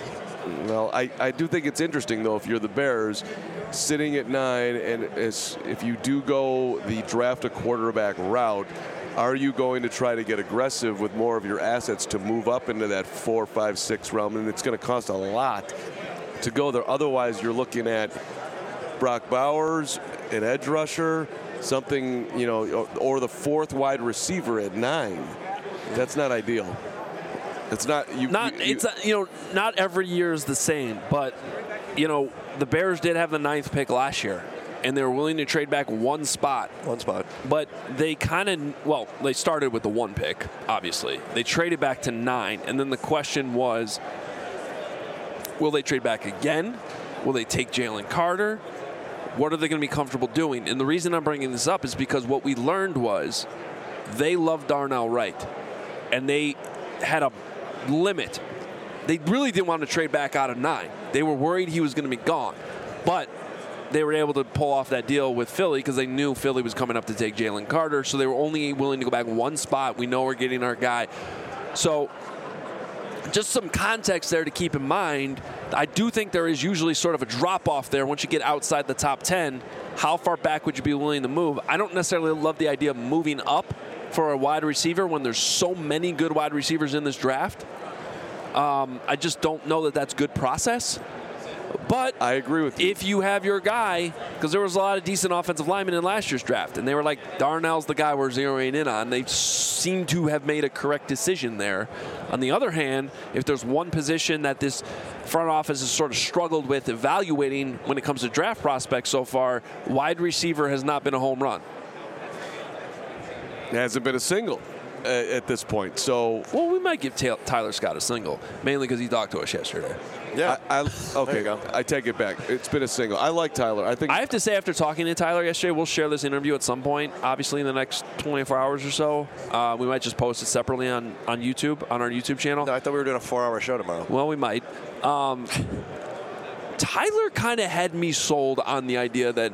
[SPEAKER 1] Well, I, I do think it's interesting, though, if you're the Bears, sitting at nine, and as, if you do go the draft a quarterback route, are you going to try to get aggressive with more of your assets to move up into that four, five, six realm? And it's going to cost a lot to go there. Otherwise, you're looking at Brock Bowers, an edge rusher, something, you know, or, or the fourth wide receiver at nine. That's not ideal. It's not you.
[SPEAKER 2] Not
[SPEAKER 1] you,
[SPEAKER 2] it's you know not every year is the same, but you know the Bears did have the ninth pick last year, and they were willing to trade back one spot.
[SPEAKER 3] One spot.
[SPEAKER 2] But they kind of well, they started with the one pick. Obviously, they traded back to nine, and then the question was, will they trade back again? Will they take Jalen Carter? What are they going to be comfortable doing? And the reason I'm bringing this up is because what we learned was they loved Darnell Wright, and they had a limit. They really didn't want to trade back out of nine. They were worried he was going to be gone. But they were able to pull off that deal with Philly because they knew Philly was coming up to take Jalen Carter, so they were only willing to go back one spot. We know we're getting our guy. So just some context there to keep in mind. I do think there is usually sort of a drop-off there once you get outside the top ten. How far back would you be willing to move? I don't necessarily love the idea of moving up for a wide receiver when there's so many good wide receivers in this draft. Um, I just don't know that that's good process. But
[SPEAKER 1] I agree with you.
[SPEAKER 2] If you have your guy, because there was a lot of decent offensive linemen in last year's draft, and they were like, Darnell's the guy we're zeroing in on. They seem to have made a correct decision there. On the other hand, if there's one position that this front office has sort of struggled with evaluating when it comes to draft prospects so far, wide receiver has not been a home run.
[SPEAKER 1] It hasn't been a single uh, at this point. So,
[SPEAKER 2] well, we might give Ta- Tyler Scott a single, mainly because he talked to us yesterday.
[SPEAKER 3] Yeah.
[SPEAKER 1] I, I, okay, I take it back. It's been a single. I like Tyler. I think
[SPEAKER 2] I have to say, after talking to Tyler yesterday, we'll share this interview at some point. Obviously, in the next twenty-four hours or so, uh, we might just post it separately on on YouTube on our YouTube channel.
[SPEAKER 3] No, I thought we were doing a four-hour show tomorrow.
[SPEAKER 2] Well, we might. Um, Tyler kind of had me sold on the idea that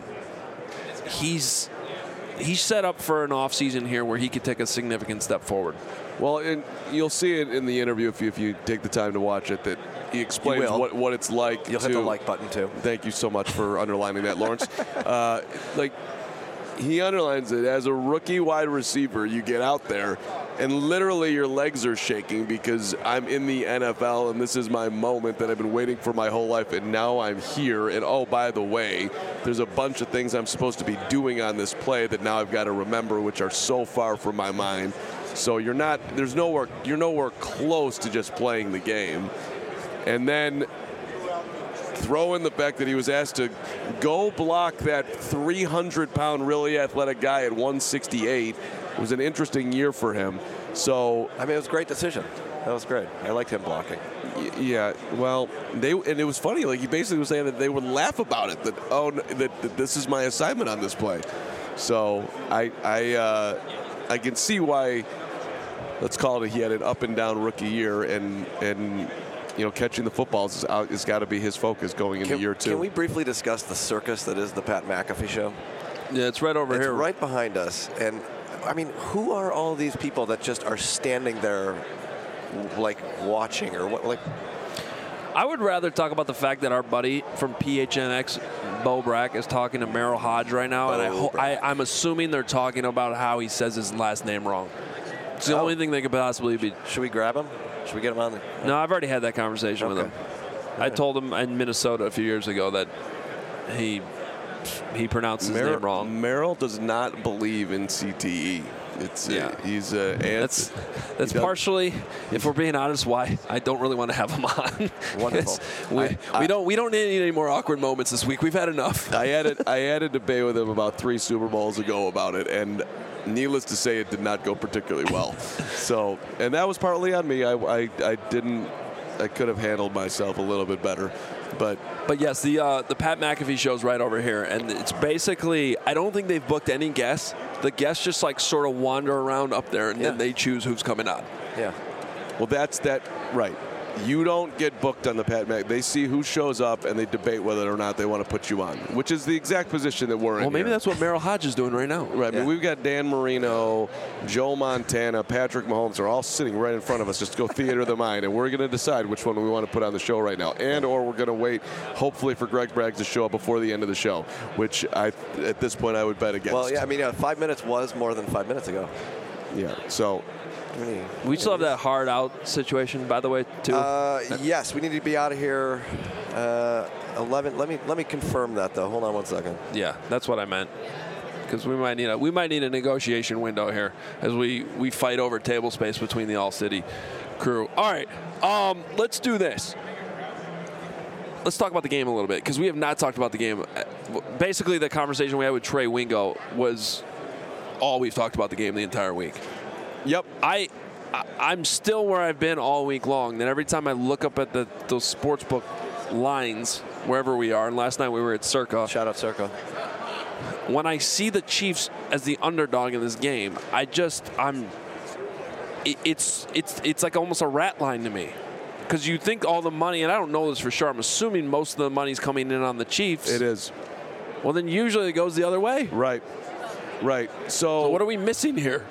[SPEAKER 2] he's he's set up for an offseason here where he could take a significant step forward.
[SPEAKER 1] Well, and you'll see it in the interview if you, if you take the time to watch it, that he explains what, what it's like.
[SPEAKER 3] You'll
[SPEAKER 1] to,
[SPEAKER 3] hit the like button, too.
[SPEAKER 1] Thank you so much for underlining that, Lawrence. uh, like, he underlines it. As a rookie wide receiver, you get out there, and literally your legs are shaking because I'm in the N F L, and this is my moment that I've been waiting for my whole life, and now I'm here. And, oh, by the way, there's a bunch of things I'm supposed to be doing on this play that now I've got to remember, which are so far from my mind. So you're not, there's nowhere, you're nowhere close to just playing the game. And then throw in the fact that he was asked to go block that three hundred pound really athletic guy at one sixty-eight. It was an interesting year for him. So
[SPEAKER 3] I mean, it was a great decision. That was great. I liked him blocking.
[SPEAKER 1] Y- yeah, well, they and it was funny. Like, he basically was saying that they would laugh about it. That oh, that, that this is my assignment on this play. So I I uh, I can see why. Let's call it. He had an up and down rookie year, and and. You know, catching the footballs is out, has got to be his focus going into
[SPEAKER 3] can,
[SPEAKER 1] year two.
[SPEAKER 3] Can we briefly discuss the circus that is the Pat McAfee show?
[SPEAKER 2] Yeah, it's right over
[SPEAKER 3] it's
[SPEAKER 2] here.
[SPEAKER 3] right behind us. And, I mean, who are all these people that just are standing there, like, watching or what? Like,
[SPEAKER 2] I would rather talk about the fact that our buddy from P H N X, Bo Brack, is talking to Merrill Hodge right now,
[SPEAKER 3] Bo
[SPEAKER 2] and I ho- I, I'm assuming they're talking about how he says his last name wrong. It's the
[SPEAKER 3] Oh.
[SPEAKER 2] only thing they could possibly be.
[SPEAKER 3] Should we grab him? Should we get him on there?
[SPEAKER 2] No, I've already had that conversation with
[SPEAKER 3] Okay.
[SPEAKER 2] him. I told him in Minnesota a few years ago that he he pronounced his
[SPEAKER 1] Merrill,
[SPEAKER 2] name wrong.
[SPEAKER 1] Merrill does not believe in C T E. It's
[SPEAKER 2] Yeah.
[SPEAKER 1] uh, he's uh,
[SPEAKER 2] That's that's
[SPEAKER 1] he does-
[SPEAKER 2] partially, if we're being honest, why I don't really want to have him on.
[SPEAKER 3] Wonderful.
[SPEAKER 2] we,
[SPEAKER 1] I- I-
[SPEAKER 2] we don't we don't need any more awkward moments this week. We've had enough.
[SPEAKER 1] I had it. I had a debate with him about three Super Bowls ago about it, and needless to say, it did not go particularly well. So, and that was partly on me. I, I, I didn't. I could have handled myself a little bit better, but
[SPEAKER 2] But yes, the uh, the Pat McAfee show's right over here, and it's basically I don't think they've booked any guests. The guests just like sort of wander around up there, and
[SPEAKER 3] Yeah.
[SPEAKER 2] then they choose who's coming on.
[SPEAKER 3] Yeah.
[SPEAKER 1] well, that's that right. You don't get booked on the Pat Mc. They see who shows up and they debate whether or not they want to put you on, which is the exact position that we're in.
[SPEAKER 2] Well, maybe
[SPEAKER 1] here.
[SPEAKER 2] that's what Merrill Hodge is doing right now.
[SPEAKER 1] Right.
[SPEAKER 3] Yeah.
[SPEAKER 1] I mean, we've got Dan Marino, Joe Montana, Patrick Mahomes are all sitting right in front of us, just go theater of the mind, and we're going to decide which one we want to put on the show right now, and or we're going to wait, hopefully, for Greg Bragg to show up before the end of the show, which I, at this point, I would bet against.
[SPEAKER 3] Well, yeah, I mean, yeah, five minutes was more than five minutes ago.
[SPEAKER 1] Yeah. So.
[SPEAKER 2] We still have that hard out situation, by the way, too.
[SPEAKER 3] Uh, yes, we need to be out of here. Uh, Eleven. Let me let me confirm that though. Hold on one second.
[SPEAKER 2] Yeah, that's what I meant. Because we might need a we might need a negotiation window here as we we fight over table space between the All City crew. All right, um, let's do this. Let's talk about the game a little bit because we have not talked about the game. Basically, the conversation we had with Trey Wingo was all we've talked about the game the entire week.
[SPEAKER 1] Yep.
[SPEAKER 2] I, I I'm still where I've been all week long. Then every time I look up at the those sportsbook lines wherever we are, and last night we were at Circa.
[SPEAKER 3] Shout out Circa.
[SPEAKER 2] When I see the Chiefs as the underdog in this game, I just I'm. It, it's it's it's like almost a rat line to me, because you think all the money, and I don't know this for sure. I'm assuming most of the money's coming in on the Chiefs.
[SPEAKER 1] It is.
[SPEAKER 2] Well, then usually it goes the other way.
[SPEAKER 1] Right. Right. So,
[SPEAKER 2] So what are we missing here?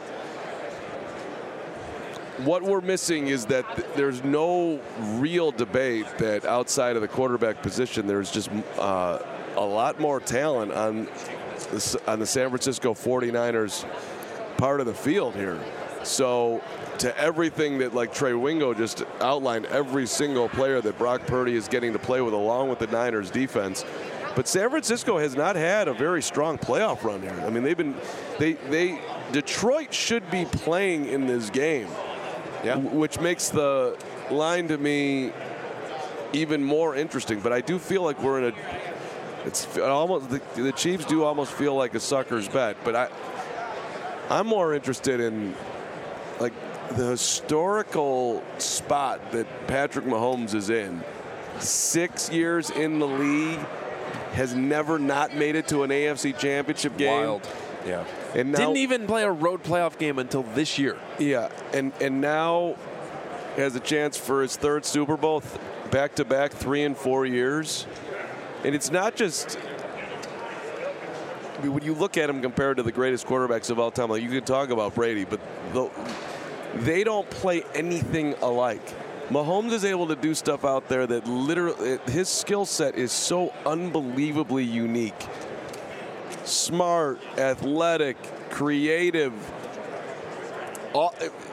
[SPEAKER 1] what we're missing is that th- there's no real debate that outside of the quarterback position, there's just uh, a lot more talent on the, S- on the San Francisco forty-niners part of the field here. So to everything that like Trey Wingo just outlined, every single player that Brock Purdy is getting to play with along with the Niners defense. But San Francisco has not had a very strong playoff run here. I mean, they've been, they, they, Detroit should be playing in this game.
[SPEAKER 3] Yeah.
[SPEAKER 1] Which makes the line to me even more interesting. But I do feel like we're in a, it's almost, the, the Chiefs do almost feel like a sucker's bet. But I, I'm more interested in like the historical spot that Patrick Mahomes is in. Six years in the league, has never not made it to an A F C Championship game.
[SPEAKER 2] Wild.
[SPEAKER 3] Yeah.
[SPEAKER 1] And now,
[SPEAKER 2] Didn't even play a road playoff game until this year.
[SPEAKER 1] Yeah, and and now has a chance for his third Super Bowl, back to back, three and four years. And it's not just, I mean, when you look at him compared to the greatest quarterbacks of all time, like you can talk about Brady, but the, they don't play anything alike. Mahomes is able to do stuff out there that literally, his skill set is so unbelievably unique. Smart, athletic, creative, all,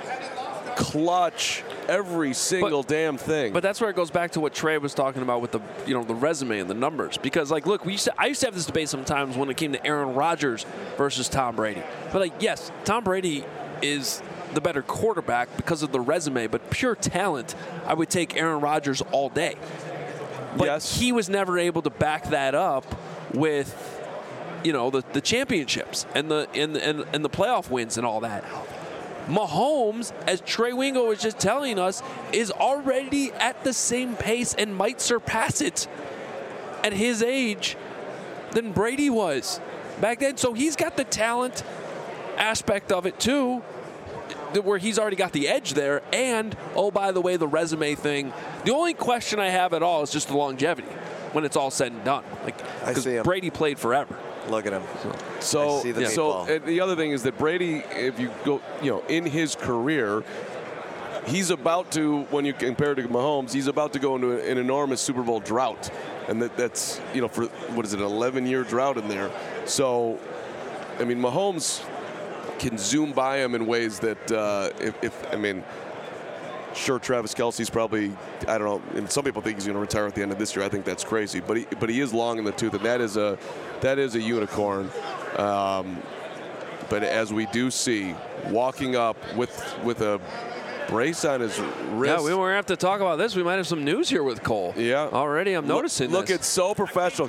[SPEAKER 1] clutch, every single
[SPEAKER 2] But-
[SPEAKER 1] damn thing.
[SPEAKER 2] But that's where it goes back to what Trey was talking about with the, you know, the resume and the numbers. Because, like, look, we used to, I used to have this debate sometimes when it came to Aaron Rodgers versus Tom Brady. But, like, yes, Tom Brady is the better quarterback because of the resume, but pure talent, I would take Aaron Rodgers all day. But
[SPEAKER 1] Yes.
[SPEAKER 2] he was never able to back that up with, you know, the, the championships and the and, and and the playoff wins and all that. Mahomes, as Trey Wingo was just telling us, is already at the same pace and might surpass it at his age than Brady was back then. So he's got the talent aspect of it too, where he's already got the edge there. And, oh, by the way, the resume thing. The only question I have at all is just the longevity when it's all said and done. Like,
[SPEAKER 3] I
[SPEAKER 2] because
[SPEAKER 3] see him.
[SPEAKER 2] Brady played forever.
[SPEAKER 3] Look at him.
[SPEAKER 1] So,
[SPEAKER 3] I see the
[SPEAKER 1] so
[SPEAKER 3] meatball.
[SPEAKER 1] and the other thing is that Brady, if you go, you know, in his career, he's about to, when you compare to Mahomes, he's about to go into an enormous Super Bowl drought, and that, that's, you know, for what is it, an eleven-year drought in there. So, I mean, Mahomes can zoom by him in ways that, uh, if, if I mean. Sure, Travis Kelce's probably, I don't know, and some people think he's going to retire at the end of this year. I think that's crazy, but he, but he is long in the tooth, and that is a, that is a unicorn. Um, but as we do see, walking up with with a brace on his wrist.
[SPEAKER 2] Yeah, we won't have to talk about this. We might have some news here with Cole.
[SPEAKER 1] Yeah.
[SPEAKER 2] Already I'm noticing
[SPEAKER 1] Look,
[SPEAKER 2] this.
[SPEAKER 1] it's so professional.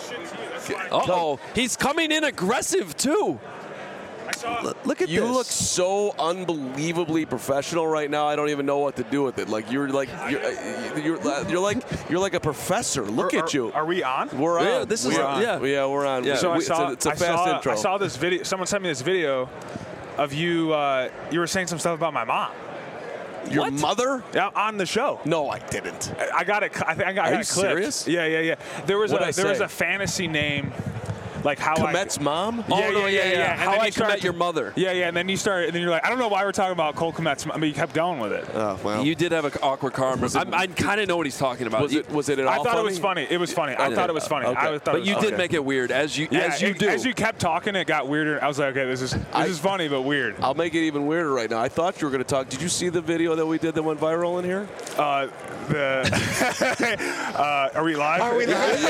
[SPEAKER 2] Uh-oh. He's coming in aggressive, too.
[SPEAKER 3] Look at
[SPEAKER 1] You
[SPEAKER 3] this.
[SPEAKER 1] look so unbelievably professional right now. I don't even know what to do with it. Like you're like you're you're, you're like you're like a professor. Look
[SPEAKER 8] Are-
[SPEAKER 1] at you.
[SPEAKER 8] Are we on?
[SPEAKER 1] We're on.
[SPEAKER 2] Yeah, this is-
[SPEAKER 1] We're on.
[SPEAKER 2] yeah.
[SPEAKER 1] yeah, we're on.
[SPEAKER 2] Yeah.
[SPEAKER 8] So I
[SPEAKER 1] We-
[SPEAKER 8] saw,
[SPEAKER 1] it's a, it's a
[SPEAKER 8] I
[SPEAKER 1] fast
[SPEAKER 8] saw,
[SPEAKER 1] intro.
[SPEAKER 8] I saw this video. Someone sent me this video of you. Uh, you were saying some stuff about my mom.
[SPEAKER 1] Your
[SPEAKER 2] What?
[SPEAKER 1] mother?
[SPEAKER 8] Yeah, on the show.
[SPEAKER 1] No, I didn't.
[SPEAKER 8] I got it. I think I got,
[SPEAKER 1] Are
[SPEAKER 8] I got
[SPEAKER 1] you
[SPEAKER 8] it clipped.
[SPEAKER 1] serious?
[SPEAKER 8] Yeah, yeah, yeah. There was
[SPEAKER 1] What'd
[SPEAKER 8] a
[SPEAKER 1] I
[SPEAKER 8] there was
[SPEAKER 1] say?
[SPEAKER 8] a fantasy name, like how
[SPEAKER 1] Komet's
[SPEAKER 8] I.
[SPEAKER 1] mom?
[SPEAKER 8] Yeah,
[SPEAKER 2] Oh,
[SPEAKER 8] yeah,
[SPEAKER 2] no,
[SPEAKER 8] yeah,
[SPEAKER 2] yeah,
[SPEAKER 8] yeah.
[SPEAKER 2] yeah.
[SPEAKER 8] And
[SPEAKER 2] How
[SPEAKER 8] then
[SPEAKER 2] I
[SPEAKER 8] you start
[SPEAKER 2] Met Your Mother.
[SPEAKER 8] Yeah, yeah. And then you start, and then you're like, I don't know why we're talking about Cole Komet's mom, but you kept going with it.
[SPEAKER 1] Oh, well.
[SPEAKER 2] You did have an awkward karma. I, I kind of know what he's talking about.
[SPEAKER 1] Was it, was it at
[SPEAKER 8] I
[SPEAKER 1] all
[SPEAKER 8] thought
[SPEAKER 1] funny?
[SPEAKER 8] it was funny. It was funny. I
[SPEAKER 2] Okay.
[SPEAKER 8] thought it was funny.
[SPEAKER 1] Okay.
[SPEAKER 8] I thought
[SPEAKER 2] But
[SPEAKER 8] it was
[SPEAKER 2] you
[SPEAKER 8] funny.
[SPEAKER 2] did make it weird, as you
[SPEAKER 8] Yeah,
[SPEAKER 2] as you
[SPEAKER 8] it-
[SPEAKER 2] do.
[SPEAKER 8] As you kept talking, it got weirder. I was like, okay, this is this
[SPEAKER 1] I-
[SPEAKER 8] is funny but weird.
[SPEAKER 1] I'll make it even weirder right now. I thought you were going to talk. Did you see the video that we did that went viral in here?
[SPEAKER 8] Uh, the uh, are we live?
[SPEAKER 9] Are we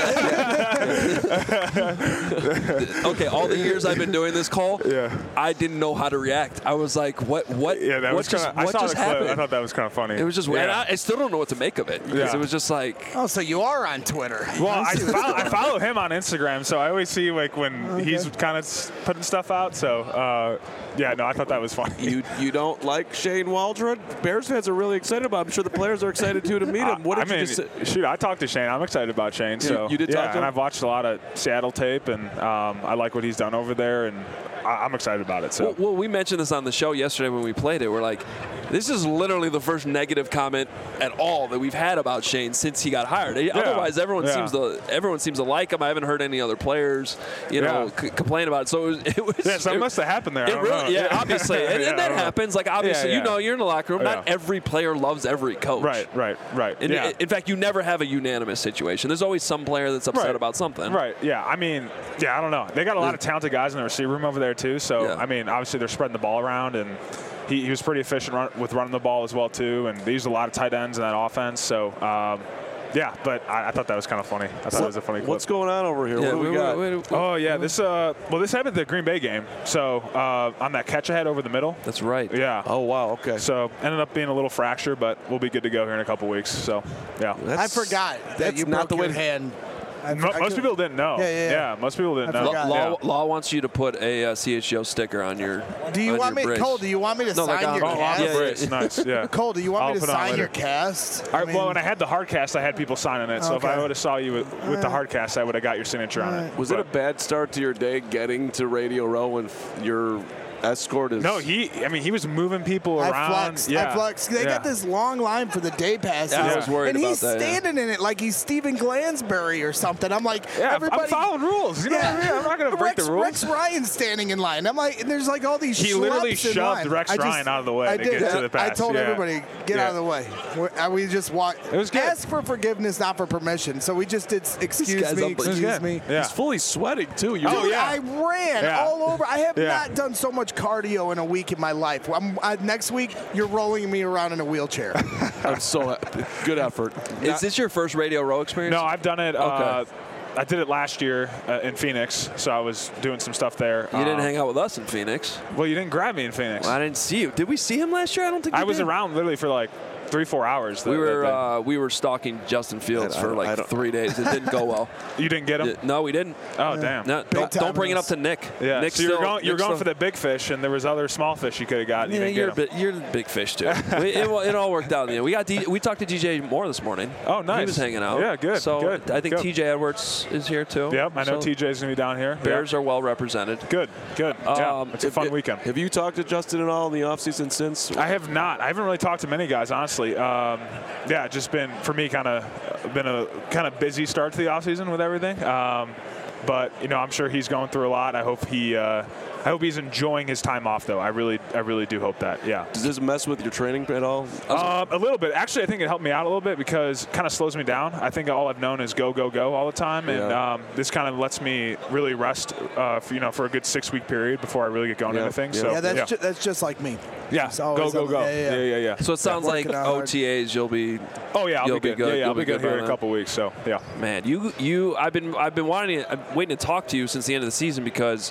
[SPEAKER 2] Okay, all the years I've been doing this call,
[SPEAKER 8] Yeah.
[SPEAKER 2] I didn't know how to react. I was like, what, what,
[SPEAKER 8] Yeah, that
[SPEAKER 2] what
[SPEAKER 8] was
[SPEAKER 2] just,
[SPEAKER 8] kind of. I
[SPEAKER 2] what
[SPEAKER 8] saw
[SPEAKER 2] just
[SPEAKER 8] the clip.
[SPEAKER 2] happened?
[SPEAKER 8] I thought that was kind of funny.
[SPEAKER 2] It was just,
[SPEAKER 8] yeah.
[SPEAKER 2] and I, I still don't know what to make of it because
[SPEAKER 8] Yeah.
[SPEAKER 2] it was just like,
[SPEAKER 9] Oh, so you are on Twitter.
[SPEAKER 8] Well, I follow, I follow him on Instagram, so I always see like when he's kind of putting stuff out. So, uh, yeah, no, I thought that was funny.
[SPEAKER 1] You you don't like Shane Waldron? Bears fans are really excited about him. I'm sure the players are excited too to meet him. What did
[SPEAKER 8] I mean,
[SPEAKER 1] you just say?
[SPEAKER 8] shoot, I talked to Shane. I'm excited about Shane. So
[SPEAKER 1] you did
[SPEAKER 8] yeah,
[SPEAKER 1] talk to
[SPEAKER 8] and
[SPEAKER 1] him?
[SPEAKER 8] I've watched a lot of Seattle tape, and um, I like what he's done over there, and I, I'm excited about it. So
[SPEAKER 2] well, well, we mentioned this on the show yesterday when we played it. We're like, this is literally the first negative comment at all that we've had about Shane since he got hired. Otherwise, everyone
[SPEAKER 8] Yeah.
[SPEAKER 2] seems to everyone seems to like him. I haven't heard any other players, you know,
[SPEAKER 8] Yeah.
[SPEAKER 2] c- complain about it. So it was. It was
[SPEAKER 8] yeah, something
[SPEAKER 2] it,
[SPEAKER 8] must have happened there. I
[SPEAKER 2] It
[SPEAKER 8] don't
[SPEAKER 2] really,
[SPEAKER 8] know.
[SPEAKER 2] yeah, obviously, and,
[SPEAKER 8] Yeah,
[SPEAKER 2] and that
[SPEAKER 8] I don't know.
[SPEAKER 2] happens. Like obviously,
[SPEAKER 8] Yeah,
[SPEAKER 2] you
[SPEAKER 8] yeah.
[SPEAKER 2] know, you're in the locker room. Not
[SPEAKER 8] Yeah.
[SPEAKER 2] every player loves every coach.
[SPEAKER 8] Right, right, right.
[SPEAKER 2] And
[SPEAKER 8] yeah.
[SPEAKER 2] i- in fact, you never have a unanimous situation. There's always some player that's upset
[SPEAKER 8] Right.
[SPEAKER 2] about something.
[SPEAKER 8] Right. Yeah. I mean, yeah. I don't know. They got a lot of talented guys in the receiver room over there too. So
[SPEAKER 2] Yeah.
[SPEAKER 8] I mean, obviously they're spreading the ball around, and he, he was pretty efficient run, with running the ball as well too. And they used a lot of tight ends in that offense. So um, yeah. But I, I thought that was kind of funny. I thought it was a funny clip.
[SPEAKER 1] What's going on over here?
[SPEAKER 2] Yeah,
[SPEAKER 1] what do we,
[SPEAKER 2] we-
[SPEAKER 1] got?
[SPEAKER 2] we- we-
[SPEAKER 8] Oh yeah, this uh well this happened at the Green Bay game. So uh, on that catch I had over the middle.
[SPEAKER 2] That's right.
[SPEAKER 8] Yeah.
[SPEAKER 1] Oh wow. Okay.
[SPEAKER 8] So ended up being a little fracture, but we'll be good to go here in a couple weeks. So yeah.
[SPEAKER 9] I
[SPEAKER 1] That's-
[SPEAKER 9] forgot that
[SPEAKER 1] that's
[SPEAKER 9] you
[SPEAKER 1] not
[SPEAKER 9] broke
[SPEAKER 1] the way
[SPEAKER 9] your
[SPEAKER 1] to-
[SPEAKER 9] hand. I,
[SPEAKER 8] Mo-
[SPEAKER 9] I
[SPEAKER 8] most
[SPEAKER 9] could-
[SPEAKER 8] people didn't know.
[SPEAKER 9] Yeah, yeah, yeah.
[SPEAKER 8] most people didn't
[SPEAKER 9] I
[SPEAKER 8] know.
[SPEAKER 9] forgot.
[SPEAKER 2] Law,
[SPEAKER 8] Yeah.
[SPEAKER 2] Law wants you to put a uh, C H G O sticker on your.
[SPEAKER 9] Do you
[SPEAKER 2] on
[SPEAKER 9] want me,
[SPEAKER 2] your brace.
[SPEAKER 9] Cole? Do you want me to
[SPEAKER 2] No, like
[SPEAKER 9] sign
[SPEAKER 2] on-
[SPEAKER 9] your
[SPEAKER 8] Oh, on
[SPEAKER 9] cast?
[SPEAKER 8] the
[SPEAKER 2] Yeah, yeah,
[SPEAKER 8] brace.
[SPEAKER 2] yeah.
[SPEAKER 8] Nice. Yeah.
[SPEAKER 9] Cole, do you want
[SPEAKER 8] I'll
[SPEAKER 9] me to
[SPEAKER 8] put it on
[SPEAKER 9] sign
[SPEAKER 8] later.
[SPEAKER 9] your cast?
[SPEAKER 8] All
[SPEAKER 9] I
[SPEAKER 8] right, well,
[SPEAKER 9] mean-
[SPEAKER 8] when I had the hard cast, I had people signing it. So if I
[SPEAKER 9] Okay.
[SPEAKER 8] would have saw you with, with the hard cast, I would have got your signature on it.
[SPEAKER 1] Was it a
[SPEAKER 8] But-
[SPEAKER 1] bad start to your day getting to Radio Row when f- your escort is?
[SPEAKER 8] No, he. I mean, he was moving people
[SPEAKER 9] I
[SPEAKER 8] around.
[SPEAKER 9] flexed.
[SPEAKER 8] Yeah.
[SPEAKER 9] I flexed. They
[SPEAKER 8] yeah.
[SPEAKER 9] got this long line for the day passes.
[SPEAKER 2] Yeah, I was worried
[SPEAKER 9] and
[SPEAKER 2] about
[SPEAKER 9] he's
[SPEAKER 2] that, yeah.
[SPEAKER 9] standing in it like he's Steven Glansberry or something. I'm like,
[SPEAKER 8] Yeah, I'm-
[SPEAKER 9] everybody.
[SPEAKER 8] I'm following rules. You know what I mean? I'm not going to break
[SPEAKER 9] Rex,
[SPEAKER 8] the rules.
[SPEAKER 9] Rex Ryan's standing in line. I'm like, and there's like all these.
[SPEAKER 8] He literally
[SPEAKER 9] schlubs in
[SPEAKER 8] shoved
[SPEAKER 9] line.
[SPEAKER 8] Rex
[SPEAKER 9] I just-
[SPEAKER 8] Ryan out of the way
[SPEAKER 9] I
[SPEAKER 8] to
[SPEAKER 9] did.
[SPEAKER 8] get to the
[SPEAKER 9] I
[SPEAKER 8] pass.
[SPEAKER 9] told
[SPEAKER 8] Yeah.
[SPEAKER 9] everybody, get
[SPEAKER 8] Yeah.
[SPEAKER 9] out of the way. We're, uh, we just walk.
[SPEAKER 8] It was good.
[SPEAKER 9] Ask for forgiveness, not for permission. So we just did. Excuse
[SPEAKER 2] guy's
[SPEAKER 9] me.
[SPEAKER 2] up- It was
[SPEAKER 9] Excuse
[SPEAKER 8] good.
[SPEAKER 9] me.
[SPEAKER 8] Yeah.
[SPEAKER 1] He's fully sweating too. You're
[SPEAKER 8] Oh,
[SPEAKER 9] Dude,
[SPEAKER 8] yeah.
[SPEAKER 9] I ran
[SPEAKER 8] Yeah.
[SPEAKER 9] all over. I have
[SPEAKER 8] Yeah.
[SPEAKER 9] not done so much cardio in a week in my life. I'm, I, next week, you're rolling me around in a wheelchair.
[SPEAKER 1] I'm so happy. Good effort.
[SPEAKER 2] Is this your first Radio Row experience?
[SPEAKER 8] No, I've done it. Uh,
[SPEAKER 2] Okay.
[SPEAKER 8] I did it last year uh, in Phoenix, so I was doing some stuff there.
[SPEAKER 2] You didn't
[SPEAKER 8] Um,
[SPEAKER 2] hang out with us in Phoenix.
[SPEAKER 8] Well, you didn't grab me in Phoenix.
[SPEAKER 2] Well, I didn't see you. Did we see him last year? I don't think we
[SPEAKER 8] I was
[SPEAKER 2] did.
[SPEAKER 8] around literally for like three, four hours. that-
[SPEAKER 2] We were
[SPEAKER 8] that day.
[SPEAKER 2] uh, we were stalking Justin Fields
[SPEAKER 1] I
[SPEAKER 2] for
[SPEAKER 1] don't- I
[SPEAKER 2] like
[SPEAKER 1] don't-
[SPEAKER 2] three days. It didn't go well.
[SPEAKER 8] You didn't get him?
[SPEAKER 2] Yeah, no, we didn't.
[SPEAKER 8] Oh, damn.
[SPEAKER 2] No, don't,
[SPEAKER 9] time
[SPEAKER 2] don't bring it up
[SPEAKER 9] miss.
[SPEAKER 2] to Nick.
[SPEAKER 8] Yeah,
[SPEAKER 2] Nick's
[SPEAKER 8] so you were
[SPEAKER 2] still-
[SPEAKER 8] going, you were
[SPEAKER 2] Nick's
[SPEAKER 8] going
[SPEAKER 2] still-
[SPEAKER 8] for the big fish, and there was other small fish you could have got. And you
[SPEAKER 2] Yeah,
[SPEAKER 8] didn't
[SPEAKER 2] you're a
[SPEAKER 8] get 'em.
[SPEAKER 2] bit, you're the big fish too. we, it, it all worked out in the end. We got D, we talked to D J Moore this morning.
[SPEAKER 8] Oh, nice.
[SPEAKER 2] He was hanging out.
[SPEAKER 8] Yeah, good,
[SPEAKER 2] So
[SPEAKER 8] good,
[SPEAKER 2] I think
[SPEAKER 8] good.
[SPEAKER 2] T J Edwards is here too.
[SPEAKER 8] Yep, I know
[SPEAKER 2] So
[SPEAKER 8] T J's going to be down here.
[SPEAKER 2] Bears
[SPEAKER 8] Yep.
[SPEAKER 2] are well represented.
[SPEAKER 8] Good, good. yeah,
[SPEAKER 2] Um,
[SPEAKER 8] it's a fun weekend.
[SPEAKER 1] Have you talked to Justin at all in the offseason since?
[SPEAKER 8] I have not. I haven't really talked to many guys, honestly. Um, yeah, just been for me kind of been a kind of busy start to the offseason with everything. Um, but you know, I'm sure he's going through a lot. I hope he, uh, I hope he's enjoying his time off, though. I really, I really do hope that. Yeah.
[SPEAKER 1] Does this mess with your training at all?
[SPEAKER 8] Uh, a little bit. Actually, I think it helped me out a little bit because it kind of slows me down. I think all I've known is go, go, go all the time, and
[SPEAKER 1] Yeah.
[SPEAKER 8] um, this kind of lets me really rest, uh, for, you know, for a good six-week period before I really get going
[SPEAKER 1] Yeah.
[SPEAKER 8] into things.
[SPEAKER 1] Yeah.
[SPEAKER 8] So
[SPEAKER 9] yeah, that's
[SPEAKER 8] yeah,
[SPEAKER 9] Ju- that's just like me.
[SPEAKER 8] yeah.
[SPEAKER 9] It's
[SPEAKER 8] go,
[SPEAKER 9] always
[SPEAKER 8] go,
[SPEAKER 9] on-
[SPEAKER 8] go.
[SPEAKER 9] yeah, yeah,
[SPEAKER 8] yeah,
[SPEAKER 9] yeah.
[SPEAKER 8] yeah.
[SPEAKER 2] So it sounds like
[SPEAKER 9] working out.
[SPEAKER 2] O T As you'll be.
[SPEAKER 8] Oh yeah, I'll
[SPEAKER 2] You'll
[SPEAKER 8] be
[SPEAKER 2] be
[SPEAKER 8] good.
[SPEAKER 2] good.
[SPEAKER 8] Yeah, yeah,
[SPEAKER 2] You'll
[SPEAKER 8] I'll
[SPEAKER 2] be
[SPEAKER 8] be good
[SPEAKER 2] good by
[SPEAKER 8] here in a
[SPEAKER 2] then.
[SPEAKER 8] couple weeks. So yeah.
[SPEAKER 2] Man, you you I've been I've been wanting to, I'm waiting to talk to you since the end of the season because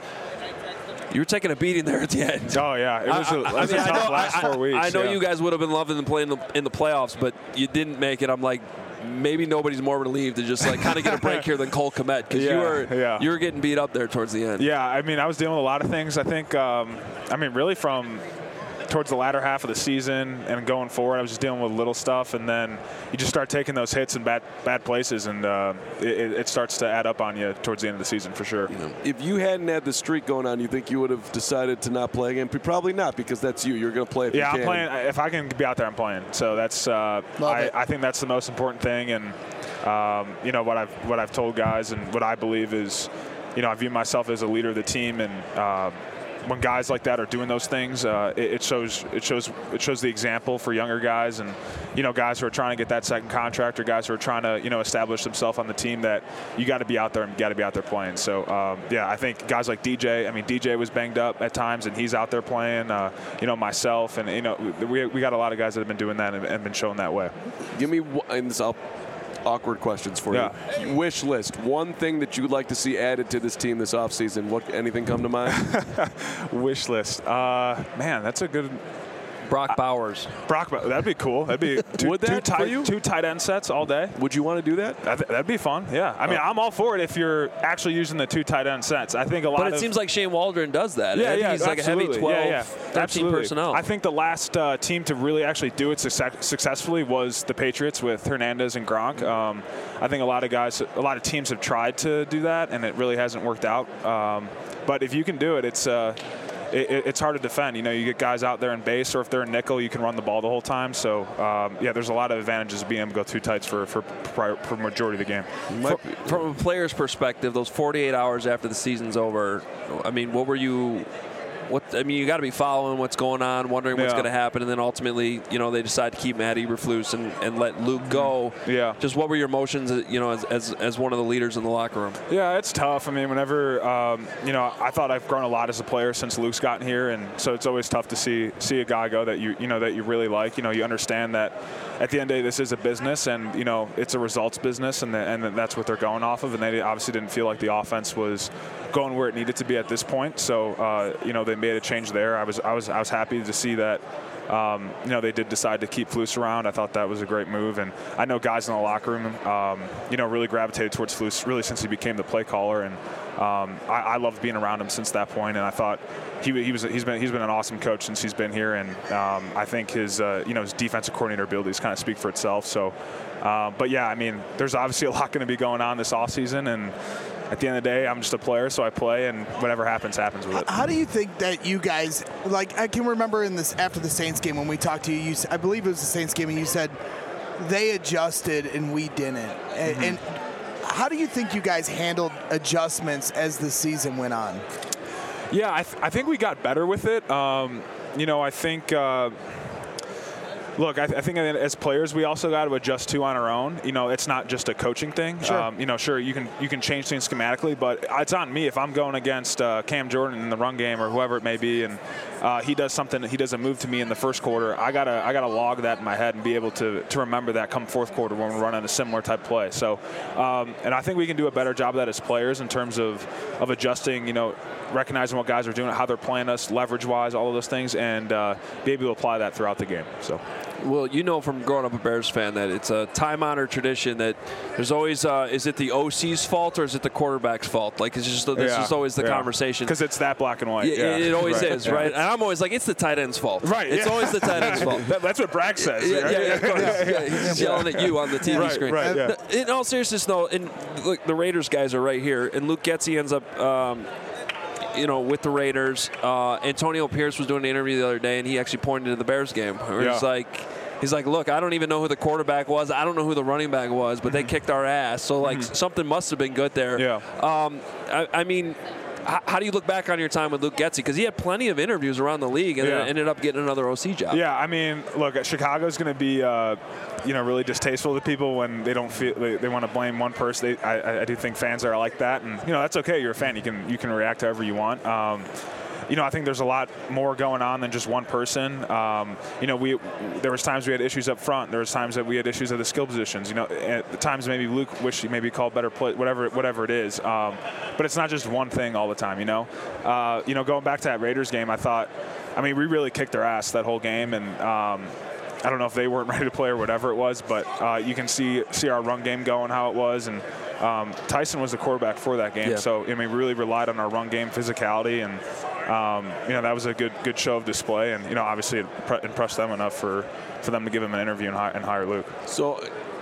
[SPEAKER 2] you were taking a beating there at the end.
[SPEAKER 8] Oh yeah, it was a, it
[SPEAKER 2] I, I
[SPEAKER 8] was a
[SPEAKER 2] mean, I
[SPEAKER 8] tough
[SPEAKER 2] know,
[SPEAKER 8] last
[SPEAKER 2] I,
[SPEAKER 8] four weeks.
[SPEAKER 2] I know
[SPEAKER 8] yeah.
[SPEAKER 2] you guys would have been loving to play in the, in the playoffs, but you didn't make it. I'm like, maybe nobody's more relieved to just like kind of get a break here than Cole Kmet because you
[SPEAKER 8] Yeah,
[SPEAKER 2] were
[SPEAKER 8] yeah.
[SPEAKER 2] you were getting beat up there towards the end.
[SPEAKER 8] Yeah, I mean, I was dealing with a lot of things. I think, um, I mean, really from towards the latter half of the season and going forward, I was just dealing with little stuff, and then you just start taking those hits in bad bad places, and uh, it, it starts to add up on you towards the end of the season for sure.
[SPEAKER 1] If you hadn't had the streak going on, you think you would have decided to not play again? Probably not, because that's you. You're going to play if
[SPEAKER 8] yeah,
[SPEAKER 1] you can.
[SPEAKER 8] I'm playing. If I can be out there, I'm playing. So that's uh, I, I think that's the most important thing, and um, you know what I've what I've told guys and what I believe is, you know, I view myself as a leader of the team, and uh, when guys like that are doing those things, uh, it, it shows it shows it shows the example for younger guys, and you know, guys who are trying to get that second contract, or guys who are trying to, you know, establish themselves on the team, that you got to be out there and you got to be out there playing. So um, yeah, I think guys like D J. I mean, D J was banged up at times, and he's out there playing. Uh, you know, myself, and you know, we we got a lot of guys that have been doing that and, and been showing that way.
[SPEAKER 1] Give me and this I'll, awkward questions for
[SPEAKER 8] yeah.
[SPEAKER 1] you. Wish list. One thing that you'd like to see added to this team this offseason. What? Anything come to mind?
[SPEAKER 8] Wish list. Uh, man, that's a good.
[SPEAKER 2] Brock Bowers.
[SPEAKER 8] Brock, that'd be cool. That'd be two,
[SPEAKER 1] Would that
[SPEAKER 8] two, tight,
[SPEAKER 1] for you?
[SPEAKER 8] two tight end sets all day.
[SPEAKER 1] Would you want to do that?
[SPEAKER 8] That'd, that'd be fun. Yeah. I mean,
[SPEAKER 1] Oh.
[SPEAKER 8] I'm all for it if you're actually using the two tight end sets. I think a lot
[SPEAKER 2] But it
[SPEAKER 8] of
[SPEAKER 2] seems like Shane Waldron does that.
[SPEAKER 8] Yeah,
[SPEAKER 2] I think
[SPEAKER 8] yeah,
[SPEAKER 2] he's like
[SPEAKER 8] absolutely.
[SPEAKER 2] a heavy twelve,
[SPEAKER 8] yeah, yeah.
[SPEAKER 2] thirteen
[SPEAKER 8] Absolutely.
[SPEAKER 2] personnel.
[SPEAKER 8] I think the last uh, team to really actually do it success- successfully was the Patriots with Hernandez and Gronk. Um, I think a lot of guys, a lot of teams have tried to do that, and it really hasn't worked out. Um, but if you can do it, it's uh, it, it's hard to defend. You know, you get guys out there in base, or if they're in nickel, you can run the ball the whole time. So, um, yeah, there's a lot of advantages of being able to go two tights for for, for, for majority of the game.
[SPEAKER 2] For, from a player's perspective, those forty-eight hours after the season's over, I mean, what were you? What I mean, you got to be following what's going on, wondering what's
[SPEAKER 8] Yeah.
[SPEAKER 2] going to happen, and then ultimately, you know, they decide to keep Matt Eberflus and, and let Luke go.
[SPEAKER 8] Yeah.
[SPEAKER 2] Just what were your emotions, you know, as, as as one of the leaders in the locker room?
[SPEAKER 8] Yeah, it's tough. I mean, whenever um, you know, I thought I've grown a lot as a player since Luke's gotten here, and so it's always tough to see see a guy go that you you know that you really like. You know, you understand that at the end of the day, this is a business, and you know, it's a results business, and the, and that's what they're going off of. And they obviously didn't feel like the offense was going where it needed to be at this point. So uh, you know, they made a change there. I was I was I was happy to see that. Um, you know, they did decide to keep Flus around. I thought that was a great move, and I know guys in the locker room, um, you know, really gravitated towards Flus really since he became the play caller, and um, I, I loved being around him since that point. And I thought he, he was he's been he's been an awesome coach since he's been here, and um, I think his uh, you know his defensive coordinator abilities kind of speak for itself. So, uh, but yeah, I mean, there's obviously a lot going to be going on this offseason, and at the end of the day, I'm just a player, so I play, and whatever happens, happens with it.
[SPEAKER 9] How do you think that you guys, like, I can remember in this after the Saints game when we talked to you, you s- I believe it was the Saints game, and you said they adjusted and we didn't. And,
[SPEAKER 8] Mm-hmm.
[SPEAKER 9] and how do you think you guys handled adjustments as the season went on?
[SPEAKER 8] Yeah, I, th- I think we got better with it. Um, you know, I think. Uh, Look, I, th- I think as players, we also got to adjust to on our own. You know, it's not just a coaching thing.
[SPEAKER 9] Sure.
[SPEAKER 8] Um, you know, sure, you can you can change things schematically, but it's on me if I'm going against uh, Cam Jordan in the run game or whoever it may be, and uh, he does something, he does a move to me in the first quarter. I gotta I gotta log that in my head and be able to to remember that come fourth quarter when we're running a similar type play. So, um, and I think we can do a better job of that as players in terms of of adjusting. You know, recognizing what guys are doing, how they're playing us, leverage wise, all of those things, and uh, be able to apply that throughout the game. So.
[SPEAKER 2] Well, you know from growing up a Bears fan that it's a time-honored tradition that there's always, uh, is it the O C's fault or is it the quarterback's fault? Like, it's just this
[SPEAKER 8] Yeah,
[SPEAKER 2] is always the
[SPEAKER 8] yeah.
[SPEAKER 2] conversation.
[SPEAKER 8] Because it's that black and white.
[SPEAKER 2] Yeah,
[SPEAKER 8] Yeah,
[SPEAKER 2] it always
[SPEAKER 8] right,
[SPEAKER 2] is,
[SPEAKER 8] yeah.
[SPEAKER 2] right? And I'm always like, it's the tight end's fault.
[SPEAKER 8] Right.
[SPEAKER 2] It's
[SPEAKER 8] yeah.
[SPEAKER 2] always the tight end's fault.
[SPEAKER 8] That, that's what Bragg says.
[SPEAKER 2] Yeah,
[SPEAKER 8] right?
[SPEAKER 2] yeah, yeah, of course. Yeah, he's yelling at you on the T V
[SPEAKER 8] Right,
[SPEAKER 2] screen.
[SPEAKER 8] right, yeah.
[SPEAKER 2] Uh, In all seriousness, though, and look, the Raiders guys are right here, and Luke Getsy ends up, um, you know, with the Raiders. Uh, Antonio Pierce was doing an interview the other day, and he actually pointed to the Bears game. Where
[SPEAKER 8] Yeah.
[SPEAKER 2] he's like, he's like, look, I don't even know who the quarterback was. I don't know who the running back was, but they kicked our ass. So like, something must have been good there.
[SPEAKER 8] Yeah.
[SPEAKER 2] Um, I, I mean. How, how do you look back on your time with Luke Getsy? Because he had plenty of interviews around the league and
[SPEAKER 8] Yeah.
[SPEAKER 2] then ended up getting another O C job.
[SPEAKER 8] Yeah, I mean, look, Chicago's going to be, uh, you know, really distasteful to people when they don't feel they, they want to blame one person. They, I, I do think fans are like that, and you know that's okay. You're a fan. You can you can react however you want. Um, you know, I think there's a lot more going on than just one person. Um, you know, we there was times we had issues up front. There was times that we had issues at the skill positions. You know, at the times maybe Luke wished he maybe called better play, whatever whatever it is. Um, but it's not just one thing all the time. You know, uh, you know, going back to that Raiders game, I thought, I mean, we really kicked their ass that whole game, and. Um, I don't know if they weren't ready to play or whatever it was, but uh, you can see see our run game going how it was, and um, Tyson was the quarterback for that game.
[SPEAKER 2] Yeah.
[SPEAKER 8] So I mean, we really relied on our run game physicality, and um, you know, that was a good good show of display, and you know, obviously it impressed them enough for, for them to give him an interview and, hi- and hire Luke.
[SPEAKER 1] So,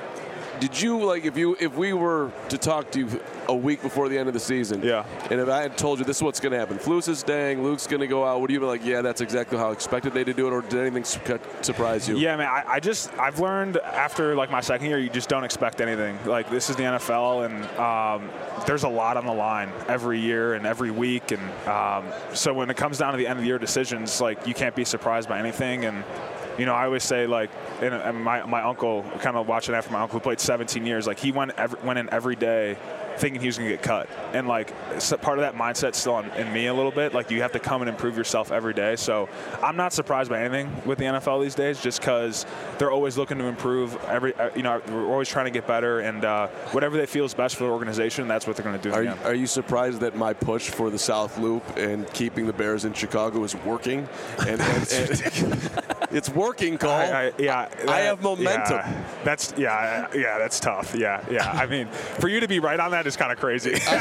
[SPEAKER 1] did you like if you if we were to talk to you a week before the end of the season?
[SPEAKER 8] Yeah.
[SPEAKER 1] And if I had told you this is what's going to happen, Flus is staying, Luke's going to go out, would you be like, yeah, that's exactly how I expected they to do it, or did anything su- surprise you?
[SPEAKER 8] Yeah, man. I, I just I've learned after like my second year, you just don't expect anything. Like this is the N F L, and um, there's a lot on the line every year and every week, and um, so when it comes down to the end of the year decisions, like you can't be surprised by anything. And you know, I always say like, and, and my my uncle, kind of watching after my uncle who played seventeen years, like he went every, went in every day thinking he was going to get cut. And like part of that mindset's still in, in me a little bit. Like you have to come and improve yourself every day. So I'm not surprised by anything with the N F L these days, just because they're always looking to improve. Every you know, we're always trying to get better, and uh, whatever they feel is best for the organization, that's what they're going to do.
[SPEAKER 1] Are
[SPEAKER 8] again.
[SPEAKER 1] you, are you surprised that my push for the South Loop and keeping the Bears in Chicago is working? And, and, and it's working, Cole.
[SPEAKER 8] I, I, yeah, that,
[SPEAKER 1] I have momentum.
[SPEAKER 8] Yeah, that's yeah, yeah, that's tough. Yeah, yeah. I mean, for you to be right on that is kind of crazy.
[SPEAKER 9] It's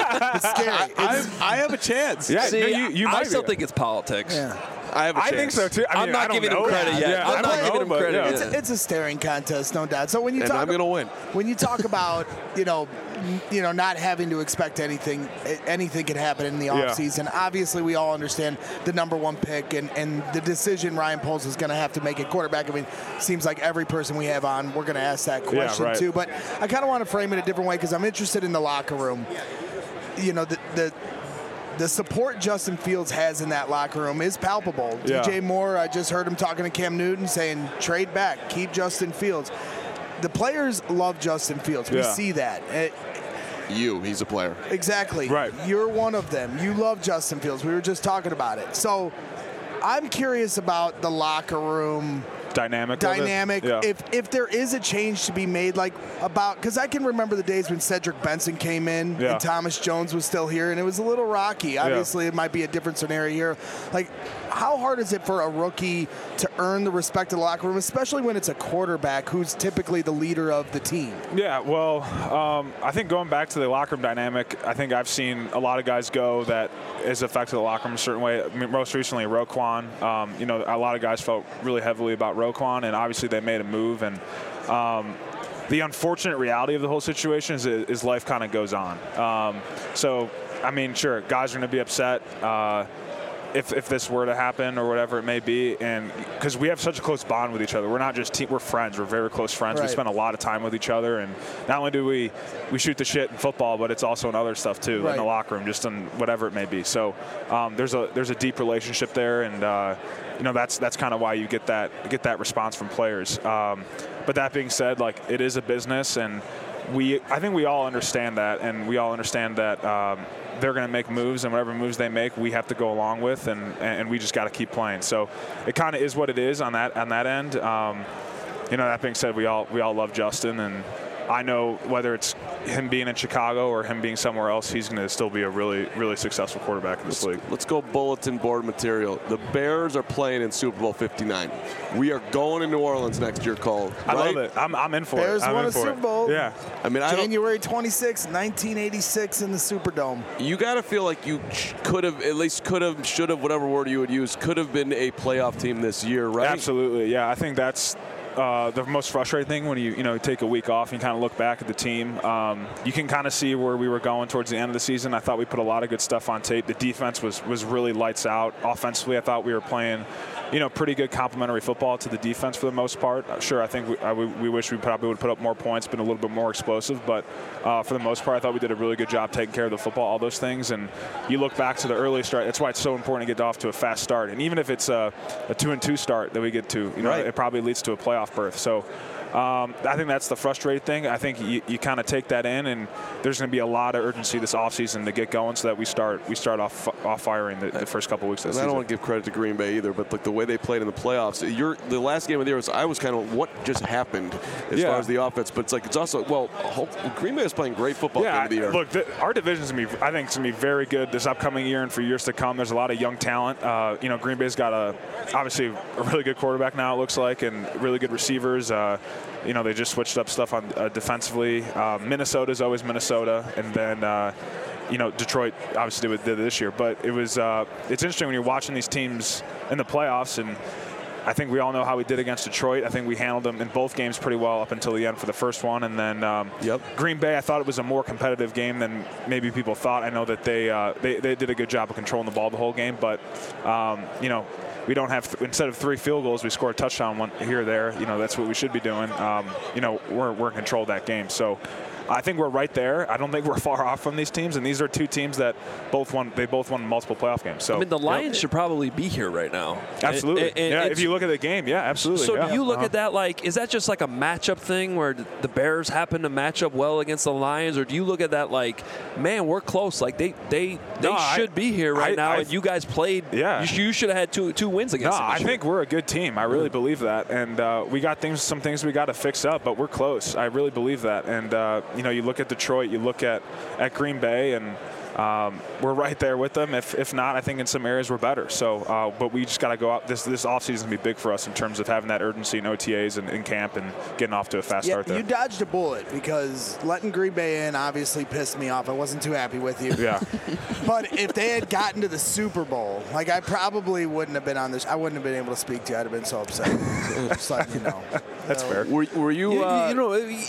[SPEAKER 9] scary.
[SPEAKER 6] I, I have a chance.
[SPEAKER 8] Yeah,
[SPEAKER 2] See,
[SPEAKER 8] no, you, you
[SPEAKER 2] I
[SPEAKER 8] might
[SPEAKER 2] still
[SPEAKER 8] be.
[SPEAKER 2] think it's politics.
[SPEAKER 9] Yeah.
[SPEAKER 1] I have a
[SPEAKER 8] I
[SPEAKER 1] chance.
[SPEAKER 8] think so too. I
[SPEAKER 2] I'm
[SPEAKER 8] mean,
[SPEAKER 2] not
[SPEAKER 8] I don't
[SPEAKER 2] giving him
[SPEAKER 8] know.
[SPEAKER 2] credit
[SPEAKER 8] yeah,
[SPEAKER 2] yet.
[SPEAKER 8] Yeah,
[SPEAKER 2] I'm
[SPEAKER 8] I
[SPEAKER 2] not
[SPEAKER 8] don't
[SPEAKER 2] giving
[SPEAKER 8] know,
[SPEAKER 2] him
[SPEAKER 8] but,
[SPEAKER 2] credit
[SPEAKER 8] yeah.
[SPEAKER 9] It's a, it's a staring contest, no doubt. So when you
[SPEAKER 1] And
[SPEAKER 9] talk,
[SPEAKER 1] I'm going to win.
[SPEAKER 9] when you talk about, you know, you know, not having to expect anything, anything can happen in the
[SPEAKER 8] Yeah.
[SPEAKER 9] offseason. Obviously, we all understand the number one pick and, and the decision Ryan Poles is going to have to make at quarterback. I mean, seems like every person we have on, we're going to ask that question
[SPEAKER 8] right.
[SPEAKER 9] too. But I kind of want to frame it a different way because I'm interested in the locker room. You know, the the. The support Justin Fields has in that locker room is palpable.
[SPEAKER 8] Yeah.
[SPEAKER 9] D J Moore, I just heard him talking to Cam Newton saying, trade back, keep Justin Fields. The players love Justin Fields. We
[SPEAKER 8] Yeah.
[SPEAKER 9] see that. It,
[SPEAKER 1] You, he's a player.
[SPEAKER 9] exactly.
[SPEAKER 8] Right.
[SPEAKER 9] You're one of them. You love Justin Fields. We were just talking about it. So I'm curious about the locker room
[SPEAKER 8] Dynamic. of it.
[SPEAKER 9] dynamic.
[SPEAKER 8] Yeah.
[SPEAKER 9] If if there is a change to be made, like about, because I can remember the days when Cedric Benson came in
[SPEAKER 8] Yeah.
[SPEAKER 9] and Thomas Jones was still here, and it was a little rocky. Obviously, it might be a different scenario here. Like, how hard is it for a rookie to earn the respect of the locker room, especially when it's a quarterback who's typically the leader of the team?
[SPEAKER 8] Yeah, well, um, I think going back to the locker room dynamic, I think I've seen a lot of guys go that is affected the locker room a certain way. I mean, most recently, Roquan. Um, you know, a lot of guys felt really heavily about Roquan, and obviously they made a move. And um, the unfortunate reality of the whole situation is, is life kind of goes on. Um, so, I mean, sure, guys are going to be upset. Uh, If, if this were to happen or whatever it may be, and because we have such a close bond with each other, we're not just team, we're friends. We're very close friends.
[SPEAKER 9] Right.
[SPEAKER 8] We spend a lot of time with each other, and not only do we we shoot the shit in football, but it's also in other stuff too,
[SPEAKER 9] Right.
[SPEAKER 8] in the locker room, just in whatever it may be. So um, there's a there's a deep relationship there, and uh, you know that's that's kind of why you get that get that response from players. Um, but that being said, like it is a business, and we I think we all understand that, and we all understand that. Um, they're going to make moves, and whatever moves they make, we have to go along with, and, and we just got to keep playing. So it kind of is what it is on that on that end. Um, you know, that being said, we all we all love Justin, and I know whether it's him being in Chicago or him being somewhere else, he's going to still be a really, really successful quarterback in this league.
[SPEAKER 1] Let's go bulletin board material. The Bears are playing in Super Bowl fifty-nine. We are going to New Orleans next year, Cole.
[SPEAKER 8] I
[SPEAKER 1] right?
[SPEAKER 8] love it. I'm, I'm in for
[SPEAKER 9] Bears
[SPEAKER 8] it. I'm
[SPEAKER 9] won
[SPEAKER 8] in
[SPEAKER 9] a
[SPEAKER 8] for
[SPEAKER 9] Super
[SPEAKER 8] it.
[SPEAKER 9] Bowl.
[SPEAKER 8] Yeah.
[SPEAKER 1] I mean, I don't,
[SPEAKER 9] January twenty-sixth, nineteen eighty-six in the Superdome.
[SPEAKER 1] you got to feel like you could have, at least could have, should have, whatever word you would use, could have been a playoff team this year, right?
[SPEAKER 8] Absolutely, yeah. I think that's uh, the most frustrating thing when you you know take a week off and you kind of look back at the team. Um, you can kind of see where we were going towards the end of the season. I thought we put a lot of good stuff on tape. The defense was was really lights out. Offensively, I thought we were playing, you know, pretty good complementary football to the defense for the most part. Sure, I think we, I, we, we wish we probably would put up more points, been a little bit more explosive, but uh, for the most part, I thought we did a really good job taking care of the football, all those things. And you look back to the early start. That's why it's so important to get off to a fast start. And even if it's a, a two and two start that we get to, you know,
[SPEAKER 1] Right.
[SPEAKER 8] it probably leads to a playoff berth. So. Um, I think that's the frustrating thing. I think you, you kind of take that in, and there's going to be a lot of urgency this offseason to get going so that we start we start off off firing the, the first couple weeks of the
[SPEAKER 1] And I
[SPEAKER 8] season.
[SPEAKER 1] don't want to give credit to Green Bay either, but like the way they played in the playoffs, you're, the last game of the year was I was kind of what just happened as
[SPEAKER 8] Yeah.
[SPEAKER 1] far as the offense, but it's like it's also well, hope, Green Bay is playing great football at the
[SPEAKER 8] Yeah,
[SPEAKER 1] end of the year.
[SPEAKER 8] look, the, our division's gonna be, I think, it's gonna be very good this upcoming year and for years to come. There's a lot of young talent. Uh, you know, Green Bay's got a obviously a really good quarterback now, it looks like, and really good receivers. Uh, you know, they just switched up stuff on uh, defensively. Uh, Minnesota's always Minnesota, and then. Uh, you know, Detroit obviously did, did this year. But it was uh, it's interesting when you're watching these teams in the playoffs, and I think we all know how we did against Detroit. I think we handled them in both games pretty well up until the end for the first one. And then um,
[SPEAKER 1] yep.
[SPEAKER 8] Green Bay, I thought it was a more competitive game than maybe people thought. I know that they, uh, they, they did a good job of controlling the ball the whole game. But, um, you know, we don't have, th- instead of three field goals, we score a touchdown one here or there. You know, that's what we should be doing. Um, you know, we're, we're in control of that game. So I think we're right there. I don't think we're far off from these teams, and these are two teams that both won. They both won multiple playoff games. So
[SPEAKER 2] I mean, the Lions
[SPEAKER 8] yep.
[SPEAKER 2] should probably be here right now.
[SPEAKER 8] Absolutely.
[SPEAKER 2] And, and,
[SPEAKER 8] yeah.
[SPEAKER 2] and
[SPEAKER 8] if you look at the game, yeah, absolutely.
[SPEAKER 2] So
[SPEAKER 8] yeah.
[SPEAKER 2] do you look
[SPEAKER 8] uh-huh.
[SPEAKER 2] at that like, is that just like a matchup thing where the Bears happen to match up well against the Lions, or do you look at that like, man, we're close. Like they they they
[SPEAKER 8] no,
[SPEAKER 2] should
[SPEAKER 8] I,
[SPEAKER 2] be here right
[SPEAKER 8] I,
[SPEAKER 2] now,
[SPEAKER 8] I,
[SPEAKER 2] and you guys played.
[SPEAKER 8] Yeah.
[SPEAKER 2] You, sh- you should have had two two wins against
[SPEAKER 8] no,
[SPEAKER 2] them.
[SPEAKER 8] I
[SPEAKER 2] this
[SPEAKER 8] think
[SPEAKER 2] year.
[SPEAKER 8] we're a good team. I really believe that, and uh, we got things, some things we got to fix up, but we're close. I really believe that, and uh, you know, you look at Detroit, you look at at Green Bay, and um, we're right there with them. If if not, I think in some areas we're better. So, uh, but we just got to go out. This this offseason is going to be big for us in terms of having that urgency in O T As and in camp and getting off to a fast
[SPEAKER 9] yeah,
[SPEAKER 8] start there.
[SPEAKER 9] You dodged a bullet because letting Green Bay in obviously pissed me off. I wasn't too happy with you.
[SPEAKER 8] Yeah.
[SPEAKER 9] But if they had gotten to the Super Bowl, like I probably wouldn't have been on this. I wouldn't have been able to speak to you. I'd have been so upset. Just letting you know.
[SPEAKER 8] That's
[SPEAKER 9] so,
[SPEAKER 8] fair.
[SPEAKER 1] Were, were you?
[SPEAKER 2] You,
[SPEAKER 1] Uh,
[SPEAKER 2] you know,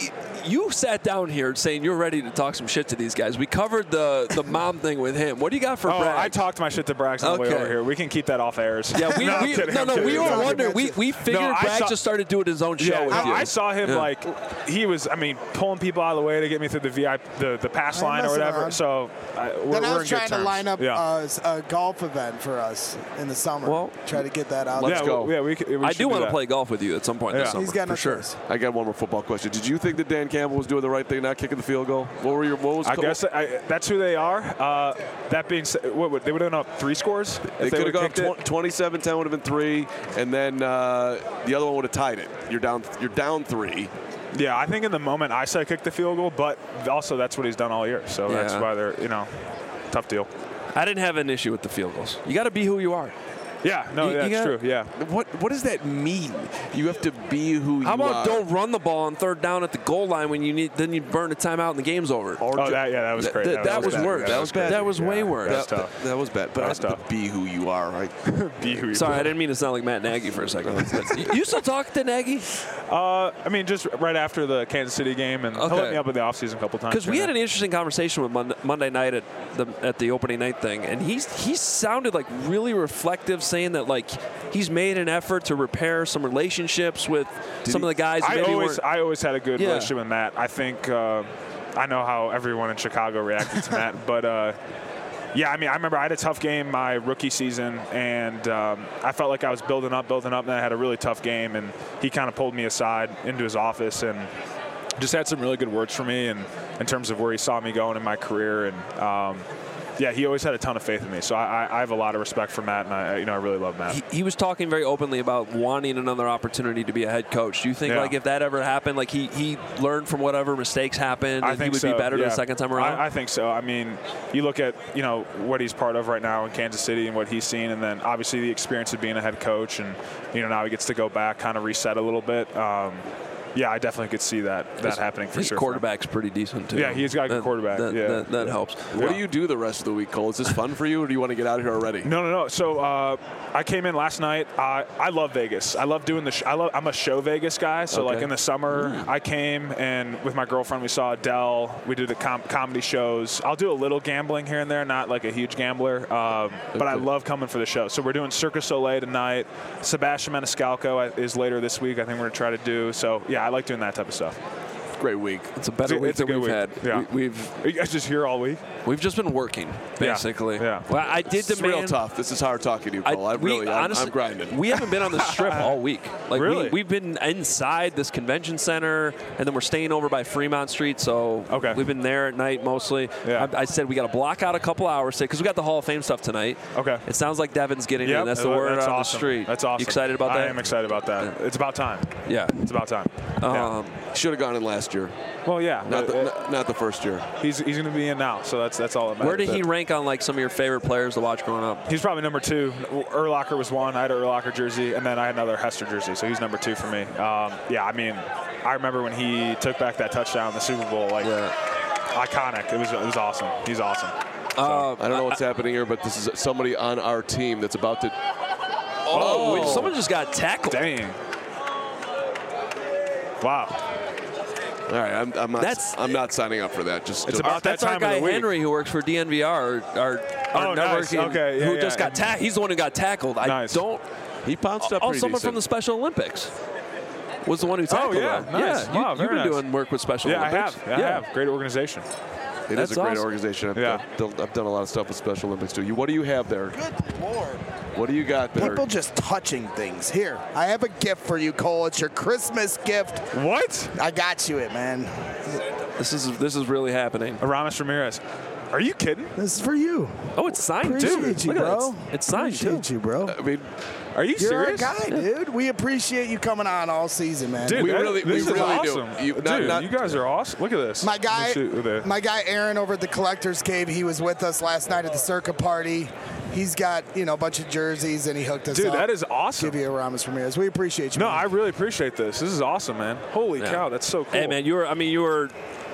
[SPEAKER 2] you sat down here saying you're ready to talk some shit to these guys. We covered the the mom thing with him. What do you got for
[SPEAKER 8] Oh,
[SPEAKER 2] Bragg?
[SPEAKER 8] I talked my shit to Braggs on the way
[SPEAKER 2] Okay.
[SPEAKER 8] over here. We can keep that off airs.
[SPEAKER 2] Yeah, we,
[SPEAKER 8] no,
[SPEAKER 2] we
[SPEAKER 8] I'm kidding,
[SPEAKER 2] no,
[SPEAKER 8] I'm
[SPEAKER 2] no,
[SPEAKER 8] kidding.
[SPEAKER 2] we were
[SPEAKER 9] Sorry,
[SPEAKER 2] wondering. We,
[SPEAKER 9] Richard.
[SPEAKER 2] we figured
[SPEAKER 8] No, I
[SPEAKER 2] Bragg
[SPEAKER 8] saw-
[SPEAKER 2] just started doing his own show
[SPEAKER 8] Yeah,
[SPEAKER 2] with you.
[SPEAKER 8] I, I saw him
[SPEAKER 2] Yeah.
[SPEAKER 8] like he was. I mean, pulling people out of the way to get me through the V I P, the, the pass
[SPEAKER 9] I'm
[SPEAKER 8] line or
[SPEAKER 9] messing
[SPEAKER 8] whatever.
[SPEAKER 9] around.
[SPEAKER 8] So I, we're,
[SPEAKER 9] Then I
[SPEAKER 8] we're
[SPEAKER 9] was
[SPEAKER 8] in
[SPEAKER 9] trying
[SPEAKER 8] good
[SPEAKER 9] to
[SPEAKER 8] terms.
[SPEAKER 9] line up
[SPEAKER 8] Yeah.
[SPEAKER 9] uh, a golf event for us in the summer.
[SPEAKER 2] Well,
[SPEAKER 9] try to get that out.
[SPEAKER 1] let's
[SPEAKER 9] there.
[SPEAKER 8] yeah,
[SPEAKER 1] go.
[SPEAKER 8] well, yeah, we, could- we
[SPEAKER 2] I
[SPEAKER 8] should
[SPEAKER 2] do want to
[SPEAKER 8] that.
[SPEAKER 2] play golf with you at some point
[SPEAKER 8] Yeah.
[SPEAKER 2] this summer.
[SPEAKER 9] He's got no
[SPEAKER 2] for sure.
[SPEAKER 9] choice.
[SPEAKER 1] I got one more football question. Did you think that Dan Campbell was doing the right thing, not kicking the field goal? What were your? What was?
[SPEAKER 8] I guess I, that's who they are. Uh, that being said, what would, they would have done up three scores?
[SPEAKER 1] They
[SPEAKER 8] if
[SPEAKER 1] could have
[SPEAKER 8] would've
[SPEAKER 1] gone
[SPEAKER 8] kicked it?
[SPEAKER 1] twenty-seven ten would have been three, and then uh, the other one would have tied it. You're down. You're down three.
[SPEAKER 8] Yeah, I think in the moment I said kick the field goal, but also that's what he's done all year. So that's
[SPEAKER 2] Yeah.
[SPEAKER 8] why they're, you know, tough deal.
[SPEAKER 2] I didn't have an issue with the field goals. You got to be who you are.
[SPEAKER 8] Yeah, no,
[SPEAKER 2] You- you
[SPEAKER 8] that's
[SPEAKER 2] got-
[SPEAKER 8] true. Yeah.
[SPEAKER 1] What What does that mean? You have to be who you
[SPEAKER 2] How about
[SPEAKER 1] are.
[SPEAKER 2] don't run the ball on third down at the goal line when you need? Then you burn a timeout and the game's over.
[SPEAKER 1] Or
[SPEAKER 8] Oh,
[SPEAKER 1] ju-
[SPEAKER 8] that, yeah, that was
[SPEAKER 2] Th-
[SPEAKER 8] great.
[SPEAKER 2] th- that was
[SPEAKER 8] bad.
[SPEAKER 2] worse.
[SPEAKER 8] Yeah,
[SPEAKER 1] That was bad.
[SPEAKER 2] That was way
[SPEAKER 8] Yeah,
[SPEAKER 2] worse.
[SPEAKER 8] That's
[SPEAKER 1] that,
[SPEAKER 8] tough.
[SPEAKER 1] that was bad. But I
[SPEAKER 8] That was
[SPEAKER 1] have
[SPEAKER 8] tough.
[SPEAKER 1] to be who you are, right?
[SPEAKER 8] Be who you
[SPEAKER 2] Sorry,
[SPEAKER 8] are.
[SPEAKER 2] I didn't mean to sound like Matt Nagy for a second. You still talk to Nagy?
[SPEAKER 8] Uh, I mean, just right after the Kansas City game, and
[SPEAKER 2] Okay.
[SPEAKER 8] he'll let me up in the offseason a couple times.
[SPEAKER 2] Because we
[SPEAKER 8] here
[SPEAKER 2] had
[SPEAKER 8] and
[SPEAKER 2] an interesting conversation with Mon- Monday night at the at the opening night thing, and he's he sounded like really reflective, saying that like he's made an effort to repair some relationships with some of the guys. who
[SPEAKER 8] I
[SPEAKER 2] maybe
[SPEAKER 8] always,
[SPEAKER 2] weren't-
[SPEAKER 8] I always had a good
[SPEAKER 2] Yeah.
[SPEAKER 8] relationship with Matt. I think uh, I know how everyone in Chicago reacted to Matt, but uh, yeah, I mean, I remember I had a tough game my rookie season, and um, I felt like I was building up, building up, and then I had a really tough game, and he kind of pulled me aside into his office and just had some really good words for me, and in terms of where he saw me going in my career, and um, yeah, he always had a ton of faith in me. So I, I have a lot of respect for Matt, and I, you know, I really love Matt.
[SPEAKER 2] he, he was talking very openly about wanting another opportunity to be a head coach. Do you think
[SPEAKER 8] Yeah.
[SPEAKER 2] like if that ever happened, like he he learned from whatever mistakes happened,
[SPEAKER 8] I
[SPEAKER 2] and
[SPEAKER 8] think
[SPEAKER 2] he would
[SPEAKER 8] so,
[SPEAKER 2] be better
[SPEAKER 8] yeah.
[SPEAKER 2] the second time around?
[SPEAKER 8] I, I think so. I mean, you look at you know what he's part of right now in Kansas City and what he's seen, and then obviously the experience of being a head coach, and you know now he gets to go back, kind of reset a little bit. Um, yeah, I definitely could see that that happening for
[SPEAKER 2] His
[SPEAKER 8] sure.
[SPEAKER 2] quarterback's pretty decent too.
[SPEAKER 8] Yeah, he's got a good
[SPEAKER 2] That-
[SPEAKER 8] quarterback.
[SPEAKER 2] That,
[SPEAKER 8] Yeah.
[SPEAKER 2] that, that helps.
[SPEAKER 1] What do you do the rest of the week, Cole? Is this fun for you, or do you want to get out of here already?
[SPEAKER 8] No, no, no. So uh, I came in last night. Uh, I love Vegas. I love doing the. Sh- I love. I'm a show Vegas guy. So like
[SPEAKER 1] Okay.
[SPEAKER 8] in the summer, I came and with my girlfriend we saw Adele. We did the com- comedy shows. I'll do a little gambling here and there, not like a huge gambler. Um, But I love coming for the show. So we're doing Cirque du Soleil tonight. Sebastian Maniscalco is later this week. I think we're gonna try to do. So yeah, I like doing that type of stuff.
[SPEAKER 1] Great week.
[SPEAKER 2] It's a better
[SPEAKER 8] It's a-
[SPEAKER 2] week
[SPEAKER 8] it's a
[SPEAKER 2] than
[SPEAKER 8] good
[SPEAKER 2] we've
[SPEAKER 8] week.
[SPEAKER 2] had.
[SPEAKER 8] Yeah.
[SPEAKER 2] We, we've
[SPEAKER 8] Are you guys just here all week?
[SPEAKER 2] we've just been working basically.
[SPEAKER 8] Yeah.
[SPEAKER 2] Well, I did
[SPEAKER 1] It's real
[SPEAKER 2] demand.
[SPEAKER 1] tough. This is hard talking to you, Cole. I,
[SPEAKER 2] we-
[SPEAKER 1] really, I'm,
[SPEAKER 2] honestly,
[SPEAKER 1] I'm grinding.
[SPEAKER 2] We haven't been on the strip all week. Like
[SPEAKER 8] Really?
[SPEAKER 2] we, we've been inside this convention center, and then we're staying over by Fremont Street. So
[SPEAKER 8] Okay.
[SPEAKER 2] we've been there at night mostly.
[SPEAKER 8] Yeah.
[SPEAKER 2] I, I said we got to block out a couple hours because we got the Hall of Fame stuff tonight.
[SPEAKER 8] Okay.
[SPEAKER 2] It sounds like Devin's getting
[SPEAKER 8] Yep.
[SPEAKER 2] in. That's the word
[SPEAKER 8] That's
[SPEAKER 2] on
[SPEAKER 8] awesome.
[SPEAKER 2] the street.
[SPEAKER 8] That's awesome.
[SPEAKER 2] You excited about that?
[SPEAKER 8] I am excited about that. It's about time.
[SPEAKER 2] Yeah.
[SPEAKER 8] It's about time. Yeah.
[SPEAKER 2] Um,
[SPEAKER 1] Should have gone in last year,
[SPEAKER 8] Well, yeah.
[SPEAKER 1] not
[SPEAKER 8] uh,
[SPEAKER 1] the,
[SPEAKER 8] uh,
[SPEAKER 1] not, not the first year.
[SPEAKER 8] he's he's going to be in now, so that's that's all that matters.
[SPEAKER 2] where did he rank on like some of your favorite players to watch growing up?
[SPEAKER 8] He's probably number two. Urlacher was one. I had an Urlacher jersey, and then I had another Hester jersey, so he's number two for me. Um, yeah, I mean, I remember when he took back that touchdown in the Super Bowl, like
[SPEAKER 2] Yeah.
[SPEAKER 8] iconic. It was it was awesome. He's awesome.
[SPEAKER 2] Uh,
[SPEAKER 1] I don't know what's happening here, but this is somebody on our team that's about to.
[SPEAKER 2] Oh, oh. Someone just got tackled.
[SPEAKER 8] Dang. Wow.
[SPEAKER 1] All right, I'm, I'm not.
[SPEAKER 2] That's,
[SPEAKER 1] I'm not signing up for that. Just
[SPEAKER 8] it's
[SPEAKER 1] don't.
[SPEAKER 8] about
[SPEAKER 2] that's
[SPEAKER 8] that
[SPEAKER 2] our
[SPEAKER 8] time
[SPEAKER 2] guy
[SPEAKER 8] of the week.
[SPEAKER 2] Henry who works for D N V R, our, our, our
[SPEAKER 8] oh, nice.
[SPEAKER 2] networking,
[SPEAKER 8] Okay, yeah,
[SPEAKER 2] who
[SPEAKER 8] yeah.
[SPEAKER 2] just got tackled. He's the one who got tackled. I
[SPEAKER 8] Nice.
[SPEAKER 2] don't.
[SPEAKER 1] He bounced up
[SPEAKER 2] Oh,
[SPEAKER 1] pretty
[SPEAKER 2] someone
[SPEAKER 1] decent.
[SPEAKER 2] from the Special Olympics was the one who tackled
[SPEAKER 8] Oh, yeah,
[SPEAKER 2] him.
[SPEAKER 8] nice.
[SPEAKER 2] Yeah,
[SPEAKER 8] Wow,
[SPEAKER 2] you,
[SPEAKER 8] very
[SPEAKER 2] you've been
[SPEAKER 8] nice.
[SPEAKER 2] doing work with Special
[SPEAKER 8] Yeah, I
[SPEAKER 2] Olympics.
[SPEAKER 8] have. Yeah, I have. Great organization.
[SPEAKER 1] It
[SPEAKER 2] That's
[SPEAKER 1] is a great
[SPEAKER 2] awesome.
[SPEAKER 1] organization. I've,
[SPEAKER 8] Yeah.
[SPEAKER 1] done, I've done a lot of stuff with Special Olympics too. You, what do you have there?
[SPEAKER 9] Good Lord.
[SPEAKER 1] What do you got there?
[SPEAKER 9] People just touching things. Here, I have a gift for you, Cole. It's your Christmas gift.
[SPEAKER 8] What?
[SPEAKER 9] I got you it, man.
[SPEAKER 2] This is this is really happening.
[SPEAKER 8] Aramis Ramirez. Are you kidding?
[SPEAKER 9] This is for you.
[SPEAKER 2] Oh, it's signed
[SPEAKER 9] Appreciate
[SPEAKER 2] too.
[SPEAKER 9] you,
[SPEAKER 2] Look at
[SPEAKER 9] bro.
[SPEAKER 2] that. It's, it's signed
[SPEAKER 9] Appreciate
[SPEAKER 2] too.
[SPEAKER 9] you, bro.
[SPEAKER 1] I mean,
[SPEAKER 8] Are you
[SPEAKER 9] You're
[SPEAKER 8] serious?
[SPEAKER 9] our guy, dude. We appreciate you coming on all season, man.
[SPEAKER 8] Dude,
[SPEAKER 1] We
[SPEAKER 8] that-
[SPEAKER 1] really- we
[SPEAKER 8] this is
[SPEAKER 1] really do.
[SPEAKER 8] awesome.
[SPEAKER 1] You-
[SPEAKER 8] Dude,
[SPEAKER 1] not- not-
[SPEAKER 8] you guys are awesome. Look at this.
[SPEAKER 9] My
[SPEAKER 8] Let me
[SPEAKER 9] guy,
[SPEAKER 8] shoot with it.
[SPEAKER 9] my guy Aaron over at the Collectors Cave, he was with us last night at the Circa party. He's got, you know, a bunch of jerseys, and he hooked us
[SPEAKER 8] Dude,
[SPEAKER 9] up.
[SPEAKER 8] that is awesome.
[SPEAKER 9] Give you a Ramos Ramirez. We appreciate you.
[SPEAKER 8] No,
[SPEAKER 9] man.
[SPEAKER 8] I really appreciate this. This is awesome, man. Holy
[SPEAKER 2] Yeah.
[SPEAKER 8] cow, that's so cool.
[SPEAKER 2] Hey, man, you were. I mean, you were.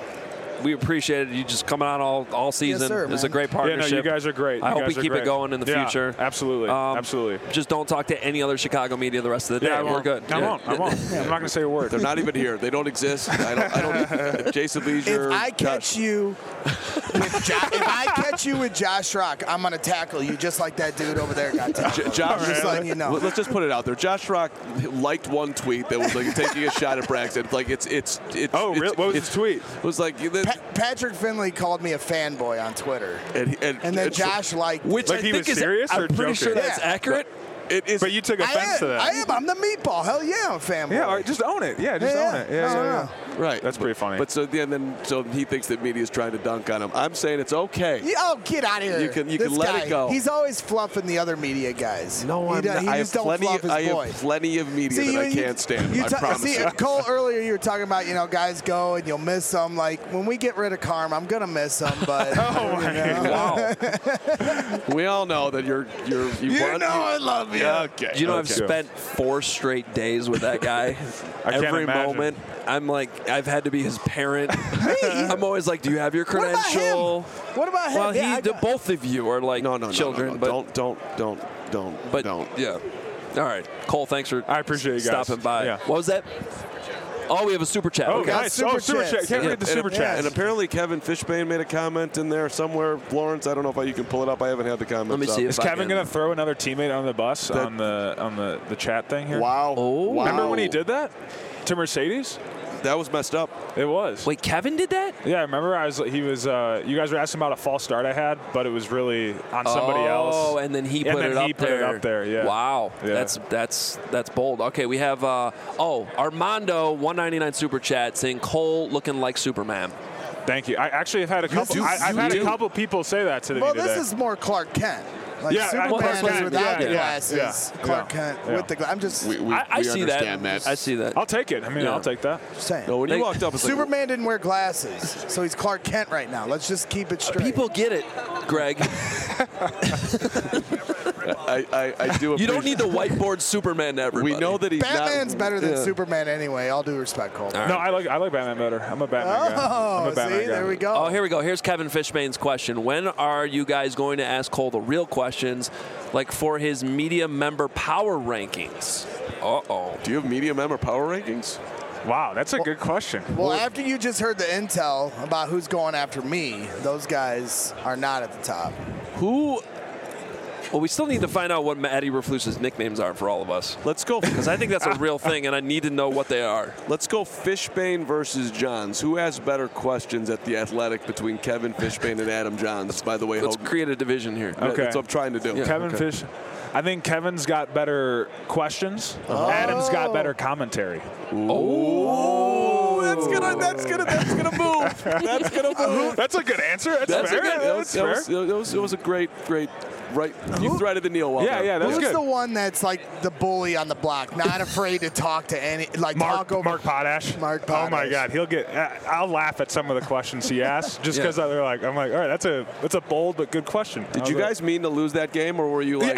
[SPEAKER 2] We appreciated you just coming on all, all season.
[SPEAKER 9] sir,
[SPEAKER 2] It's a
[SPEAKER 9] man.
[SPEAKER 2] great
[SPEAKER 8] Yeah, no,
[SPEAKER 2] partnership.
[SPEAKER 8] you guys are great.
[SPEAKER 2] I
[SPEAKER 8] You
[SPEAKER 2] hope we
[SPEAKER 8] guys are
[SPEAKER 2] keep
[SPEAKER 8] great.
[SPEAKER 2] it going in the
[SPEAKER 8] Yeah,
[SPEAKER 2] future.
[SPEAKER 8] Absolutely.
[SPEAKER 2] Um,
[SPEAKER 8] absolutely.
[SPEAKER 2] Just don't talk to any other Chicago media the rest of the day.
[SPEAKER 8] Yeah, I
[SPEAKER 2] We're
[SPEAKER 8] won't.
[SPEAKER 2] good.
[SPEAKER 8] I
[SPEAKER 2] Yeah.
[SPEAKER 8] won't. I won't. I'm not going to say a word.
[SPEAKER 1] they're not even here. They don't exist. I don't. I don't. Jason Leisure.
[SPEAKER 9] If I catch you with jo- if I catch you with Josh Rock, I'm gonna tackle you just like that dude over there got tackled.
[SPEAKER 1] J- Josh,
[SPEAKER 9] just letting you know.
[SPEAKER 1] Let's just put it out there. Josh Rock liked one tweet that was like taking a shot at Braxton. Like it's it's it's.
[SPEAKER 8] Oh,
[SPEAKER 1] it's,
[SPEAKER 8] really? What was
[SPEAKER 1] it's,
[SPEAKER 8] the tweet?
[SPEAKER 1] It was like.
[SPEAKER 9] Pa- Patrick Finley called me a fanboy on Twitter,
[SPEAKER 1] And, and,
[SPEAKER 9] and then
[SPEAKER 1] and-
[SPEAKER 9] Josh liked.
[SPEAKER 2] Which
[SPEAKER 8] Like
[SPEAKER 2] I
[SPEAKER 8] he
[SPEAKER 2] think
[SPEAKER 8] was
[SPEAKER 2] is.
[SPEAKER 8] serious
[SPEAKER 2] I'm
[SPEAKER 8] or
[SPEAKER 2] pretty
[SPEAKER 8] joking?
[SPEAKER 2] sure that's
[SPEAKER 9] Yeah.
[SPEAKER 2] accurate.
[SPEAKER 1] It is.
[SPEAKER 8] But you took
[SPEAKER 9] I
[SPEAKER 8] offense
[SPEAKER 9] am,
[SPEAKER 8] to that.
[SPEAKER 9] I am. I'm the meatball. Hell yeah, I'm a fanboy.
[SPEAKER 8] Yeah, all right, just own it. Yeah, just
[SPEAKER 9] Yeah,
[SPEAKER 8] own it. Yeah,
[SPEAKER 9] yeah.
[SPEAKER 8] yeah,
[SPEAKER 9] No,
[SPEAKER 8] yeah.
[SPEAKER 9] no.
[SPEAKER 1] Right.
[SPEAKER 8] That's pretty funny.
[SPEAKER 1] But so yeah, and then so he thinks that media is trying to dunk on him. I'm saying it's okay.
[SPEAKER 9] Yeah, oh, get out of here.
[SPEAKER 1] You can- you
[SPEAKER 9] This
[SPEAKER 1] can let
[SPEAKER 9] guy,
[SPEAKER 1] it go.
[SPEAKER 9] He's always fluffing the other media guys.
[SPEAKER 1] No,
[SPEAKER 9] he
[SPEAKER 1] I'm
[SPEAKER 9] does-
[SPEAKER 1] not.
[SPEAKER 9] He
[SPEAKER 1] I
[SPEAKER 9] just
[SPEAKER 1] have
[SPEAKER 9] don't
[SPEAKER 1] plenty.
[SPEAKER 9] fluff his
[SPEAKER 1] I
[SPEAKER 9] boy.
[SPEAKER 1] have plenty of media
[SPEAKER 9] See,
[SPEAKER 1] that I
[SPEAKER 9] you-
[SPEAKER 1] can't stand.
[SPEAKER 9] you
[SPEAKER 1] I
[SPEAKER 9] ta-
[SPEAKER 1] promise
[SPEAKER 9] see,
[SPEAKER 1] you.
[SPEAKER 9] Cole, earlier you were talking about, you know, guys go and you'll miss them. Like, when we get rid of Carm, I'm going to miss them, but.
[SPEAKER 8] Oh,
[SPEAKER 9] you know.
[SPEAKER 2] Wow.
[SPEAKER 1] We all know that you're you're you,
[SPEAKER 9] You
[SPEAKER 1] want,
[SPEAKER 9] know I love you.
[SPEAKER 1] Okay.
[SPEAKER 2] Do you know I've
[SPEAKER 8] Okay.
[SPEAKER 2] spent four straight days with that guy?
[SPEAKER 8] I can't
[SPEAKER 2] Every
[SPEAKER 8] imagine.
[SPEAKER 2] moment, I'm like, I've had to be his parent. I'm always like, do you have your
[SPEAKER 9] What about
[SPEAKER 2] credential?
[SPEAKER 9] him? What about him?
[SPEAKER 2] Well,
[SPEAKER 9] Yeah,
[SPEAKER 2] he,
[SPEAKER 9] I
[SPEAKER 2] the,
[SPEAKER 9] got-
[SPEAKER 2] both of you are like
[SPEAKER 1] No, no, no,
[SPEAKER 2] children,
[SPEAKER 1] no, no.
[SPEAKER 2] but
[SPEAKER 1] don't don't don't don't
[SPEAKER 2] but
[SPEAKER 1] don't.
[SPEAKER 2] yeah. All right, Cole, thanks for
[SPEAKER 8] I appreciate you guys.
[SPEAKER 2] stopping by.
[SPEAKER 8] Yeah.
[SPEAKER 2] What was that? Oh, we have a super chat.
[SPEAKER 8] Oh,
[SPEAKER 2] okay.
[SPEAKER 9] got
[SPEAKER 8] nice.
[SPEAKER 9] super
[SPEAKER 8] oh, super
[SPEAKER 9] chats.
[SPEAKER 8] chat. Can't
[SPEAKER 2] Yeah.
[SPEAKER 8] read the
[SPEAKER 1] And-
[SPEAKER 8] super
[SPEAKER 1] and,
[SPEAKER 8] chat.
[SPEAKER 1] And apparently Kevin Fishbane made a comment in there somewhere. Lawrence, I don't know if you can pull it up. I haven't had the comment.
[SPEAKER 2] Let me see
[SPEAKER 8] Is
[SPEAKER 2] if I
[SPEAKER 8] Kevin
[SPEAKER 2] can-
[SPEAKER 8] going to throw another teammate on the bus
[SPEAKER 1] That-
[SPEAKER 8] on the on the, the chat thing here?
[SPEAKER 1] Wow.
[SPEAKER 2] Oh.
[SPEAKER 1] wow.
[SPEAKER 8] Remember when he did that to Mercedes?
[SPEAKER 1] That was messed up.
[SPEAKER 8] It was.
[SPEAKER 2] Wait, Kevin did that?
[SPEAKER 8] Yeah, I remember. I was. He was. Uh, you guys were asking about a false start I had, but it was really on somebody else.
[SPEAKER 2] Oh, and then he
[SPEAKER 8] And
[SPEAKER 2] put
[SPEAKER 8] then
[SPEAKER 2] it up
[SPEAKER 8] he put
[SPEAKER 2] there.
[SPEAKER 8] it up there, yeah.
[SPEAKER 2] Wow,
[SPEAKER 8] Yeah.
[SPEAKER 2] that's that's that's bold. Okay, we have uh, oh Armando one ninety-nine super chat saying Cole looking like Superman.
[SPEAKER 8] Thank you. I actually have had a couple.
[SPEAKER 1] do-
[SPEAKER 8] I, I've
[SPEAKER 1] you
[SPEAKER 8] had
[SPEAKER 1] do.
[SPEAKER 8] a couple people say that to me
[SPEAKER 9] Well,
[SPEAKER 8] today.
[SPEAKER 9] this is more Clark Kent. Like
[SPEAKER 8] Yeah, I-
[SPEAKER 9] Superman
[SPEAKER 8] Clark
[SPEAKER 9] is
[SPEAKER 8] Kent,
[SPEAKER 9] without
[SPEAKER 8] yeah,
[SPEAKER 9] the
[SPEAKER 8] yeah,
[SPEAKER 9] glasses.
[SPEAKER 8] yeah,
[SPEAKER 9] Clark
[SPEAKER 8] yeah,
[SPEAKER 9] Kent
[SPEAKER 8] yeah.
[SPEAKER 9] with the glasses. I'm just
[SPEAKER 1] We, we,
[SPEAKER 2] I, I
[SPEAKER 1] we
[SPEAKER 2] see
[SPEAKER 1] understand
[SPEAKER 2] that.
[SPEAKER 1] that.
[SPEAKER 2] I see that.
[SPEAKER 8] I'll take it. I mean,
[SPEAKER 2] Yeah.
[SPEAKER 8] I'll take that.
[SPEAKER 9] saying.
[SPEAKER 1] No, when you
[SPEAKER 2] They-
[SPEAKER 1] walked up, it's like,
[SPEAKER 9] Superman didn't wear glasses, so he's Clark Kent right now. Let's just keep it straight.
[SPEAKER 2] People get it, Greg.
[SPEAKER 1] I, I, I do.
[SPEAKER 2] You don't need
[SPEAKER 1] appreciate-
[SPEAKER 2] the whiteboard Superman to everybody.
[SPEAKER 1] We know that he's
[SPEAKER 9] Batman's
[SPEAKER 1] not,
[SPEAKER 9] better than
[SPEAKER 1] yeah.
[SPEAKER 9] Superman anyway. All due respect, Cole.
[SPEAKER 2] right.
[SPEAKER 8] No, I like I like Batman better. I'm a Batman guy. I'm
[SPEAKER 9] Oh,
[SPEAKER 8] a Batman
[SPEAKER 9] see,
[SPEAKER 8] guy.
[SPEAKER 9] there we go.
[SPEAKER 2] Oh, here we go. Here's Kevin Fishbane's question. When are you guys going to ask Cole the real questions, like for his media member power rankings? Uh-oh.
[SPEAKER 1] Do you have media member power rankings?
[SPEAKER 8] Wow, that's a good question.
[SPEAKER 9] Well, after you just heard the intel about who's going after me, those guys are not at the top.
[SPEAKER 2] Who... Well, we still need to find out what Matty Reflus's nicknames are for all of us.
[SPEAKER 1] Let's go.
[SPEAKER 2] Because I think that's a real thing, and I need to know what they are.
[SPEAKER 1] Let's go Fishbane versus Johns. Who has better questions at the Athletic between Kevin Fishbane and Adam Johns? By the way,
[SPEAKER 2] Let's
[SPEAKER 1] Hogan.
[SPEAKER 2] create a division here.
[SPEAKER 1] Yeah,
[SPEAKER 8] Okay.
[SPEAKER 1] That's what I'm trying to do.
[SPEAKER 2] Yeah.
[SPEAKER 8] Kevin
[SPEAKER 2] okay.
[SPEAKER 8] Fish. I think Kevin's got better questions.
[SPEAKER 9] Oh.
[SPEAKER 8] Adam's got better commentary.
[SPEAKER 1] Oh, that's gonna, that's gonna, that's gonna move. That's gonna move.
[SPEAKER 8] That's a good answer. That's,
[SPEAKER 1] That's a
[SPEAKER 8] fair.
[SPEAKER 1] good. That was,
[SPEAKER 8] That's
[SPEAKER 1] that, was,
[SPEAKER 8] fair.
[SPEAKER 1] that was- it was a great, great right. You
[SPEAKER 9] Who-
[SPEAKER 1] threaded the needle well.
[SPEAKER 8] Yeah,
[SPEAKER 1] there.
[SPEAKER 8] yeah, that's
[SPEAKER 9] Who's
[SPEAKER 8] good.
[SPEAKER 9] the one that's like the bully on the block, not afraid to talk to any, like
[SPEAKER 8] Mark,
[SPEAKER 9] talk over?
[SPEAKER 8] Mark Potash.
[SPEAKER 9] Mark
[SPEAKER 8] Oh my
[SPEAKER 9] Potash.
[SPEAKER 8] God, he'll get. I'll laugh at some of the questions he asks just
[SPEAKER 2] Yeah.
[SPEAKER 8] because they're like, I'm like, all right, that's a that's a bold but good question.
[SPEAKER 1] Did
[SPEAKER 8] I
[SPEAKER 1] you
[SPEAKER 8] was
[SPEAKER 1] guys mean to lose that game, or were you like?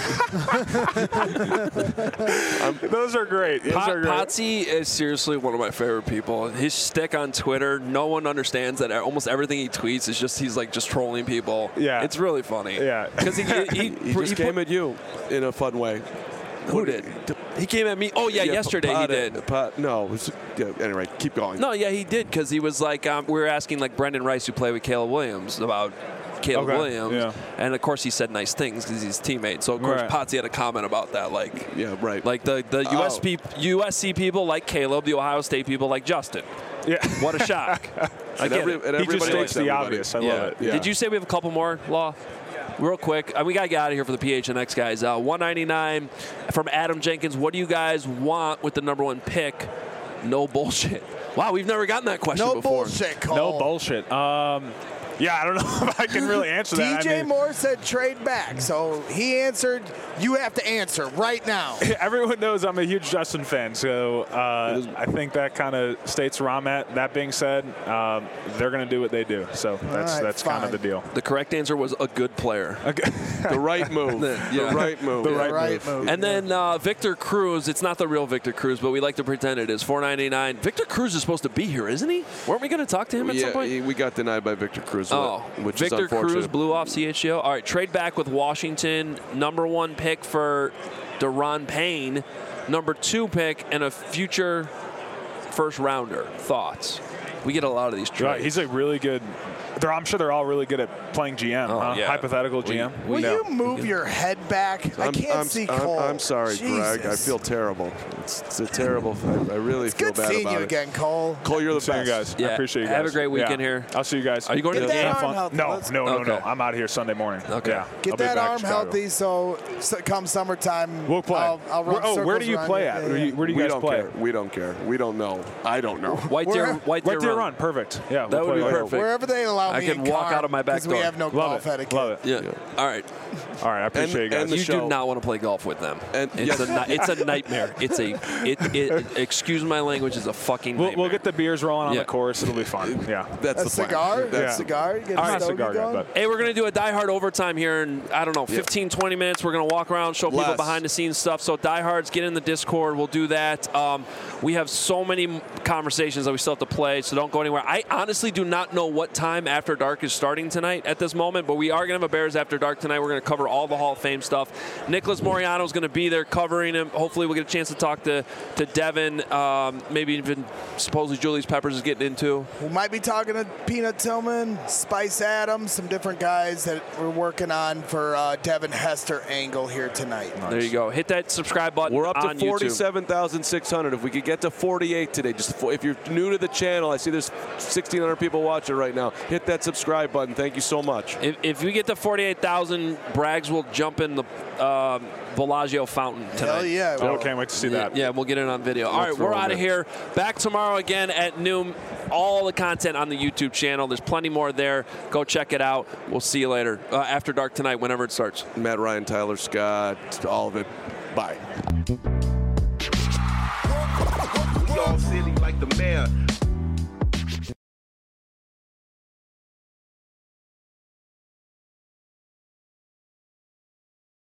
[SPEAKER 8] like, those are great. Those
[SPEAKER 2] Pot-
[SPEAKER 8] are great.
[SPEAKER 2] Potsy is seriously one of my favorite people. His stick on Twitter, no one understands that almost everything he tweets is just he's like just trolling people.
[SPEAKER 8] Yeah.
[SPEAKER 2] It's really funny.
[SPEAKER 8] Yeah.
[SPEAKER 2] Because he, he, he,
[SPEAKER 1] He just
[SPEAKER 2] he
[SPEAKER 1] came
[SPEAKER 2] put-
[SPEAKER 1] at you in a fun way.
[SPEAKER 2] Who did? He came at me. Oh, yeah, yesterday he
[SPEAKER 1] Pot-
[SPEAKER 2] did.
[SPEAKER 1] Pot- no. It was, yeah, anyway, keep going.
[SPEAKER 2] No, yeah, he did because he was like, um, we were asking like Brendan Rice, who played with Caleb Williams, about Caleb
[SPEAKER 8] Okay,
[SPEAKER 2] Williams.
[SPEAKER 8] yeah.
[SPEAKER 2] And of course he said nice things because he's his teammate. So of course
[SPEAKER 8] Right.
[SPEAKER 2] Potsy had a comment about that. Like,
[SPEAKER 1] Yeah, right.
[SPEAKER 2] like the, the
[SPEAKER 1] Oh.
[SPEAKER 2] U S P, U S C people like Caleb, the Ohio State people like Justin.
[SPEAKER 8] Yeah.
[SPEAKER 2] What a shock. I
[SPEAKER 1] and
[SPEAKER 2] get
[SPEAKER 1] every,
[SPEAKER 2] it.
[SPEAKER 1] and
[SPEAKER 8] He
[SPEAKER 1] everybody
[SPEAKER 8] just states
[SPEAKER 1] likes
[SPEAKER 8] the
[SPEAKER 1] everybody.
[SPEAKER 8] obvious. I
[SPEAKER 2] Yeah.
[SPEAKER 8] love it.
[SPEAKER 1] Yeah.
[SPEAKER 2] Did you say we have a couple more, Law? Real quick, uh, we got to get out of here for the P H N X guys. Uh, one ninety-nine from Adam Jenkins. What do you guys want with the number one pick? No bullshit. Wow, we've never gotten that question
[SPEAKER 9] No
[SPEAKER 2] before.
[SPEAKER 9] bullshit, Cole.
[SPEAKER 8] No bullshit. Um, yeah, I don't know if I can really answer that.
[SPEAKER 9] D J
[SPEAKER 8] I mean,
[SPEAKER 9] Moore said trade back, so he answered. You have to answer right now.
[SPEAKER 8] everyone knows I'm a huge Justin fan, so uh, I think that kind of states where I'm at. That being said, um, they're going to do what they do, so that's
[SPEAKER 9] right,
[SPEAKER 8] that's kind of
[SPEAKER 9] fine.
[SPEAKER 8] the deal.
[SPEAKER 2] The correct answer was a good player.
[SPEAKER 1] The right move.
[SPEAKER 2] Yeah.
[SPEAKER 1] The right move.
[SPEAKER 8] The
[SPEAKER 9] The
[SPEAKER 8] right
[SPEAKER 9] right
[SPEAKER 8] move.
[SPEAKER 9] move.
[SPEAKER 2] And then uh, Victor Cruz. It's not the real Victor Cruz, but we like to pretend it is. four ninety-nine. Victor Cruz is supposed to be here, isn't he? Weren't we going to talk to him at some
[SPEAKER 1] Yeah,
[SPEAKER 2] point?
[SPEAKER 1] he- we got denied by Victor Cruz.
[SPEAKER 2] Oh,
[SPEAKER 1] which
[SPEAKER 2] Victor
[SPEAKER 1] is unfortunate.
[SPEAKER 2] Cruz blew off C H G O. All right, trade back with Washington. Number one pick for Deron Payne. Number two pick and a future first rounder. Thoughts? We get a lot of these trades.
[SPEAKER 8] Right, he's a really good. They're, I'm sure they're all really good at playing G M.
[SPEAKER 2] Oh,
[SPEAKER 8] huh?
[SPEAKER 2] yeah.
[SPEAKER 8] Hypothetical G M.
[SPEAKER 9] Will
[SPEAKER 8] No.
[SPEAKER 9] you move your head back? I
[SPEAKER 1] I'm,
[SPEAKER 9] can't
[SPEAKER 1] I'm,
[SPEAKER 9] see
[SPEAKER 1] I'm,
[SPEAKER 9] Cole.
[SPEAKER 1] I'm sorry, Greg. I
[SPEAKER 9] Jesus.
[SPEAKER 1] feel terrible. It's, it's a terrible. I, I really
[SPEAKER 9] It's
[SPEAKER 1] feel
[SPEAKER 9] good
[SPEAKER 1] bad
[SPEAKER 9] seeing
[SPEAKER 1] about
[SPEAKER 9] you
[SPEAKER 1] it.
[SPEAKER 9] again, Cole.
[SPEAKER 1] Cole, you're the
[SPEAKER 8] See you
[SPEAKER 1] best.
[SPEAKER 8] guys.
[SPEAKER 2] Yeah,
[SPEAKER 8] I appreciate you guys.
[SPEAKER 2] have a great weekend
[SPEAKER 8] Yeah.
[SPEAKER 2] here.
[SPEAKER 8] I'll see you guys.
[SPEAKER 2] Are you going to
[SPEAKER 9] Get
[SPEAKER 2] the
[SPEAKER 9] that
[SPEAKER 2] game?
[SPEAKER 9] arm
[SPEAKER 8] Fun.
[SPEAKER 9] healthy.
[SPEAKER 8] No,
[SPEAKER 9] Let's-
[SPEAKER 8] no, no,
[SPEAKER 2] Okay.
[SPEAKER 8] no. I'm out of here Sunday morning.
[SPEAKER 2] Okay.
[SPEAKER 8] Yeah.
[SPEAKER 9] Get
[SPEAKER 8] I'll be
[SPEAKER 9] that
[SPEAKER 8] back in
[SPEAKER 9] arm
[SPEAKER 8] Chicago.
[SPEAKER 9] healthy so, so come summertime.
[SPEAKER 8] We'll play.
[SPEAKER 9] I'll, I'll run
[SPEAKER 8] where, oh, where do
[SPEAKER 9] circles
[SPEAKER 8] you
[SPEAKER 9] around
[SPEAKER 8] play
[SPEAKER 9] you.
[SPEAKER 8] at?
[SPEAKER 9] Yeah,
[SPEAKER 8] Where, do you,
[SPEAKER 9] yeah.
[SPEAKER 8] where do you
[SPEAKER 1] we
[SPEAKER 8] guys
[SPEAKER 1] don't
[SPEAKER 8] play?
[SPEAKER 1] care. We don't care. We don't know. I don't know.
[SPEAKER 2] White Deer,
[SPEAKER 9] Where-
[SPEAKER 2] White Deer,
[SPEAKER 8] Right there,
[SPEAKER 2] run.
[SPEAKER 8] run. Perfect. Yeah.
[SPEAKER 2] That
[SPEAKER 8] we'll
[SPEAKER 2] would
[SPEAKER 8] play
[SPEAKER 2] be
[SPEAKER 8] later.
[SPEAKER 2] perfect.
[SPEAKER 9] Wherever they allow
[SPEAKER 2] I
[SPEAKER 9] me
[SPEAKER 2] can
[SPEAKER 9] in
[SPEAKER 2] walk
[SPEAKER 9] car,
[SPEAKER 2] out of my back
[SPEAKER 9] 'cause we
[SPEAKER 2] door.
[SPEAKER 9] have no
[SPEAKER 8] Love
[SPEAKER 9] golf
[SPEAKER 8] it.
[SPEAKER 9] etiquette.
[SPEAKER 8] Love it.
[SPEAKER 2] Yeah. All right.
[SPEAKER 8] All right. I appreciate
[SPEAKER 1] And-
[SPEAKER 8] you guys.
[SPEAKER 1] and the
[SPEAKER 2] You
[SPEAKER 1] show.
[SPEAKER 2] do not want to play golf with them.
[SPEAKER 1] And-
[SPEAKER 2] it's,
[SPEAKER 1] yes.
[SPEAKER 2] a, ni- it's a nightmare. It's a, it, it, excuse my language, is a fucking
[SPEAKER 8] We'll,
[SPEAKER 2] nightmare.
[SPEAKER 8] we'll get the beers rolling on
[SPEAKER 2] Yeah.
[SPEAKER 8] the course. It'll be fun. Yeah.
[SPEAKER 1] That's
[SPEAKER 9] A
[SPEAKER 1] the plan.
[SPEAKER 9] cigar?
[SPEAKER 1] That's
[SPEAKER 8] Yeah.
[SPEAKER 9] Cigar? You get
[SPEAKER 8] I'm
[SPEAKER 9] a
[SPEAKER 8] not a
[SPEAKER 9] stogie
[SPEAKER 8] cigar guy,
[SPEAKER 9] going?
[SPEAKER 8] but
[SPEAKER 2] Hey, we're going to do a Die Hard overtime here in, I don't know, fifteen, twenty minutes. We're going to walk around, show people
[SPEAKER 1] Less.
[SPEAKER 2] behind the scenes stuff. So Die Hards, get in the Discord. We'll do that. Um, we have so many m- conversations that we still have to play, so don't go anywhere. I honestly do not know what time After Dark is starting tonight at this moment, but we are going to have a Bears After Dark tonight. We're going to cover all the Hall of Fame stuff. Nicholas Moriano is going to be there covering him. Hopefully we'll get a chance to talk to, to Devin. Um, maybe even supposedly Julius Peppers is getting into.
[SPEAKER 9] We might be talking to Peanut Tillman, Spice Adams, some different guys that we're working on for uh, Devin Hester angle here tonight.
[SPEAKER 2] There you go. Hit that subscribe button
[SPEAKER 1] We're up to
[SPEAKER 2] on YouTube.
[SPEAKER 1] forty-seven thousand six hundred. If we could get to forty-eight today, just fo- if you're new to the channel, I see there's sixteen hundred people watching right now. Hit that subscribe button. Thank you so much.
[SPEAKER 2] If, if we get to forty-eight thousand, Braggs will jump in the um, Bellagio fountain tonight.
[SPEAKER 9] Hell yeah.
[SPEAKER 8] Oh,
[SPEAKER 9] well,
[SPEAKER 8] can't wait to see that.
[SPEAKER 2] Yeah, we'll get it on video. All right,
[SPEAKER 1] throw
[SPEAKER 2] we're
[SPEAKER 1] them
[SPEAKER 2] out of
[SPEAKER 1] in.
[SPEAKER 2] here. Back tomorrow again at noon. All the content on the YouTube channel. There's plenty more there. Go check it out. We'll see you later. Uh, after dark tonight, whenever it starts.
[SPEAKER 1] Matt Ryan, Tyler Scott, all of it. Bye.
[SPEAKER 10] Dog City.